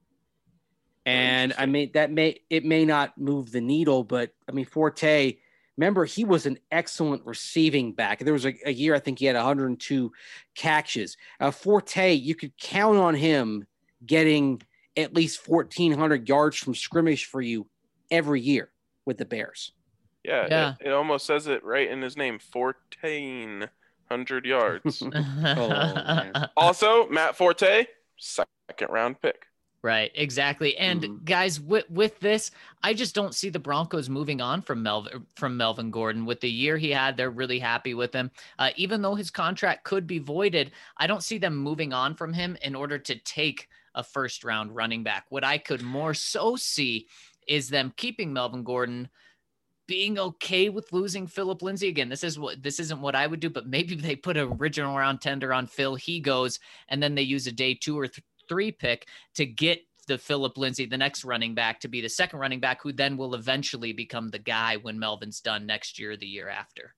And I Interesting. mean that may it may not move the needle, but I mean Forte. Remember, he was an excellent receiving back. There was a, a year I think he had one hundred two catches. Uh, Forte, you could count on him getting at least fourteen hundred yards from scrimmage for you every year with the Bears. Yeah, Yeah. It, it almost says it right in his name, fourteen hundred yards. Oh, man. Also, Matt Forte, second round pick. Right, exactly. And Mhm. guys, with with this, I just don't see the Broncos moving on from Melvin from Melvin Gordon. With the year he had, they're really happy with him. Uh, even though his contract could be voided, I don't see them moving on from him in order to take a first round running back. What I could more so see is them keeping Melvin Gordon, being okay with losing Philip Lindsay. Again, this is what this isn't what I would do, but maybe they put an original round tender on Phil. He goes, and then they use a day two or th- three pick to get the Philip Lindsay, the next running back, to be the second running back, who then will eventually become the guy when Melvin's done next year or the year after.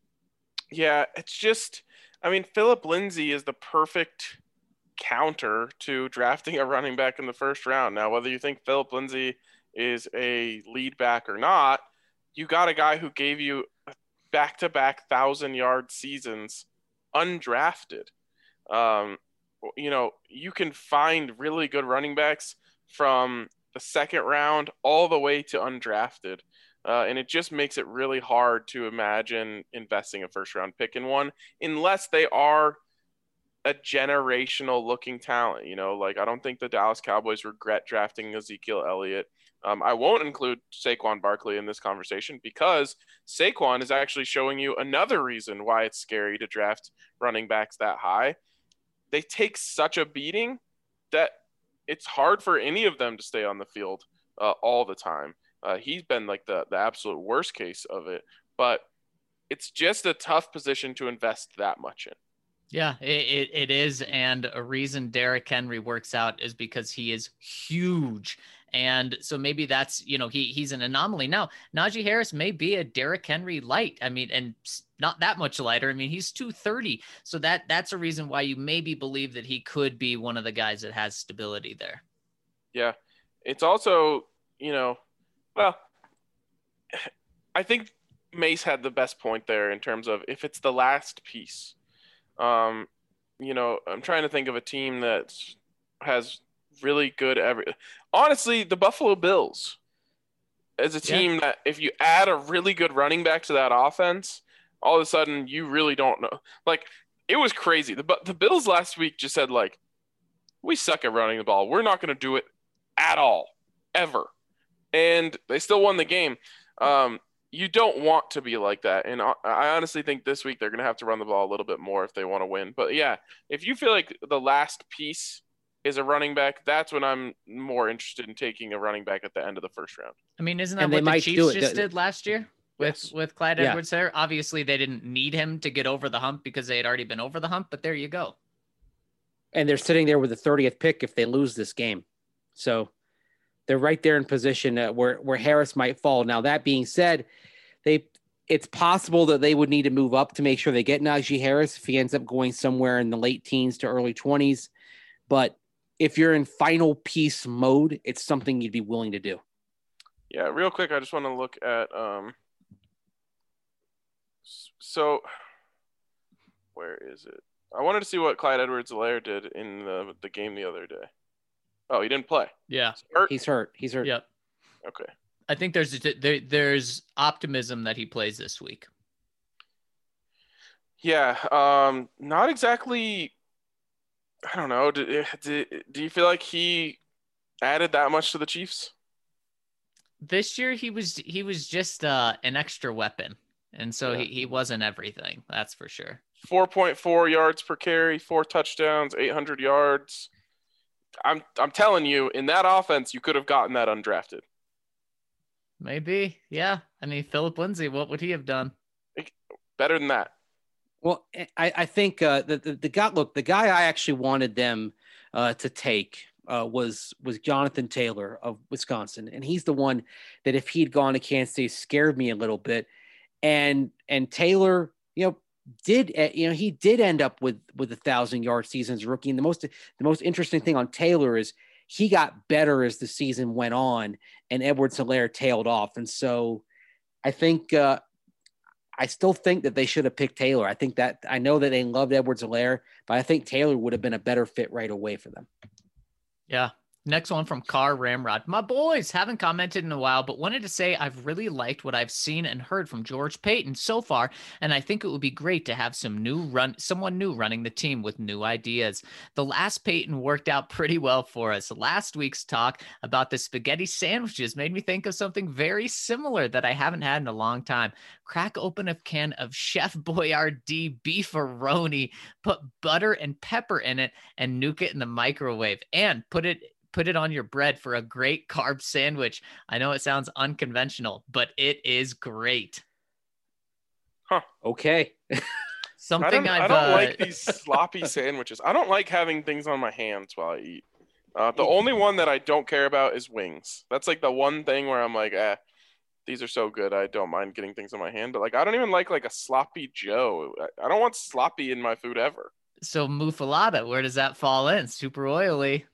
Yeah, it's just, I mean, Philip Lindsay is the perfect counter to drafting a running back in the first round. Now, whether you think Philip Lindsay is a lead back or not, you got a guy who gave you back-to-back thousand-yard seasons undrafted. Um, you know, you can find really good running backs from the second round all the way to undrafted. Uh, and it just makes it really hard to imagine investing a first round pick in one unless they are a generational looking talent. You know, like I don't think the Dallas Cowboys regret drafting Ezekiel Elliott. Um, I won't include Saquon Barkley in this conversation because Saquon is actually showing you another reason why it's scary to draft running backs that high. They take such a beating that it's hard for any of them to stay on the field uh, all the time. Uh, he's been like the, the absolute worst case of it, but it's just a tough position to invest that much in. Yeah, it, it, it is. And a reason Derrick Henry works out is because he is huge. And so maybe that's, you know, he he's an anomaly. Now, Najee Harris may be a Derrick Henry light. I mean, and not that much lighter. I mean, he's two thirty. So that that's a reason why you maybe believe that he could be one of the guys that has stability there. Yeah. It's also, you know, well, I think Mace had the best point there in terms of if it's the last piece. Um, you know, I'm trying to think of a team that has really good every. Honestly, the Buffalo Bills is a team yeah. that if you add a really good running back to that offense, all of a sudden you really don't know. Like it was crazy. The the Bills last week just said like, we suck at running the ball. We're not going to do it at all, ever, and they still won the game. Um, You don't want to be like that. And I honestly think this week they're going to have to run the ball a little bit more if they want to win. But yeah, if you feel like the last piece is a running back, that's when I'm more interested in taking a running back at the end of the first round. I mean, isn't that And what they the might Chiefs do it. just The- did last year with, Yes. with Clyde Yeah. Edwards there? Obviously, they didn't need him to get over the hump because they had already been over the hump, but there you go. And they're sitting there with the thirtieth pick if they lose this game. So they're right there in position uh, where, where Harris might fall. Now, that being said, they it's possible that they would need to move up to make sure they get Najee Harris if he ends up going somewhere in the late teens to early twenties. But if you're in final piece mode, it's something you'd be willing to do. Yeah, real quick, I just want to look at um. So, where is it? I wanted to see what Clyde Edwards-Helaire did in the the game the other day. Oh, he didn't play. Yeah. Hurt? He's hurt. He's hurt. Yep. Okay. I think there's there, there's optimism that he plays this week. Yeah, um, not exactly. I don't know. Do, do, do you feel like he added that much to the Chiefs? This year he was he was just uh, an extra weapon, and so Yeah. he, he wasn't everything. That's for sure. four point four yards per carry, four touchdowns, eight hundred yards. I'm I'm telling you, in that offense, you could have gotten that undrafted. Maybe, yeah. I mean, Philip Lindsay, what would he have done? Better than that. Well, I, I think uh, the, the the guy look the guy I actually wanted them uh, to take uh, was was Jonathan Taylor of Wisconsin, and he's the one that if he'd gone to Kansas State scared me a little bit, and and Taylor, you know, did you know he did end up with with a thousand yard season as a rookie. And the most the most interesting thing on Taylor is he got better as the season went on, and Edwards-Helaire tailed off, and so I think. Uh, I still think that they should have picked Taylor. I think that I know that they loved Edwards-Helaire, but I think Taylor would have been a better fit right away for them. Yeah. Next one from Car Ramrod. My boys, haven't commented in a while, but wanted to say I've really liked what I've seen and heard from George Paton so far, and I think it would be great to have some new run, someone new running the team with new ideas. The last Paton worked out pretty well for us. Last week's talk about the spaghetti sandwiches made me think of something very similar that I haven't had in a long time. Crack open a can of Chef Boyardee beefaroni, put butter and pepper in it, and nuke it in the microwave, and put it Put it on your bread for a great carb sandwich. I know it sounds unconventional, but it is great. Huh. Okay. Something I don't, I've, I don't uh, like these sloppy sandwiches. I don't like having things on my hands while I eat. Uh, the only one that I don't care about is wings. That's like the one thing where I'm like, eh, these are so good. I don't mind getting things on my hand. But like, I don't even like like a sloppy Joe. I, I don't want sloppy in my food ever. So muffalata, where does that fall in? Super oily.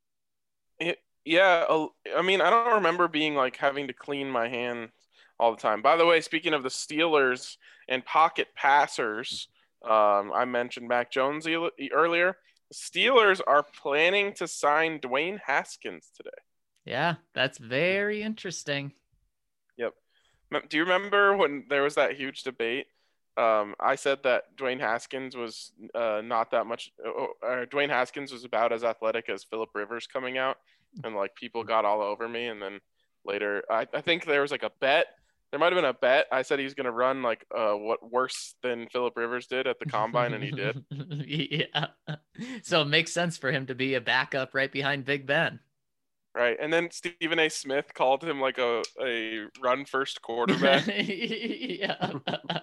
It, yeah, uh, I mean, I don't remember being like having to clean my hands all the time. By the way, speaking of the Steelers and pocket passers, um, I mentioned Mac Jones e- earlier. The Steelers are planning to sign Dwayne Haskins today. Yeah, that's very interesting. Yep. Do you remember when there was that huge debate? Um, I said that Dwayne Haskins was uh, not that much. Uh, Dwayne Haskins was about as athletic as Phillip Rivers coming out, and like people got all over me. And then later, I, I think there was like a bet. There might have been a bet. I said he was going to run like uh, what worse than Phillip Rivers did at the combine, and he did. Yeah. So it makes sense for him to be a backup right behind Big Ben. Right. And then Stephen A. Smith called him like a, a run first quarterback. Yeah.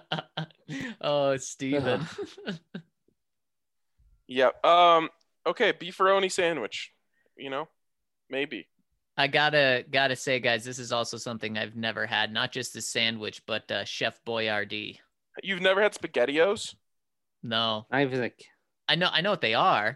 Oh, Stephen. Yep. Um, okay. Beefaroni sandwich, you know, maybe. I gotta gotta say, guys, this is also something I've never had. Not just the sandwich, but uh, Chef Boyardee. You've never had SpaghettiOs? No, I was like, I know, I know what they are.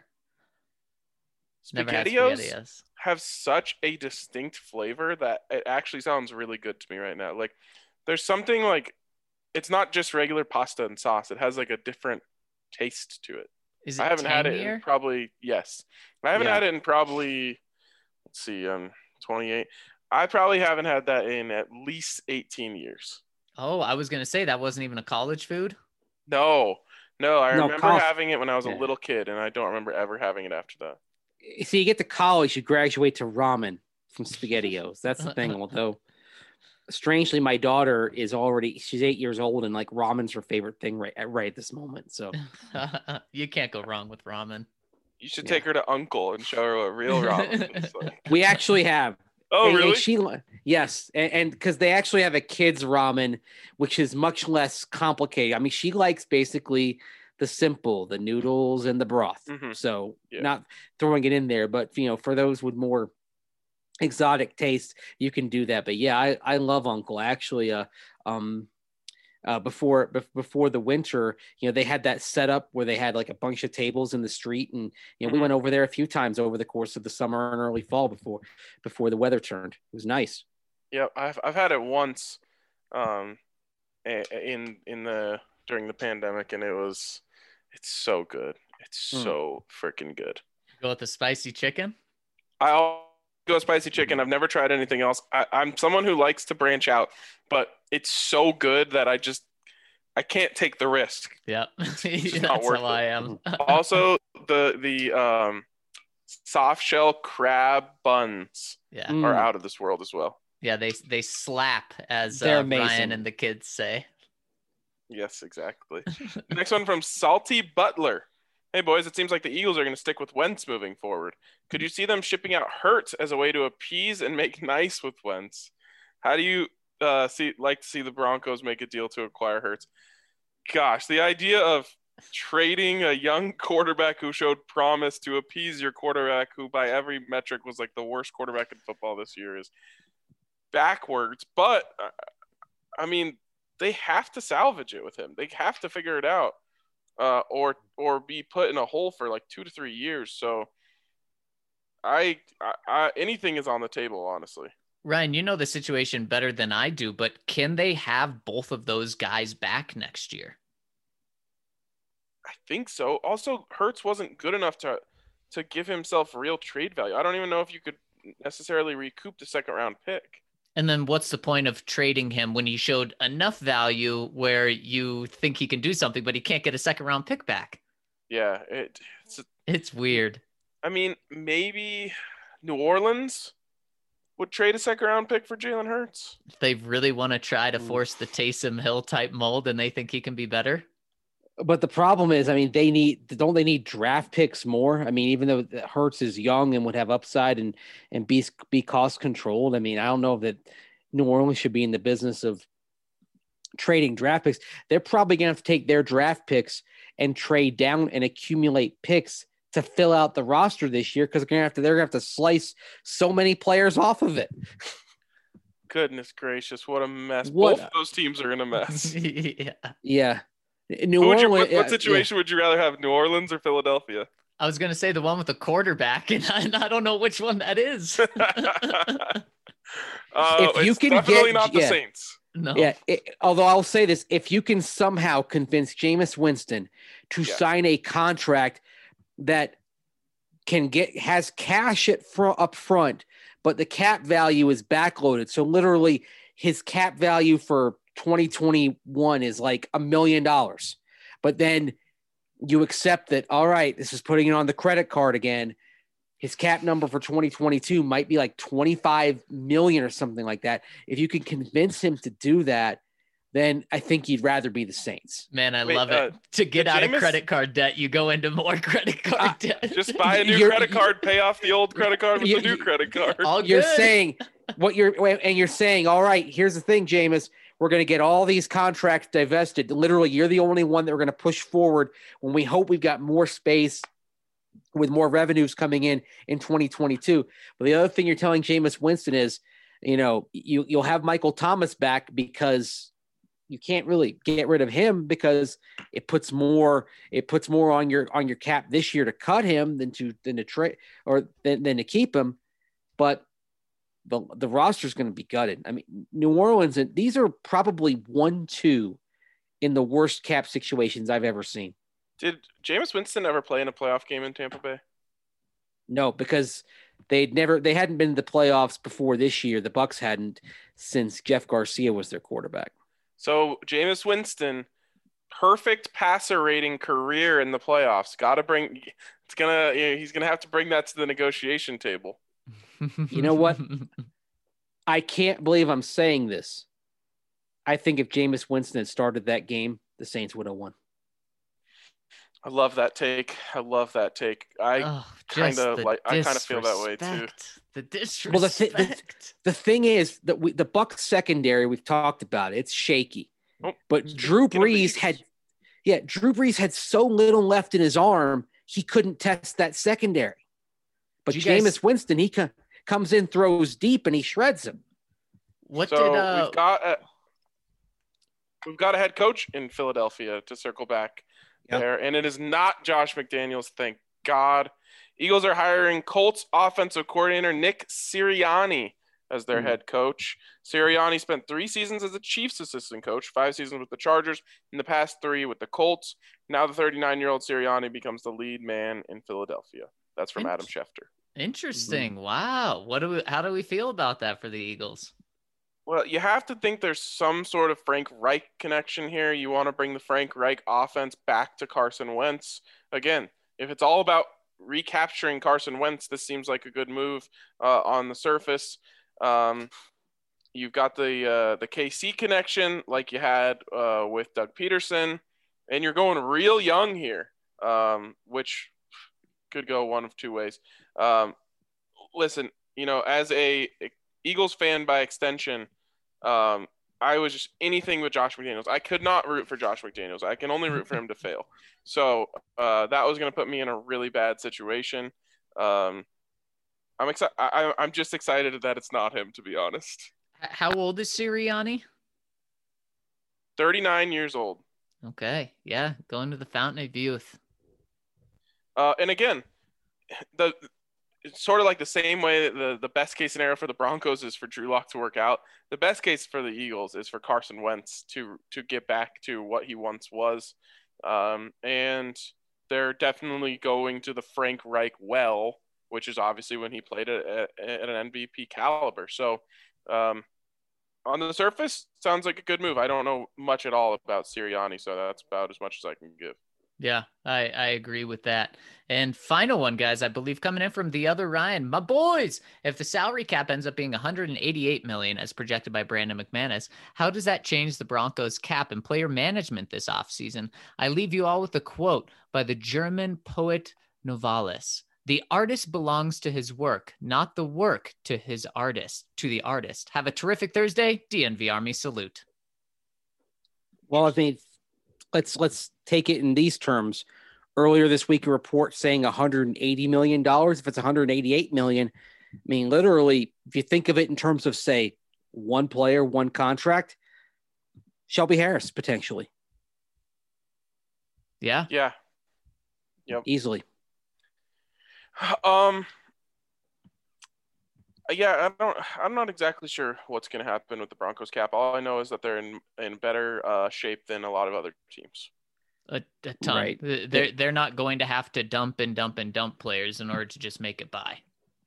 Never had SpaghettiOs SpaghettiOs. have such a distinct flavor that it actually sounds really good to me right now. Like, there's something like, it's not just regular pasta and sauce. It has like a different taste to it. Is it I haven't had it in tangier? probably, yes. I haven't Yeah. had it in probably, let's see, um, twenty-eight. I probably haven't had that in at least eighteen years. Oh, I was gonna say that wasn't even a college food. No, no, I No, remember cough. having it when I was Yeah. a little kid, and I don't remember ever having it after that. see, you get to college, you graduate to ramen from SpaghettiOs. That's the thing. Although, strangely, my daughter is already, she's eight years old, and like ramen's her favorite thing right at, right at this moment. So, You can't go wrong with ramen. You should Yeah. take her to Uncle and show her what real ramen is like. we actually have. Oh, and, really? And she, yes, and because they actually have a kids ramen, which is much less complicated. I mean, she likes basically the simple, the noodles and the broth. Mhm. So Yeah. not throwing it in there, but you know, for those with more exotic tastes, you can do that. But yeah, I, I love Uncle. Actually, uh, um, uh, before bef- before the winter, you know, they had that setup where they had like a bunch of tables in the street, and you know, we Mhm. went over there a few times over the course of the summer and early fall before before the weather turned. It was nice. Yeah, I've I've had it once, um, a- in in the during the pandemic, and it was, it's so good. It's Mm. so freaking good. Go with the spicy chicken. I'll go spicy chicken. I've never tried anything else. I, I'm someone who likes to branch out, but it's so good that I just I can't take the risk. Yep. just not That's worth how it. I am. Also, the the um, soft shell crab buns Yeah. Mm. are out of this world as well. Yeah, they they slap, as They're uh, amazing. Ryan and the kids say. Yes, exactly. Next one from Salty Butler. hey, boys, it seems like the Eagles are going to stick with Wentz moving forward. Could you see them shipping out Hurts as a way to appease and make nice with Wentz? How do you uh, see like to see the Broncos make a deal to acquire Hurts? Gosh, the idea of trading a young quarterback who showed promise to appease your quarterback who by every metric was like the worst quarterback in football this year is backwards. But, uh, I mean, they have to salvage it with him. They have to figure it out. Uh, or or be put in a hole for like two to three years. So I, I, I anything is on the table, honestly. Ryan, you know the situation better than I do, but can they have both of those guys back next year? I think so. Also, Hurts wasn't good enough to to give himself real trade value. I don't even know if you could necessarily recoup the second round pick. And then what's the point of trading him when he showed enough value where you think he can do something, but he can't get a second round pick back? Yeah, it, it's it's weird. I mean, maybe New Orleans would trade a second round pick for Jalen Hurts. If they really want to try to force the Taysom Hill type mold and they think he can be better. But the problem is, I mean, they need, don't they need draft picks more? I mean, even though Hurts is young and would have upside and, and be, be cost controlled. I mean, I don't know that New Orleans should be in the business of trading draft picks. They're probably going to have to take their draft picks and trade down and accumulate picks to fill out the roster this year. Cause they're going to have to, they're going to have to slice so many players off of it. Goodness gracious. What a mess. What? Both of those teams are in a mess. Yeah. Yeah. New Who would Orleans, you, what, yeah, what situation yeah. would you rather have, New Orleans or Philadelphia? I was going to say the one with the quarterback, and I, I don't know which one that is. uh, If you it's can definitely get- not the yeah. Saints. No. Yeah. It, although I'll say this, if you can somehow convince Jameis Winston to Yes. sign a contract that can get, has cash at front up front, but the cap value is backloaded. So literally his cap value for twenty twenty-one is like a million dollars, but then you accept that, all right, this is putting it on the credit card again. His cap number for twenty twenty-two might be like twenty-five million or something like that. If you can convince him to do that, then I think you'd rather be the Saints. Man, I Wait, love uh, it. To get did out Jameis- of credit card debt, you go into more credit card Uh, debt. Just buy a new You're- credit card, pay off the old credit card with You- the new you- credit card. All You're good. saying what you're, and you're saying, all right, here's the thing, Jameis, we're going to get all these contracts divested. Literally, you're the only one that we're going to push forward when we hope we've got more space with more revenues coming in in twenty twenty-two. But the other thing you're telling Jameis Winston is, you know, you, you'll have Michael Thomas back because you can't really get rid of him because it puts more, it puts more on your, on your cap this year to cut him than to, than to trade or than, than to keep him. But the, the roster is going to be gutted. I mean, New Orleans, and these are probably one, two in the worst cap situations I've ever seen. Did Jameis Winston ever play in a playoff game in Tampa Bay? No, because they'd never, they hadn't been to the playoffs before this year. The Bucks hadn't since Jeff Garcia was their quarterback. So Jameis Winston, perfect passer rating career in the playoffs. Got to bring. It's gonna. You know, he's gonna have to bring that to the negotiation table. You know what? I can't believe I'm saying this. I think if Jameis Winston had started that game, the Saints would have won. I love that take. I love that take. I Oh, kind just of the like. I kind of feel that way too. disrespect. The disrespect. Well, the thi- The thing is that we, the Bucks secondary, we've talked about it, it's shaky. Oh, But Drew speaking of the Brees Eagles. had, yeah, Drew Brees had so little left in his arm, he couldn't test that secondary. But Did you guys- Jameis Winston, he co- comes in, throws deep, and he shreds him. What so did uh, we've got a we've got a head coach in Philadelphia to circle back Yep. there, and it is not Josh McDaniels. Thank God. Eagles are hiring Colts offensive coordinator Nick Sirianni as their Hmm. head coach. Sirianni spent three seasons as a Chiefs assistant coach, five seasons with the Chargers, in the past three with the Colts. Now the thirty-nine-year-old Sirianni becomes the lead man in Philadelphia. That's from Adam Schefter. interesting? Wow. What do we? How do we feel about that for the Eagles? Well, you have to think there's some sort of Frank Reich connection here. You want to bring the Frank Reich offense back to Carson Wentz. Again, if it's all about recapturing Carson Wentz, this seems like a good move uh, on the surface. Um, you've got the uh, the K C connection like you had uh, with Doug Peterson, and you're going real young here. um, which could go one of two ways. Um, listen, you know, as a Eagles fan by extension, um, I was just anything with Josh McDaniels. I could not root for Josh McDaniels. I can only root for him to fail. So uh, that was going to put me in a really bad situation. Um, I'm excited. I'm just excited that it's not him, to be honest. How old is Sirianni? thirty-nine years old. Okay, yeah, going to the fountain of youth. Uh, and again, the it's sort of like the same way that the, the best case scenario for the Broncos is for Drew Lock to work out. The best case for the Eagles is for Carson Wentz to to get back to what he once was. Um, and they're definitely going to the Frank Reich well, which is obviously when he played at, at, at an M V P caliber. So um, on the surface, sounds like a good move. I don't know much at all about Sirianni, so that's about as much as I can give. Yeah, I, I agree with that. And final one, guys, I believe coming in from the other Ryan, my boys. If the salary cap ends up being one hundred eighty-eight million dollars as projected by Brandon McManus, how does that change the Broncos cap and player management this offseason? I leave you all with a quote by the German poet Novalis. The artist belongs to his work, not the work to his artist, to the artist. Have a terrific Thursday. D N V Army salute. Well, I mean, let's let's take it in these terms. Earlier this week, a report saying one hundred eighty million dollars. If it's one hundred eighty-eight million dollars, I mean, literally, if you think of it in terms of, say, one player, one contract, Shelby Harris, potentially. Yeah. Yeah. Yep. Easily. Um. Yeah, I don't. I'm not exactly sure what's going to happen with the Broncos cap. All I know is that they're in in better uh, shape than a lot of other teams. A, a ton. Right. They're they're not going to have to dump and dump and dump players in order to just make it by.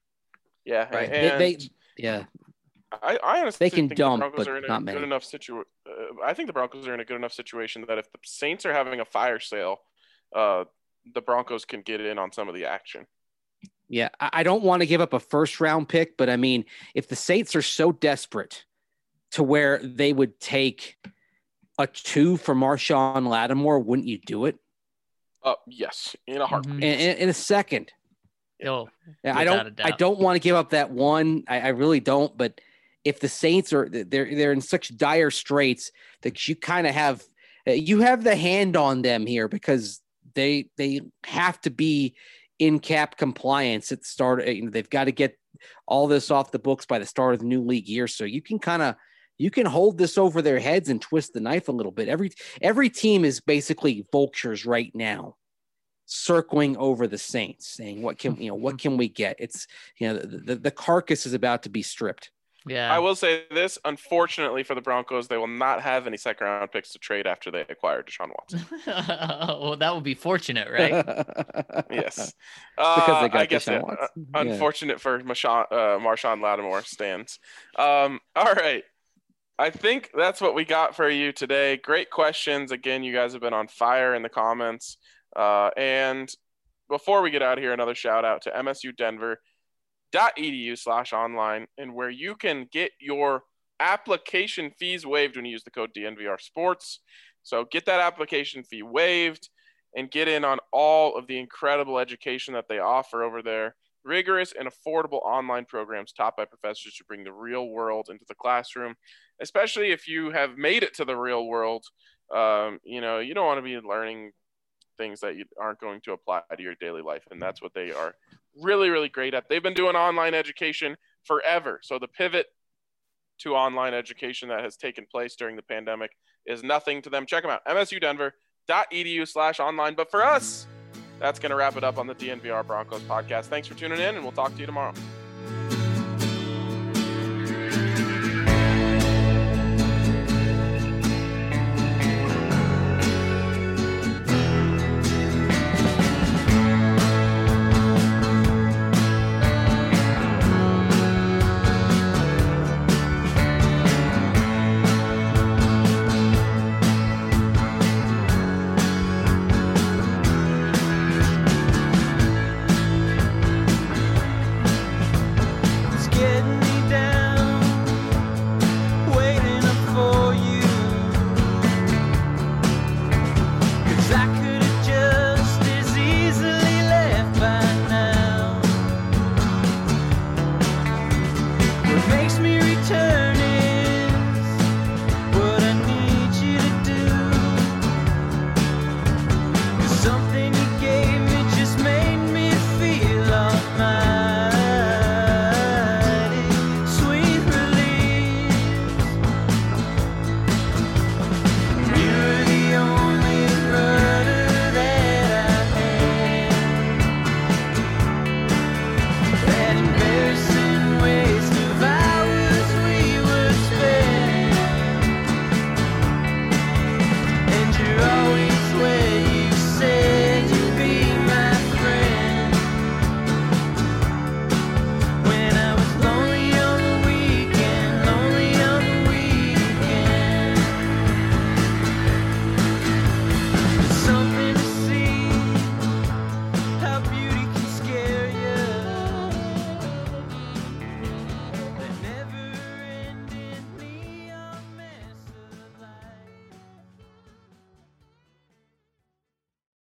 Yeah, Right. and They, they yeah. I, I honestly They can think dump, the Broncos but are in a not good many. enough situation. Uh, I think the Broncos are in a good enough situation that if the Saints are having a fire sale, uh, the Broncos can get in on some of the action. Yeah, I I don't want to give up a first round pick, but I mean, if the Saints are so desperate to where they would take a two for Marshawn Lattimore, wouldn't you do it? Uh, yes, in a heartbeat. Mhm. In, in, in a second. Oh, Yeah, I without don't. a I doubt. don't want to give up that one. I, I really don't. But if the Saints are they're they're in such dire straits that you kind of have you have the hand on them here because they they have to be in cap compliance at the start. You know, they've got to get all this off the books by the start of the new league year. So you can kind of you can hold this over their heads and twist the knife a little bit. Every every team is basically vultures right now, circling over the Saints, saying, "What can you know? What can we get?" It's you know the, the, the carcass is about to be stripped. Yeah. I will say this: unfortunately for the Broncos, they will not have any second round picks to trade after they acquire Deshaun Watson. Well, that would be fortunate, right? Yes, because uh, they got I guess Deshaun yeah, Watson. uh, Yeah. unfortunate for Marshawn, uh, Marshawn Lattimore stands. Um, all right. I think that's what we got for you today. Great questions. Again, you guys have been on fire in the comments. Uh, and before we get out of here, another shout out to M S U Denver dot E D U slash online, and where you can get your application fees waived when you use the code D N V R Sports. So get that application fee waived and get in on all of the incredible education that they offer over there. Rigorous and affordable online programs taught by professors who bring the real world into the classroom, especially if you have made it to the real world. Um, you know, you don't want to be learning things that you aren't going to apply to your daily life. And that's what they are really, really great at. They've been doing online education forever. So the pivot to online education that has taken place during the pandemic is nothing to them. Check them out, M S U Denver dot E D U slash online. But for us, that's going to wrap it up on the D N V R Broncos podcast. Thanks for tuning in, and we'll talk to you tomorrow.